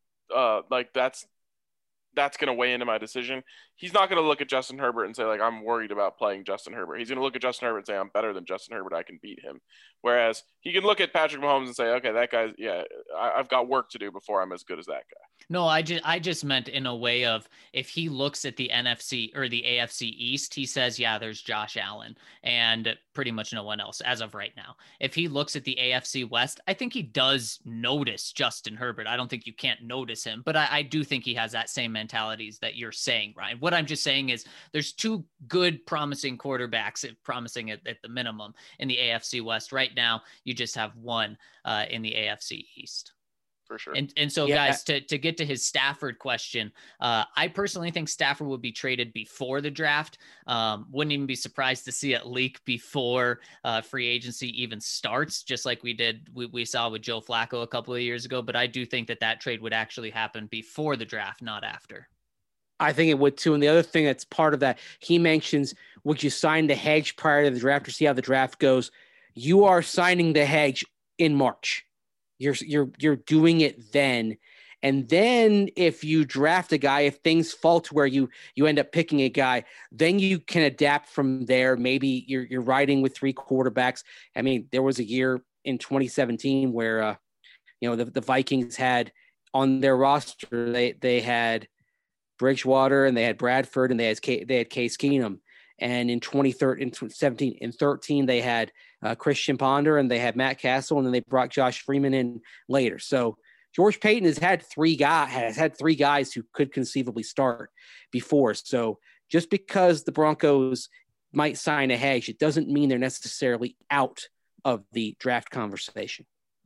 Speaker 1: uh like that's that's going to weigh into my decision. He's not going to look at Justin Herbert and say like I'm worried about playing Justin Herbert. He's going to look at Justin Herbert and say I'm better than Justin Herbert. I can beat him. Whereas he can look at Patrick Mahomes and say, okay, that guy's yeah, I, I've got work to do before I'm as good as that guy.
Speaker 3: No, I just I just meant in a way of if he looks at the N F C or the A F C East, he says, yeah, there's Josh Allen and pretty much no one else as of right now. If he looks at the A F C West, I think he does notice Justin Herbert. I don't think you can't notice him, but I, I do think he has that same mentalities that you're saying, Ryan. What I'm just saying is there's two good, promising quarterbacks, promising at, at the minimum in the A F C West. Right now, you just have one uh, in the A F C East.
Speaker 1: For sure.
Speaker 3: And and so,
Speaker 4: Yeah.
Speaker 3: guys, to, to get to his Stafford question, uh, I personally think Stafford would be traded before the draft. Um, wouldn't even be surprised to see it leak before uh, free agency even starts, just like we did, we, we saw with Joe Flacco a couple of years ago. But I do think that that trade would actually happen before the draft, not after.
Speaker 4: I think it would too. And the other thing that's part of that, he mentions, would you sign the hedge prior to the draft or see how the draft goes? You are signing the hedge in March. You're you're you're doing it then. And then if you draft a guy, if things fall to where you you end up picking a guy, then you can adapt from there. Maybe you're you're riding with three quarterbacks. I mean, there was a year in twenty seventeen where uh, you know the, the Vikings had on their roster, they they had Bridgewater and they had Bradford and they had K, they had Case Keenum. And in twenty thirteen, in seventeen, in thirteen, they had uh, Christian Ponder and they had Matt Castle, and then they brought Josh Freeman in later. So George Payton has had three guys has had three guys who could conceivably start before. So just because the Broncos might sign a hedge, it doesn't mean they're necessarily out of the draft conversation.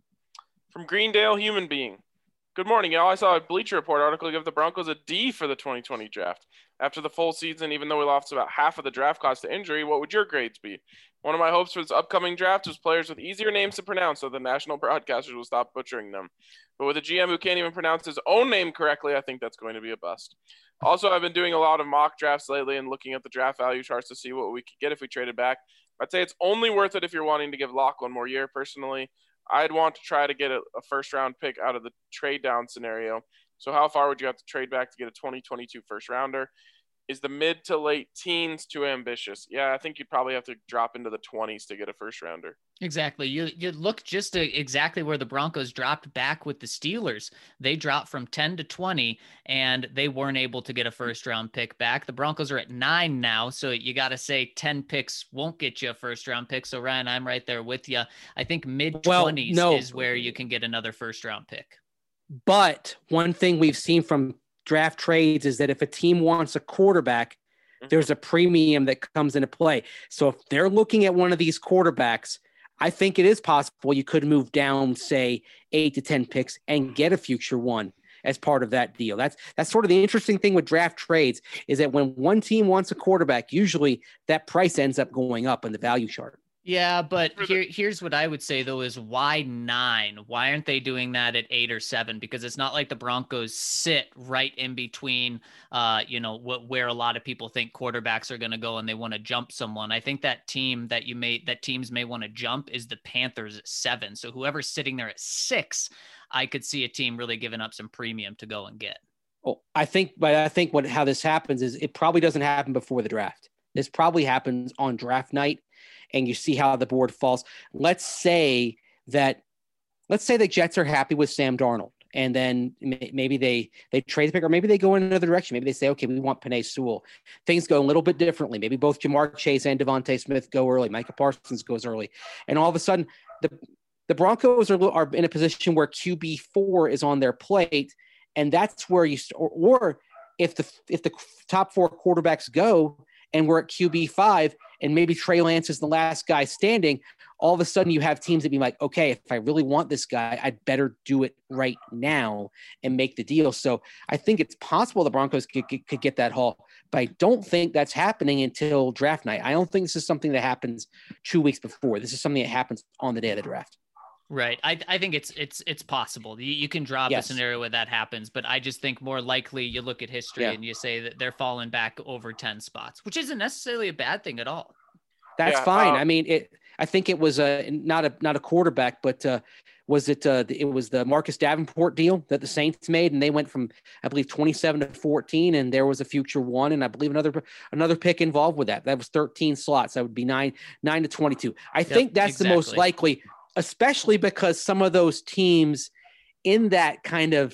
Speaker 1: From Greendale Human Being. Good morning, y'all. I saw a Bleacher Report article give the Broncos a D for the twenty twenty draft. After the full season, even though we lost about half of the draft cost to injury, what would your grades be? One of my hopes for this upcoming draft was players with easier names to pronounce so the national broadcasters will stop butchering them. But with a G M who can't even pronounce his own name correctly, I think that's going to be a bust. Also, I've been doing a lot of mock drafts lately and looking at the draft value charts to see what we could get if we traded back. I'd say it's only worth it if you're wanting to give Locke one more year, personally. I'd want to try to get a, a first-round pick out of the trade-down scenario. So how far would you have to trade back to get a twenty twenty-two first-rounder? is the mid to late teens too ambitious? Yeah, I think you'd probably have to drop into the twenties to get a first rounder.
Speaker 3: Exactly. You you look just to exactly where the Broncos dropped back with the Steelers. They dropped from ten to twenty, and they weren't able to get a first round pick back. The Broncos are at nine now, so you got to say ten picks won't get you a first round pick. So Ryan, I'm right there with you. I think mid twenties
Speaker 4: well, no.
Speaker 3: is where you can get another first round pick.
Speaker 4: But one thing we've seen from draft trades is that if a team wants a quarterback, there's a premium that comes into play. So if they're looking at one of these quarterbacks, I think it is possible you could move down, say, eight to ten picks and get a future one as part of that deal. That's that's sort of the interesting thing with draft trades is that when one team wants a quarterback, usually that price ends up going up in the value chart.
Speaker 3: Yeah, but here, here's what I would say, though, is why nine? Why aren't they doing that at eight or seven? Because it's not like the Broncos sit right in between, uh, you know, wh- where a lot of people think quarterbacks are going to go and they want to jump someone. I think that team that you may, that teams may want to jump is the Panthers at seven. So whoever's sitting there at six, I could see a team really giving up some premium to go and get.
Speaker 4: Oh, I think, but I think what how this happens is it probably doesn't happen before the draft. This probably happens on draft night. And you see how the board falls. Let's say that, let's say the Jets are happy with Sam Darnold, and then maybe they they trade the pick, or maybe they go in another direction. Maybe they say, okay, we want Penei Sewell. Things go a little bit differently. Maybe both Jamar Chase and Devontae Smith go early. Micah Parsons goes early, and all of a sudden, the the Broncos are are in a position where Q B four is on their plate, and that's where you or, or if the if the top four quarterbacks go and we're at Q B five. And maybe Trey Lance is the last guy standing, all of a sudden you have teams that be like, okay, if I really want this guy, I'd better do it right now and make the deal. So I think it's possible the Broncos could, could, could get that haul, but I don't think that's happening until draft night. I don't think this is something that happens two weeks before. This is something that happens on the day of the draft.
Speaker 3: Right. I I think it's it's it's possible. You, you can draw up yes. a scenario where that happens, but I just think more likely you look at history yeah. and you say that they're falling back over ten spots, which isn't necessarily a bad thing at all.
Speaker 4: That's yeah, fine. Um, I mean, it. I think it was a not a not a quarterback, but uh, was it? Uh, it was the Marcus Davenport deal that the Saints made, and they went from I believe twenty-seven to fourteen, and there was a future one, and I believe another another pick involved with that. That was thirteen slots. That would be nine nine to twenty-two. I yep, think that's exactly. the most likely. Especially because some of those teams in that kind of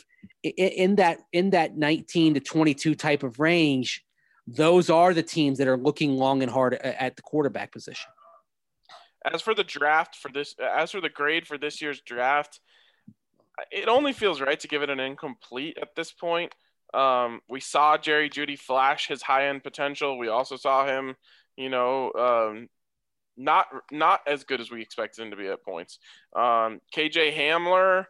Speaker 4: in that in that nineteen to twenty-two type of range, those are the teams that are looking long and hard at the quarterback position.
Speaker 1: As for the draft for this, as for the grade for this year's draft, it only feels right to give it an incomplete at this point. Um, we saw Jerry Jeudy flash his high end potential. We also saw him, you know. Um, Not not as good as we expected him to be at points. Um, K J Hamler,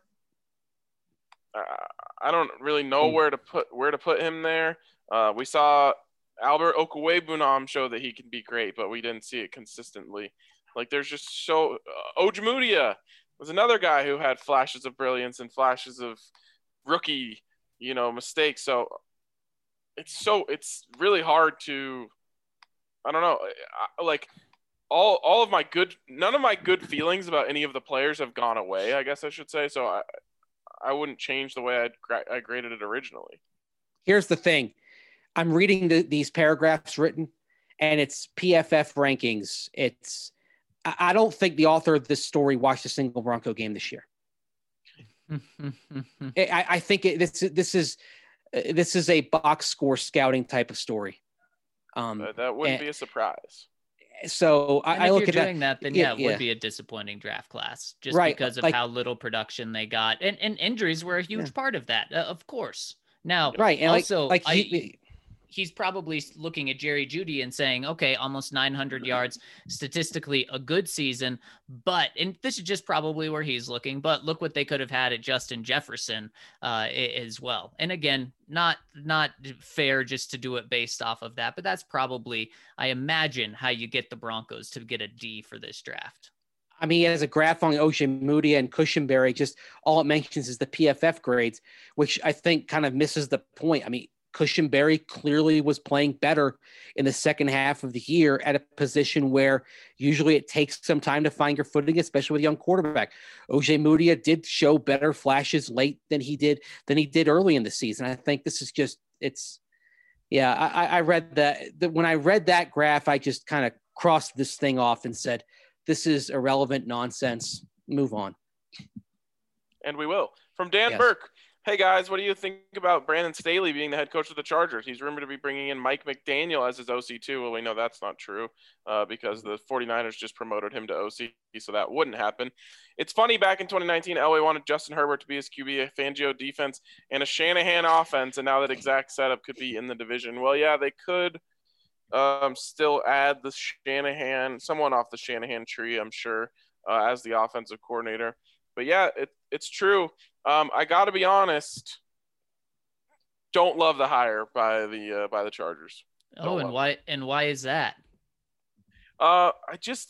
Speaker 1: uh, I don't really know where to put where to put him there. Uh, we saw Albert Okwuegbunam show that he can be great, but we didn't see it consistently. Like there's just so uh, Ojemudia was another guy who had flashes of brilliance and flashes of rookie, you know, mistakes. So it's so it's really hard to, I don't know, I, like. All all of my good none of my good feelings about any of the players have gone away, I guess I should say. So I I wouldn't change the way I'd, I graded it originally.
Speaker 4: Here's the thing. I'm reading the, these paragraphs written, and it's P F F rankings. It's I don't think the author of this story watched a single Bronco game this year. I, I think it, this this is this is a box score scouting type of story.
Speaker 1: Um, uh, that wouldn't and, be a surprise.
Speaker 4: So I,
Speaker 3: and
Speaker 4: I
Speaker 3: if
Speaker 4: look
Speaker 3: you're
Speaker 4: at
Speaker 3: doing
Speaker 4: that,
Speaker 3: that, then yeah, it
Speaker 4: yeah.
Speaker 3: would be a disappointing draft class just
Speaker 4: right.
Speaker 3: because of
Speaker 4: like,
Speaker 3: how little production they got, and and injuries were a huge
Speaker 4: yeah.
Speaker 3: part of that, uh, of course. Now,
Speaker 4: right, and
Speaker 3: also,
Speaker 4: like, like
Speaker 3: I,
Speaker 4: he,
Speaker 3: he's probably looking at Jerry Jeudy and saying, okay, almost nine hundred yards, statistically a good season, but, and this is just probably where he's looking, but look what they could have had at Justin Jefferson uh, as well. And again, not, not fair just to do it based off of that, but that's probably, I imagine, how you get the Broncos to get a D for this draft.
Speaker 4: I mean, he has a graph on Ojemudia and Cushenberry. Just all it mentions is the P F F grades, which I think kind of misses the point. I mean, Cushenberry clearly was playing better in the second half of the year at a position where usually it takes some time to find your footing, especially with a young quarterback. Ojemudia did show better flashes late than he did than he did early in the season. I think this is just it's Yeah, I, I read that. The, when I read that graph, I just kind of crossed this thing off and said, this is irrelevant nonsense. Move on.
Speaker 1: And we will. From Dan
Speaker 4: Yes.
Speaker 1: Burke. Hey, guys, what do you think about Brandon Staley being the head coach of the Chargers? He's rumored to be bringing in Mike McDaniel as his O C too. Well, we know that's not true uh, because the 49ers just promoted him to O C, so that wouldn't happen. It's funny, back in twenty nineteen, Elway wanted Justin Herbert to be his Q B, a Fangio defense, and a Shanahan offense, and now that exact setup could be in the division. Well, yeah, they could um, still add the Shanahan, someone off the Shanahan tree, I'm sure, uh, as the offensive coordinator. But, yeah, it, it's true. Um, I got to be honest, don't love the hire by the uh, by the Chargers. Don't
Speaker 3: Oh, and why it. and why is that?
Speaker 1: Uh, I just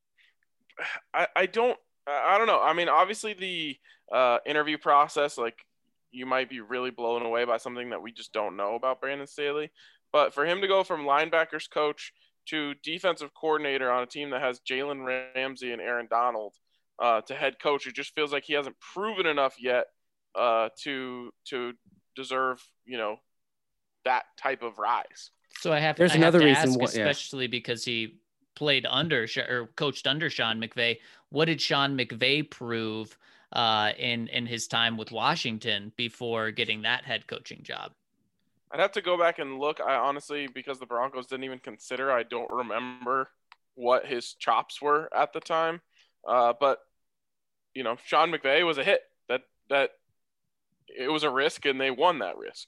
Speaker 1: I I don't I don't know. I mean, obviously the uh, interview process, like, you might be really blown away by something that we just don't know about Brandon Staley. But for him to go from linebackers coach to defensive coordinator on a team that has Jalen Ramsey and Aaron Donald, Uh, to head coach, it just feels like he hasn't proven enough yet uh, to to deserve, you know, that type of rise.
Speaker 3: So I have.
Speaker 4: There's
Speaker 3: I
Speaker 4: another
Speaker 3: have to
Speaker 4: reason
Speaker 3: ask,
Speaker 4: why- yeah.
Speaker 3: especially because he played under or coached under Sean McVay. What did Sean McVay prove uh, in in his time with Washington before getting that head coaching job?
Speaker 1: I'd have to go back and look. I honestly, because the Broncos didn't even consider, I don't remember what his chops were at the time. Uh, but you know, Sean McVay was a hit. That that it was a risk, and they won that risk.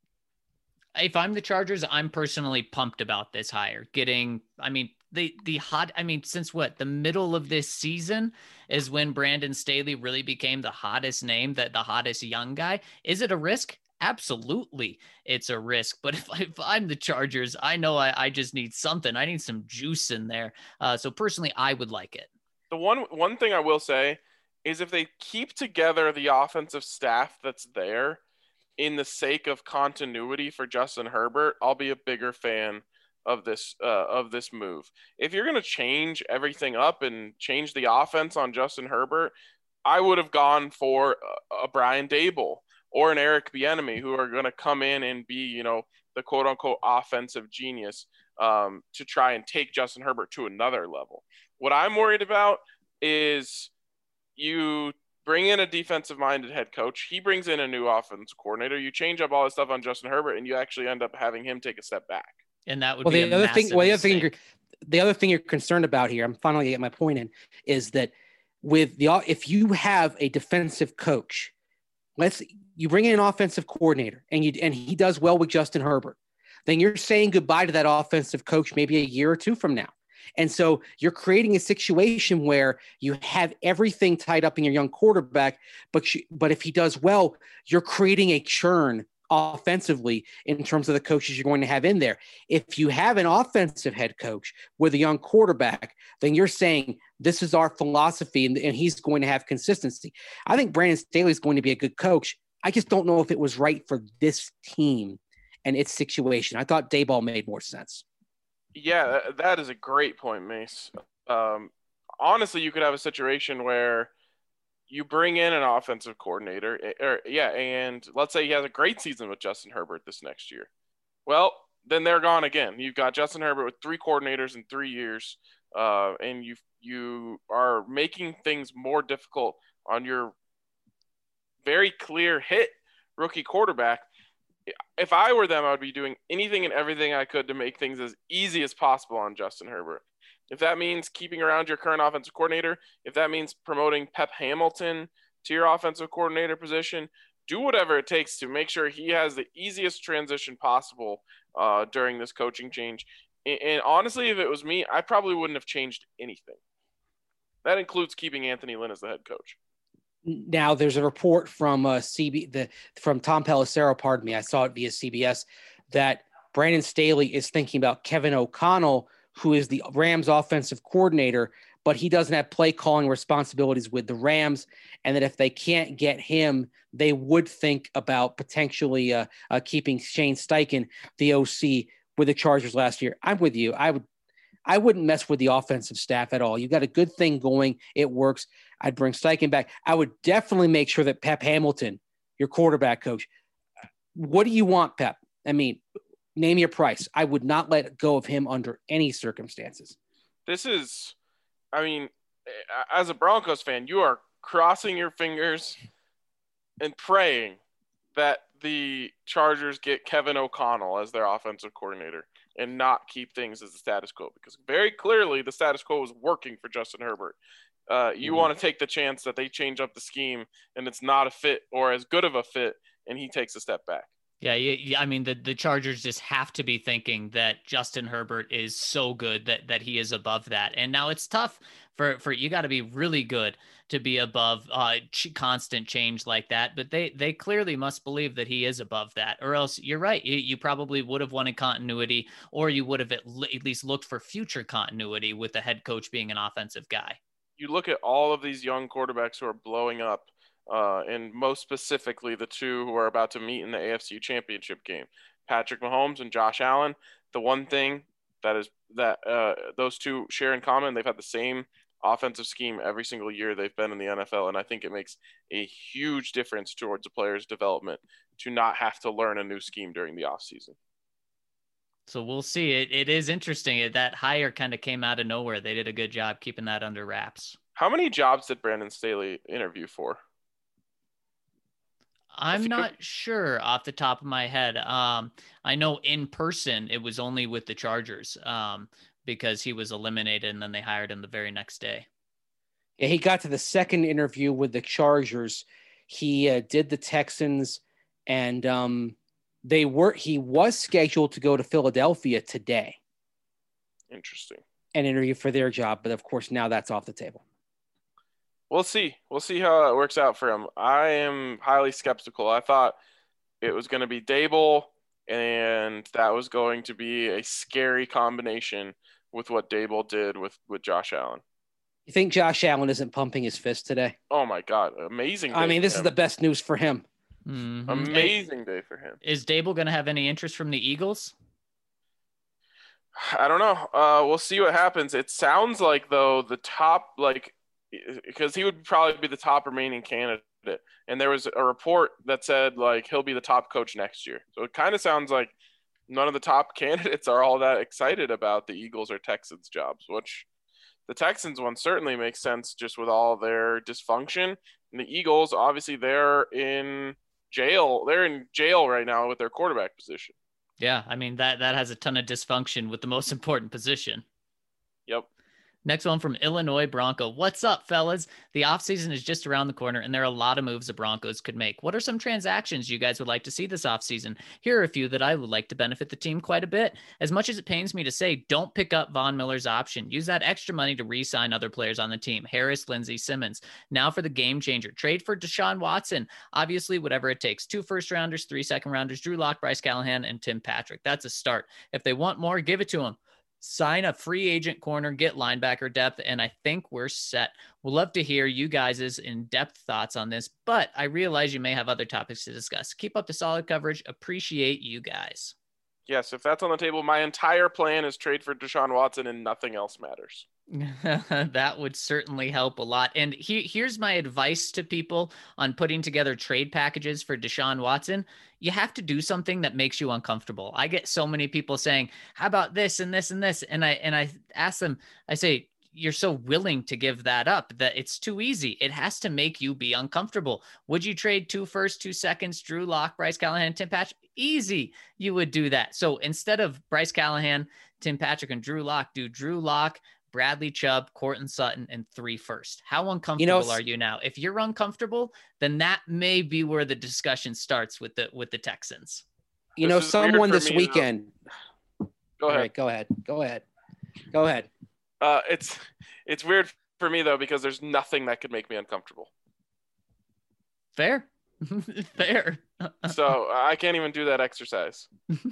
Speaker 3: If I'm the Chargers, I'm personally pumped about this hire. Getting, I mean, the the hot. I mean, since what, the middle of this season is when Brandon Staley really became the hottest name, that the hottest young guy. Is it a risk? Absolutely, it's a risk. But if, if I'm the Chargers, I know I, I just need something. I need some juice in there. Uh, so personally, I would like it.
Speaker 1: The one one thing I will say is if they keep together the offensive staff that's there in the sake of continuity for Justin Herbert, I'll be a bigger fan of this uh, of this move. If you're going to change everything up and change the offense on Justin Herbert, I would have gone for a, a Brian Daboll or an Eric Bieniemy, who are going to come in and be, you know, the quote unquote offensive genius um, to try and take Justin Herbert to another level. What I'm worried about is you bring in a defensive-minded head coach. He brings in a new offensive coordinator. You change up all this stuff on Justin Herbert, and you actually end up having him take a step back.
Speaker 3: And that would
Speaker 4: well,
Speaker 3: be
Speaker 4: the
Speaker 3: a
Speaker 4: other thing.
Speaker 3: massive
Speaker 4: Well, the other thing,
Speaker 3: mistake.
Speaker 4: you're, the other thing you're concerned about here, I'm finally getting my point in, is that with the if you have a defensive coach, let's you bring in an offensive coordinator, and you and he does well with Justin Herbert, then you're saying goodbye to that offensive coach maybe a year or two from now. And so you're creating a situation where you have everything tied up in your young quarterback, but you, but if he does well, you're creating a churn offensively in terms of the coaches you're going to have in there. If you have an offensive head coach with a young quarterback, then you're saying this is our philosophy, and, and he's going to have consistency. I think Brandon Staley is going to be a good coach. I just don't know if it was right for this team and its situation. I thought Daboll made more sense.
Speaker 1: Yeah, that is a great point, Mace. Um, honestly, you could have a situation where you bring in an offensive coordinator, or yeah, and let's say he has a great season with Justin Herbert this next year. Well, then they're gone again. You've got Justin Herbert with three coordinators in three years, uh, and you you are making things more difficult on your very clear hit rookie quarterback. If I were them, I would be doing anything and everything I could to make things as easy as possible on Justin Herbert. If that means keeping around your current offensive coordinator, if that means promoting Pep Hamilton to your offensive coordinator position, do whatever it takes to make sure he has the easiest transition possible uh, during this coaching change. And, and honestly, if it was me, I probably wouldn't have changed anything. That includes keeping Anthony Lynn as the head coach.
Speaker 4: Now, there's a report from uh, C B the from Tom Pelissero, pardon me, I saw it via C B S, that Brandon Staley is thinking about Kevin O'Connell, who is the Rams offensive coordinator, but he doesn't have play calling responsibilities with the Rams, and that if they can't get him, they would think about potentially uh, uh, keeping Shane Steichen, the O C, with the Chargers last year. I'm with you. I would. I wouldn't mess with the offensive staff at all. You got a good thing going. It works. I'd bring Steichen back. I would definitely make sure that Pep Hamilton, your quarterback coach, what do you want, Pep? I mean, Name your price. I would not let go of him under any circumstances.
Speaker 1: This is, I mean, as a Broncos fan, you are crossing your fingers and praying that the Chargers get Kevin O'Connell as their offensive coordinator and not keep things as the status quo, because very clearly the status quo is working for Justin Herbert. Uh, you mm-hmm. want to take the chance that they change up the scheme and it's not a fit or as good of a fit, and he takes a step back.
Speaker 3: Yeah, yeah, I mean, the, the Chargers just have to be thinking that Justin Herbert is so good that that he is above that. And now it's tough for, for you got to be really good to be above uh, constant change like that. But they they clearly must believe that he is above that, or else you're right. You, you probably would have wanted continuity, or you would have at, le- at least looked for future continuity with the head coach being an offensive guy.
Speaker 1: You look at all of these young quarterbacks who are blowing up. Uh, and most specifically, the two who are about to meet in the A F C Championship game, Patrick Mahomes and Josh Allen. The one thing that is that uh, those two share in common, they've had the same offensive scheme every single year they've been in the N F L, and I think it makes a huge difference towards a player's development to not have to learn a new scheme during the offseason.
Speaker 3: So we'll see. It it is interesting. That hire kind of came out of nowhere. They did a good job keeping that under wraps.
Speaker 1: How many jobs did Brandon Staley interview for?
Speaker 3: I'm not sure off the top of my head. Um, I know in person it was only with the Chargers um, because he was eliminated and then they hired him the very next day.
Speaker 4: Yeah, he got to the second interview with the Chargers. He uh, did the Texans, and um, they were. He was scheduled to go to Philadelphia today.
Speaker 1: Interesting.
Speaker 4: And interview for their job, but of course now that's off the table.
Speaker 1: We'll see. We'll see how it works out for him. I am highly skeptical. I thought it was going to be Dable, and that was going to be a scary combination with what Dable did with, with Josh Allen.
Speaker 4: You think Josh Allen isn't pumping his fist today?
Speaker 1: Oh, my God. Amazing day
Speaker 4: I mean, this
Speaker 1: him.
Speaker 4: is the best news for him.
Speaker 3: Mm-hmm.
Speaker 1: Amazing day for him.
Speaker 3: Is Dable going to have any interest from the Eagles?
Speaker 1: I don't know. Uh, we'll see what happens. It sounds like, though, the top, like, because he would probably be the top remaining candidate. And there was a report that said, like, he'll be the top coach next year. So it kind of sounds like none of the top candidates are all that excited about the Eagles or Texans jobs, which the Texans one certainly makes sense just with all their dysfunction. And the Eagles, obviously, they're in jail. They're in jail right now with their quarterback position.
Speaker 3: Yeah, I mean, that, that has a ton of dysfunction with the most important position.
Speaker 1: Yep.
Speaker 3: Next one from Illinois Bronco. What's up, fellas? The offseason is just around the corner, and there are a lot of moves the Broncos could make. What are some transactions you guys would like to see this offseason? Here are a few that I would like to benefit the team quite a bit. As much as it pains me to say, don't pick up Von Miller's option. Use that extra money to re-sign other players on the team. Harris, Lindsey, Simmons. Now for the game changer. Trade for Deshaun Watson. Obviously, whatever it takes. Two first-rounders, three second-rounders, Drew Lock, Bryce Callahan, and Tim Patrick. That's a start. If they want more, give it to them. Sign a free agent corner, get linebacker depth, and I think we're set. We'll love to hear you guys' in-depth thoughts on this, but I realize you may have other topics to discuss. Keep up the solid coverage. Appreciate you guys.
Speaker 1: Yes, if that's on the table, my entire plan is trade for Deshaun Watson and nothing else matters.
Speaker 3: That would certainly help a lot. And he, here's my advice to people on putting together trade packages for Deshaun Watson. You have to do something that makes you uncomfortable. I get so many people saying, how about this and this and this? And I, and I ask them, I say, you're so willing to give that up that it's too easy. It has to make you be uncomfortable. Would you trade two first, two seconds, Drew Lock, Bryce Callahan, Tim Patrick? Easy. You would do that. So instead of Bryce Callahan, Tim Patrick, and Drew Lock, do Drew Lock, Bradley Chubb, Courtland Sutton, and three first. How uncomfortable you know, are you now? If you're uncomfortable, then that may be where the discussion starts with the with the Texans.
Speaker 4: You this know, someone this weekend.
Speaker 1: Go ahead.
Speaker 4: Right, go ahead. Go ahead. Go ahead.
Speaker 1: Uh, it's it's weird for me though because there's nothing that could make me uncomfortable.
Speaker 3: Fair, fair.
Speaker 1: So I can't even do that exercise.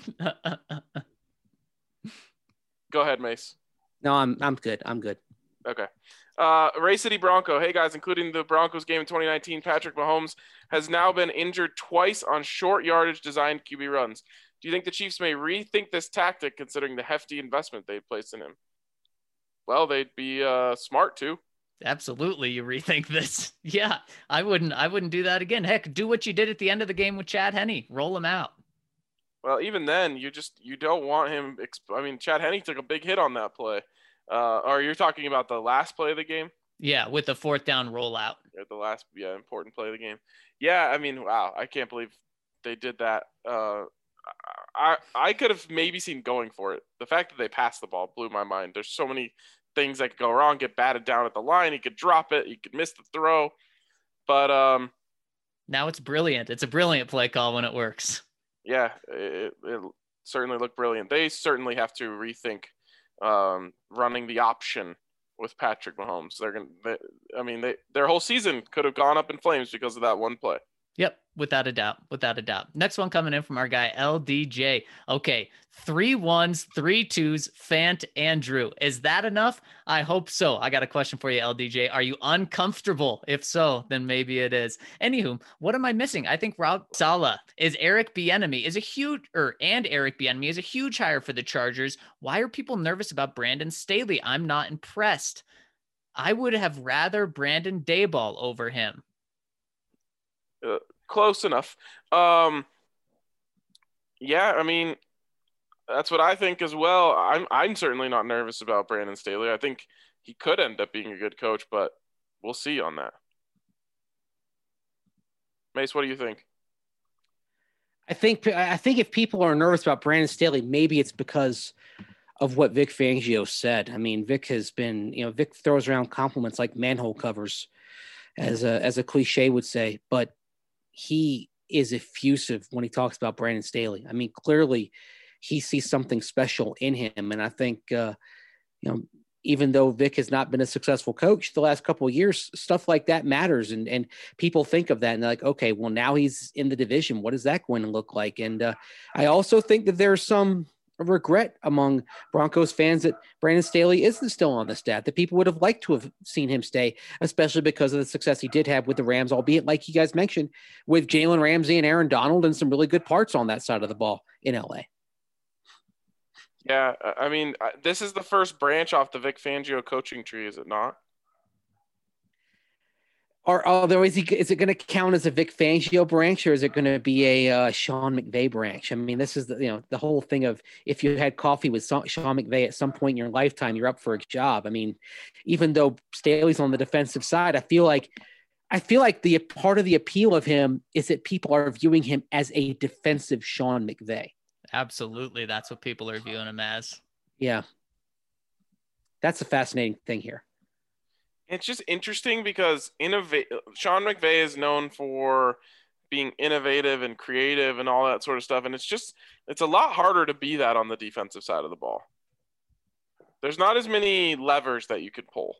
Speaker 1: Go ahead, Mace.
Speaker 4: No, I'm I'm good. I'm good.
Speaker 1: Okay. Uh, Ray City Bronco. Hey guys, including the Broncos game in twenty nineteen, Patrick Mahomes has now been injured twice on short yardage designed Q B runs. Do you think the Chiefs may rethink this tactic considering the hefty investment they placed in him? Well, they'd be uh, smart to.
Speaker 3: Absolutely, you rethink this. Yeah, I wouldn't. I wouldn't do that again. Heck, do what you did at the end of the game with Chad Henne. Roll him out.
Speaker 1: Well, even then, you just you don't want him. Exp- I mean, Chad Henne took a big hit on that play. Uh, or you're talking about the last play of the game?
Speaker 3: Yeah, with the fourth down rollout.
Speaker 1: Or the last, yeah, important play of the game. Yeah, I mean, wow, I can't believe they did that. Uh, I I could have maybe seen going for it. The fact that they passed the ball blew my mind. There's so many things that could go wrong. Get batted down at the line. He could drop it. He could miss the throw. But um,
Speaker 3: now it's brilliant. It's a brilliant play call when it works.
Speaker 1: Yeah, it, it certainly looked brilliant. They certainly have to rethink um, running the option with Patrick Mahomes. They're gonna. They, I mean, they their whole season could have gone up in flames because of that one play.
Speaker 3: Yep, without a doubt, without a doubt. Next one coming in from our guy L D J. Okay, three ones, three twos, Fant and Drew. Is that enough? I hope so. I got a question for you, L D J. Are you uncomfortable? If so, then maybe it is. Anywho, what am I missing? I think Rob Saleh is Eric Bieniemy is a huge, or and Eric Bieniemy is a huge hire for the Chargers. Why are people nervous about Brandon Staley? I'm not impressed. I would have rather Brandon Dayball over him.
Speaker 1: Uh, close enough. Um, yeah, I mean, that's what I think as well. I'm I'm certainly not nervous about Brandon Staley. I think he could end up being a good coach, but we'll see on that. Mace, what do you think?
Speaker 4: I think I think if people are nervous about Brandon Staley, maybe it's because of what Vic Fangio said. I mean, Vic has been, you know, Vic throws around compliments like manhole covers, as a as a cliche would say, but he is effusive when he talks about Brandon Staley. I mean, clearly he sees something special in him. And I think, uh, you know, even though Vic has not been a successful coach the last couple of years, stuff like that matters. And, and people think of that and they're like, okay, well, now he's in the division. What is that going to look like? And uh, I also think that there's some regret among Broncos fans that Brandon Staley isn't still on the staff, that people would have liked to have seen him stay, especially because of the success he did have with the Rams, albeit like you guys mentioned, with Jalen Ramsey and Aaron Donald and some really good parts on that side of the ball in L A.
Speaker 1: Yeah, I mean, this is the first branch off the Vic Fangio coaching tree, is it not?
Speaker 4: Or although is he is it going to count as a Vic Fangio branch, or is it going to be a uh, Sean McVay branch? I mean, this is the you know the whole thing of if you had coffee with Sean McVay at some point in your lifetime, you're up for a job. I mean, even though Staley's on the defensive side, I feel like I feel like the part of the appeal of him is that people are viewing him as a defensive Sean McVay.
Speaker 3: Absolutely, that's what people are viewing him as.
Speaker 4: Yeah, that's a fascinating thing here.
Speaker 1: It's just interesting because innova- Sean McVay is known for being innovative and creative and all that sort of stuff. And it's just, it's a lot harder to be that on the defensive side of the ball. There's not as many levers that you could pull.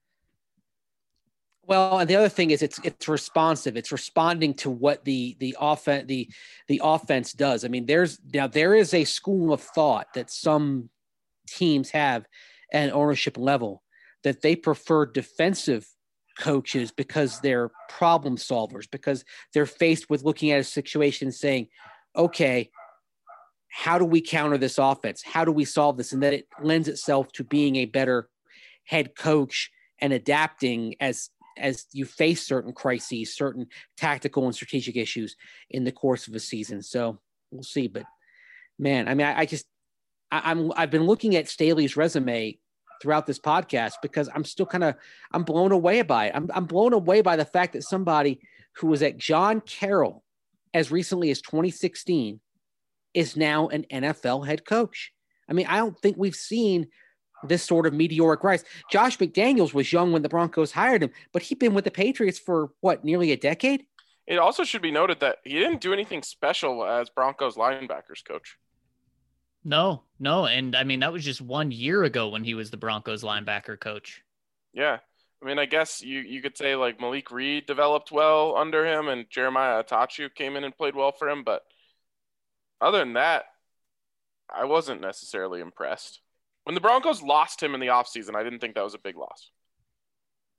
Speaker 4: Well, and the other thing is it's it's responsive. It's responding to what the the offense the the offense does. I mean, there's now there is a school of thought that some teams have at an ownership level that they prefer defensive coaches because they're problem solvers, because they're faced with looking at a situation and saying, okay, how do we counter this offense? How do we solve this? And that it lends itself to being a better head coach and adapting as, as you face certain crises, certain tactical and strategic issues in the course of a season. So we'll see, but man, I mean, I, I just, I, I'm, I've been looking at Staley's resume throughout this podcast because I'm still kind of, I'm blown away by it. I'm, I'm blown away by the fact that somebody who was at John Carroll as recently as twenty sixteen is now an N F L head coach. I mean, I don't think we've seen this sort of meteoric rise. Josh McDaniels was young when the Broncos hired him, but he'd been with the Patriots for what, nearly a decade?
Speaker 1: It also should be noted that he didn't do anything special as Broncos linebackers coach.
Speaker 3: No, no. And I mean, that was just one year ago when he was the Broncos linebacker coach.
Speaker 1: Yeah. I mean, I guess you, you could say like Malik Reed developed well under him and Jeremiah Atachu came in and played well for him. But other than that, I wasn't necessarily impressed. When the Broncos lost him in the offseason, I didn't think that was a big loss.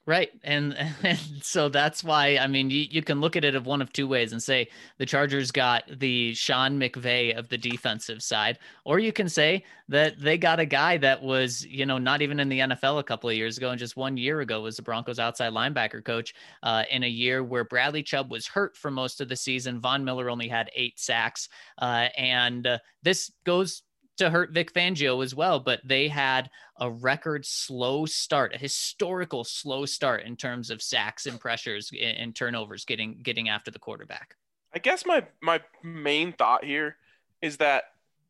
Speaker 3: Right. And, and so that's why, I mean, you, you can look at it of one of two ways and say the Chargers got the Sean McVay of the defensive side, or you can say that they got a guy that was, you know, not even in the N F L a couple of years ago, and just one year ago was the Broncos outside linebacker coach uh, in a year where Bradley Chubb was hurt for most of the season. Von Miller only had eight sacks. Uh, and uh, this goes to hurt Vic Fangio as well, but they had a record slow start, a historical slow start in terms of sacks and pressures and, and turnovers getting getting after the quarterback.
Speaker 1: I guess my my main thought here is that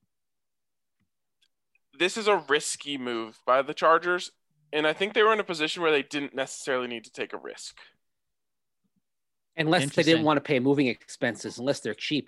Speaker 1: this is a risky move by the Chargers, and I think they were in a position where they didn't necessarily need to take a risk.
Speaker 4: Unless they didn't want to pay moving expenses, unless they're cheap.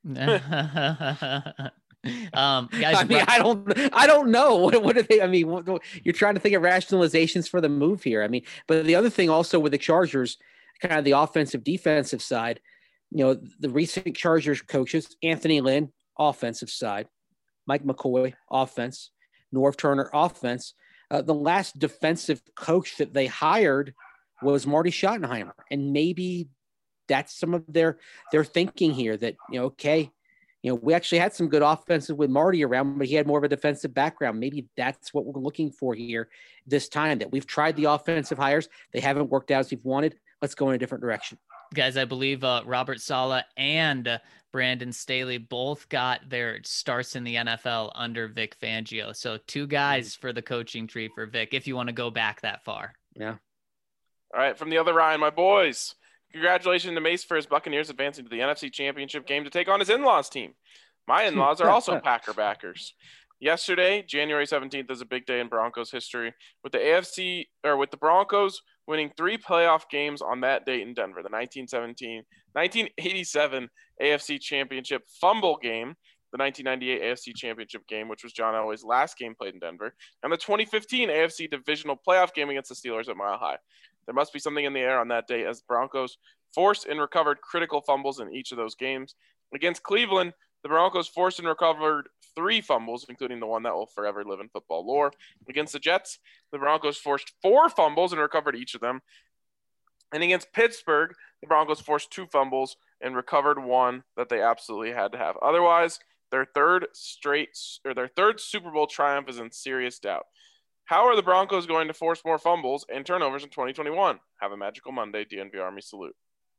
Speaker 3: um guys,
Speaker 4: I mean, I don't I don't know what what are they I mean what, what, you're trying to think of rationalizations for the move here. I mean, but the other thing also with the Chargers, kind of the offensive defensive side, you know, the recent Chargers coaches, Anthony Lynn, offensive side, Mike McCoy, offense, Norv Turner, offense. Uh, the last defensive coach that they hired was Marty Schottenheimer, and maybe that's some of their their thinking here that, you know, okay, you know, we actually had some good offensive with Marty around, but he had more of a defensive background. Maybe that's what we're looking for here this time, that we've tried the offensive hires. They haven't worked out as we've wanted. Let's go in a different direction.
Speaker 3: Guys, I believe uh, Robert Saleh and uh, Brandon Staley both got their starts in the N F L under Vic Fangio. So two guys for the coaching tree for Vic, if you want to go back that far.
Speaker 4: Yeah.
Speaker 1: All right, from the other Ryan, my boys. Congratulations to Mace for his Buccaneers advancing to the N F C Championship game to take on his in-laws team. My in-laws are also Packer backers. Yesterday, January seventeenth, is a big day in Broncos history, with the A F C or with the Broncos winning three playoff games on that date in Denver. The nineteen seventeen, nineteen eighty-seven A F C Championship fumble game, the nineteen ninety-eight A F C Championship game, which was John Elway's last game played in Denver, and the twenty fifteen A F C Divisional Playoff game against the Steelers at Mile High. There must be something in the air on that day, as the Broncos forced and recovered critical fumbles in each of those games. Against Cleveland, the Broncos forced and recovered three fumbles, including the one that will forever live in football lore. Against the Jets, the Broncos forced four fumbles and recovered each of them. And against Pittsburgh, the Broncos forced two fumbles and recovered one that they absolutely had to have. Otherwise, their third straight or their third Super Bowl triumph is in serious doubt. How are the Broncos going to force more fumbles and turnovers in twenty twenty-one? Have a magical Monday, D N V Army salute.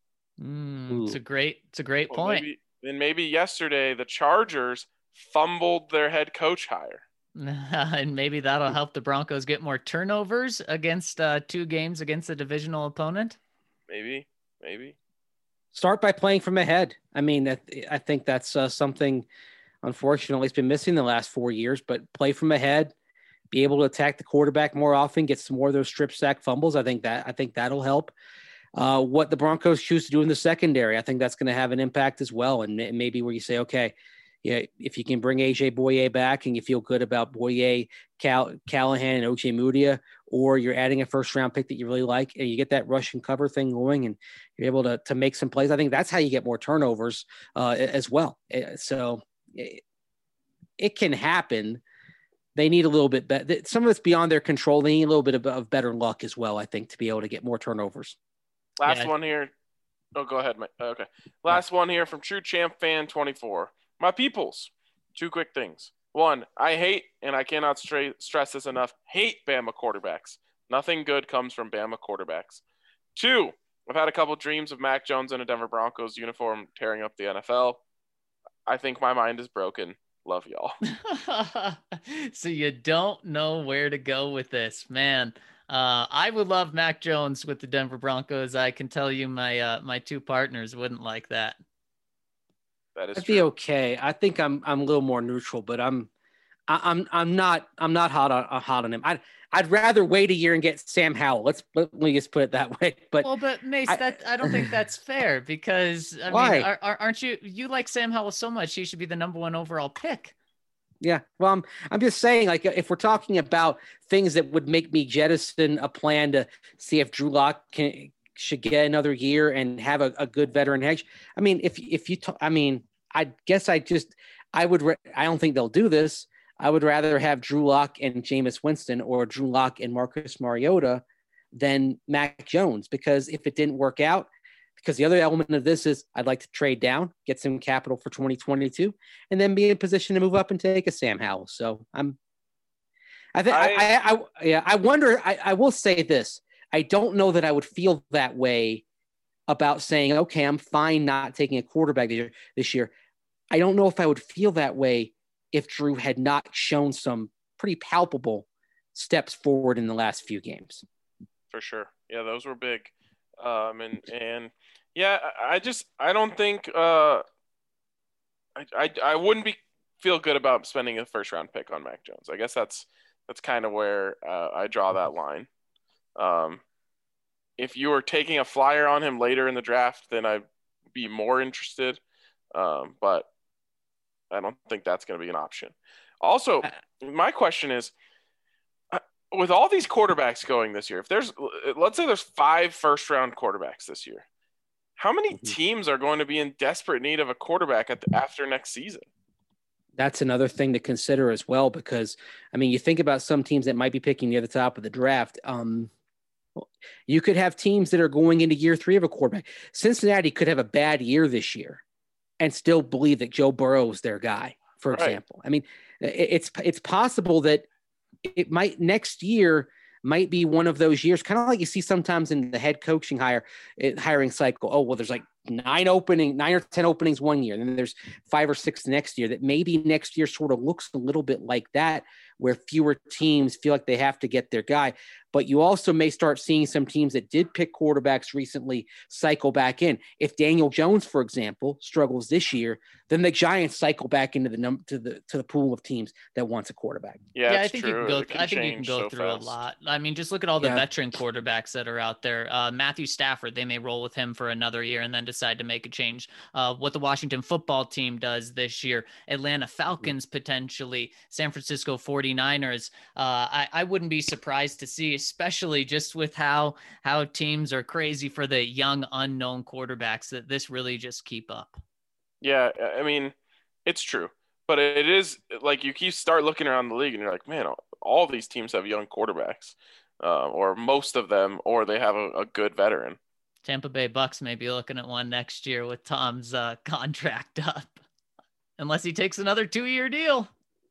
Speaker 3: Mm, it's a great, it's a great
Speaker 1: well,
Speaker 3: point.
Speaker 1: Maybe, and maybe yesterday the Chargers fumbled their head coach hire.
Speaker 3: And maybe that'll help the Broncos get more turnovers against uh, two games against a divisional opponent.
Speaker 1: Maybe, maybe.
Speaker 4: Start by playing from ahead. I mean, I think that's uh, something, unfortunately, it's been missing the last four years, but play from ahead, be able to attack the quarterback more often, get some more of those strip sack fumbles. I think that, I think that'll help. Uh, what the Broncos choose to do in the secondary, I think that's going to have an impact as well. And maybe where you say, okay, yeah, if you can bring A J Boye back and you feel good about Boye, Cal, Callahan, and O J Mudia, or you're adding a first round pick that you really like, and you get that rush and cover thing going, and you're able to to make some plays. I think that's how you get more turnovers uh, as well. So it, it can happen. They need a little bit better. Some of it's beyond their control. They need a little bit of, of better luck as well, I think, to be able to get more turnovers.
Speaker 1: Last
Speaker 3: yeah.
Speaker 1: one here. Oh, go ahead, Mike. Okay. Last yeah. one here from True Champ Fan twenty-four. My peoples, two quick things. One, I hate, and I cannot stra- stress this enough, hate Bama quarterbacks. Nothing good comes from Bama quarterbacks. Two, I've had a couple dreams of Mac Jones in a Denver Broncos uniform tearing up the N F L. I think my mind is broken. Love y'all.
Speaker 3: So you don't know where to go with this, man. Uh, I would love Mac Jones with the Denver Broncos. I can tell you my uh, my two partners wouldn't like that.
Speaker 1: That is
Speaker 4: I'd
Speaker 1: true.
Speaker 4: be okay. I think I'm I'm a little more neutral, but I'm I, I'm I'm not I'm not hot on uh, hot on him. I'd I'd rather wait a year and get Sam Howell. Let's let me just put it that way. But
Speaker 3: well, but Mace, I, that I don't think that's fair because I
Speaker 4: why?
Speaker 3: mean, are, are, aren't you you like Sam Howell so much? He should be the number one overall pick.
Speaker 4: Yeah, well, I'm I'm just saying, like, if we're talking about things that would make me jettison a plan to see if Drew Lock can should get another year and have a, a good veteran hedge. I mean, if if you, t- I mean, I guess I just I would re- I don't think they'll do this. I would rather have Drew Lock and Jameis Winston or Drew Lock and Marcus Mariota than Mac Jones, because if it didn't work out, because the other element of this is I'd like to trade down, get some capital for twenty twenty-two, and then be in position to move up and take a Sam Howell. So I'm, I think, I, I, I, yeah, I wonder, I, I will say this. I don't know that I would feel that way about saying, okay, I'm fine not taking a quarterback this year. This year. I don't know if I would feel that way if Drew had not shown some pretty palpable steps forward in the last few games.
Speaker 1: For sure. Yeah, those were big. Um, and, and yeah, I just, I don't think, uh, I, I, I wouldn't be feel good about spending a first round pick on Mac Jones. I guess that's, that's kind of where uh, I draw that line. Um, if you were taking a flyer on him later in the draft, then I'd be more interested. Um, but I don't think that's going to be an option. Also, my question is, with all these quarterbacks going this year, if there's, let's say there's five first round quarterbacks this year, how many
Speaker 4: Mm-hmm.
Speaker 1: teams are going to be in desperate need of a quarterback at the, after next season?
Speaker 4: That's another thing to consider as well, because I mean, you think about some teams that might be picking near the top of the draft. Um, you could have teams that are going into year three of a quarterback. Cincinnati could have a bad year this year and still believe that Joe Burrow is their guy, for
Speaker 1: Right.
Speaker 4: example. I mean, it's, it's possible that it might next year might be one of those years, kind of like you see sometimes in the head coaching hire hiring cycle. Oh, well, there's like nine opening, nine or ten openings one year. And then there's five or six next year, that maybe next year sort of looks a little bit like that, where fewer teams feel like they have to get their guy. But you also may start seeing some teams that did pick quarterbacks recently cycle back in. If Daniel Jones, for example, struggles this year, then the Giants cycle back into the num- to the to the pool of teams that wants a quarterback.
Speaker 1: Yeah,
Speaker 3: yeah, I
Speaker 1: it's
Speaker 3: think
Speaker 1: true.
Speaker 3: you can go.
Speaker 1: It can
Speaker 3: I think you can
Speaker 1: change
Speaker 3: go
Speaker 1: so
Speaker 3: through
Speaker 1: fast.
Speaker 3: a lot. I mean, just look at all the
Speaker 4: Yeah.
Speaker 3: veteran quarterbacks that are out there. Uh, Matthew Stafford, they may roll with him for another year and then decide to make a change. Uh, what the Washington football team does this year, Atlanta Falcons potentially, San Francisco forty-niners. Uh, I, I wouldn't be surprised to see, especially just with how how teams are crazy for the young unknown quarterbacks, that this really just keep up.
Speaker 1: Yeah, I mean, it's true. But it is like you keep start looking around the league and you're like, man, all these teams have young quarterbacks, uh, or most of them, or they have a, a good veteran.
Speaker 3: Tampa Bay Bucks may be looking at one next year with Tom's uh, contract up, unless he takes another two-year deal.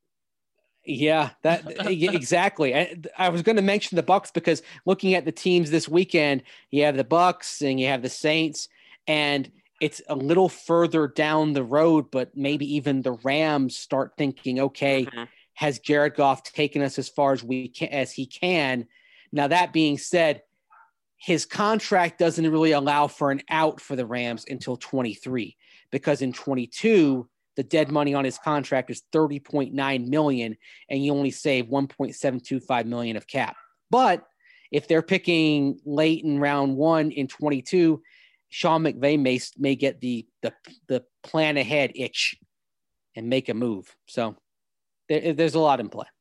Speaker 4: Yeah, that exactly. I, I was going to mention the Bucks because looking at the teams this weekend, you have the Bucks and you have the Saints, and it's a little further down the road, but maybe even the Rams start thinking, okay,
Speaker 1: Mhm.
Speaker 4: has Jared Goff taken us as far as we can, as he can? Now, that being said, his contract doesn't really allow for an out for the Rams until twenty-three, because in twenty-two, the dead money on his contract is thirty point nine million, and you only save one point seven two five million of cap. But if they're picking late in round one in twenty-two, Sean McVay may, may get the, the, the plan ahead itch and make a move. So there, there's a lot in play.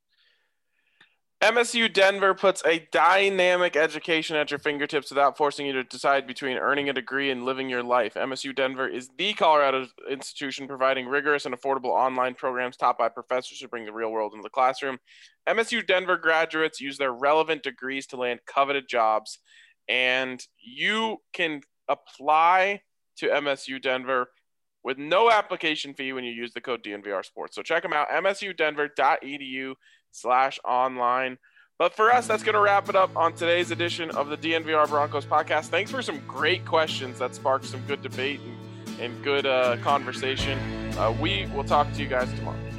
Speaker 1: M S U Denver puts a dynamic education at your fingertips without forcing you to decide between earning a degree and living your life. M S U Denver is the Colorado institution providing rigorous and affordable online programs taught by professors who bring the real world into the classroom. M S U Denver graduates use their relevant degrees to land coveted jobs, and you can apply to M S U Denver with no application fee when you use the code D N V R Sports. So check them out, m s u denver dot e d u slash online. But for us, that's going to wrap it up on today's edition of the D N V R Broncos podcast. Thanks for some great questions that sparked some good debate and, and good uh, conversation. Uh, we will talk to you guys tomorrow.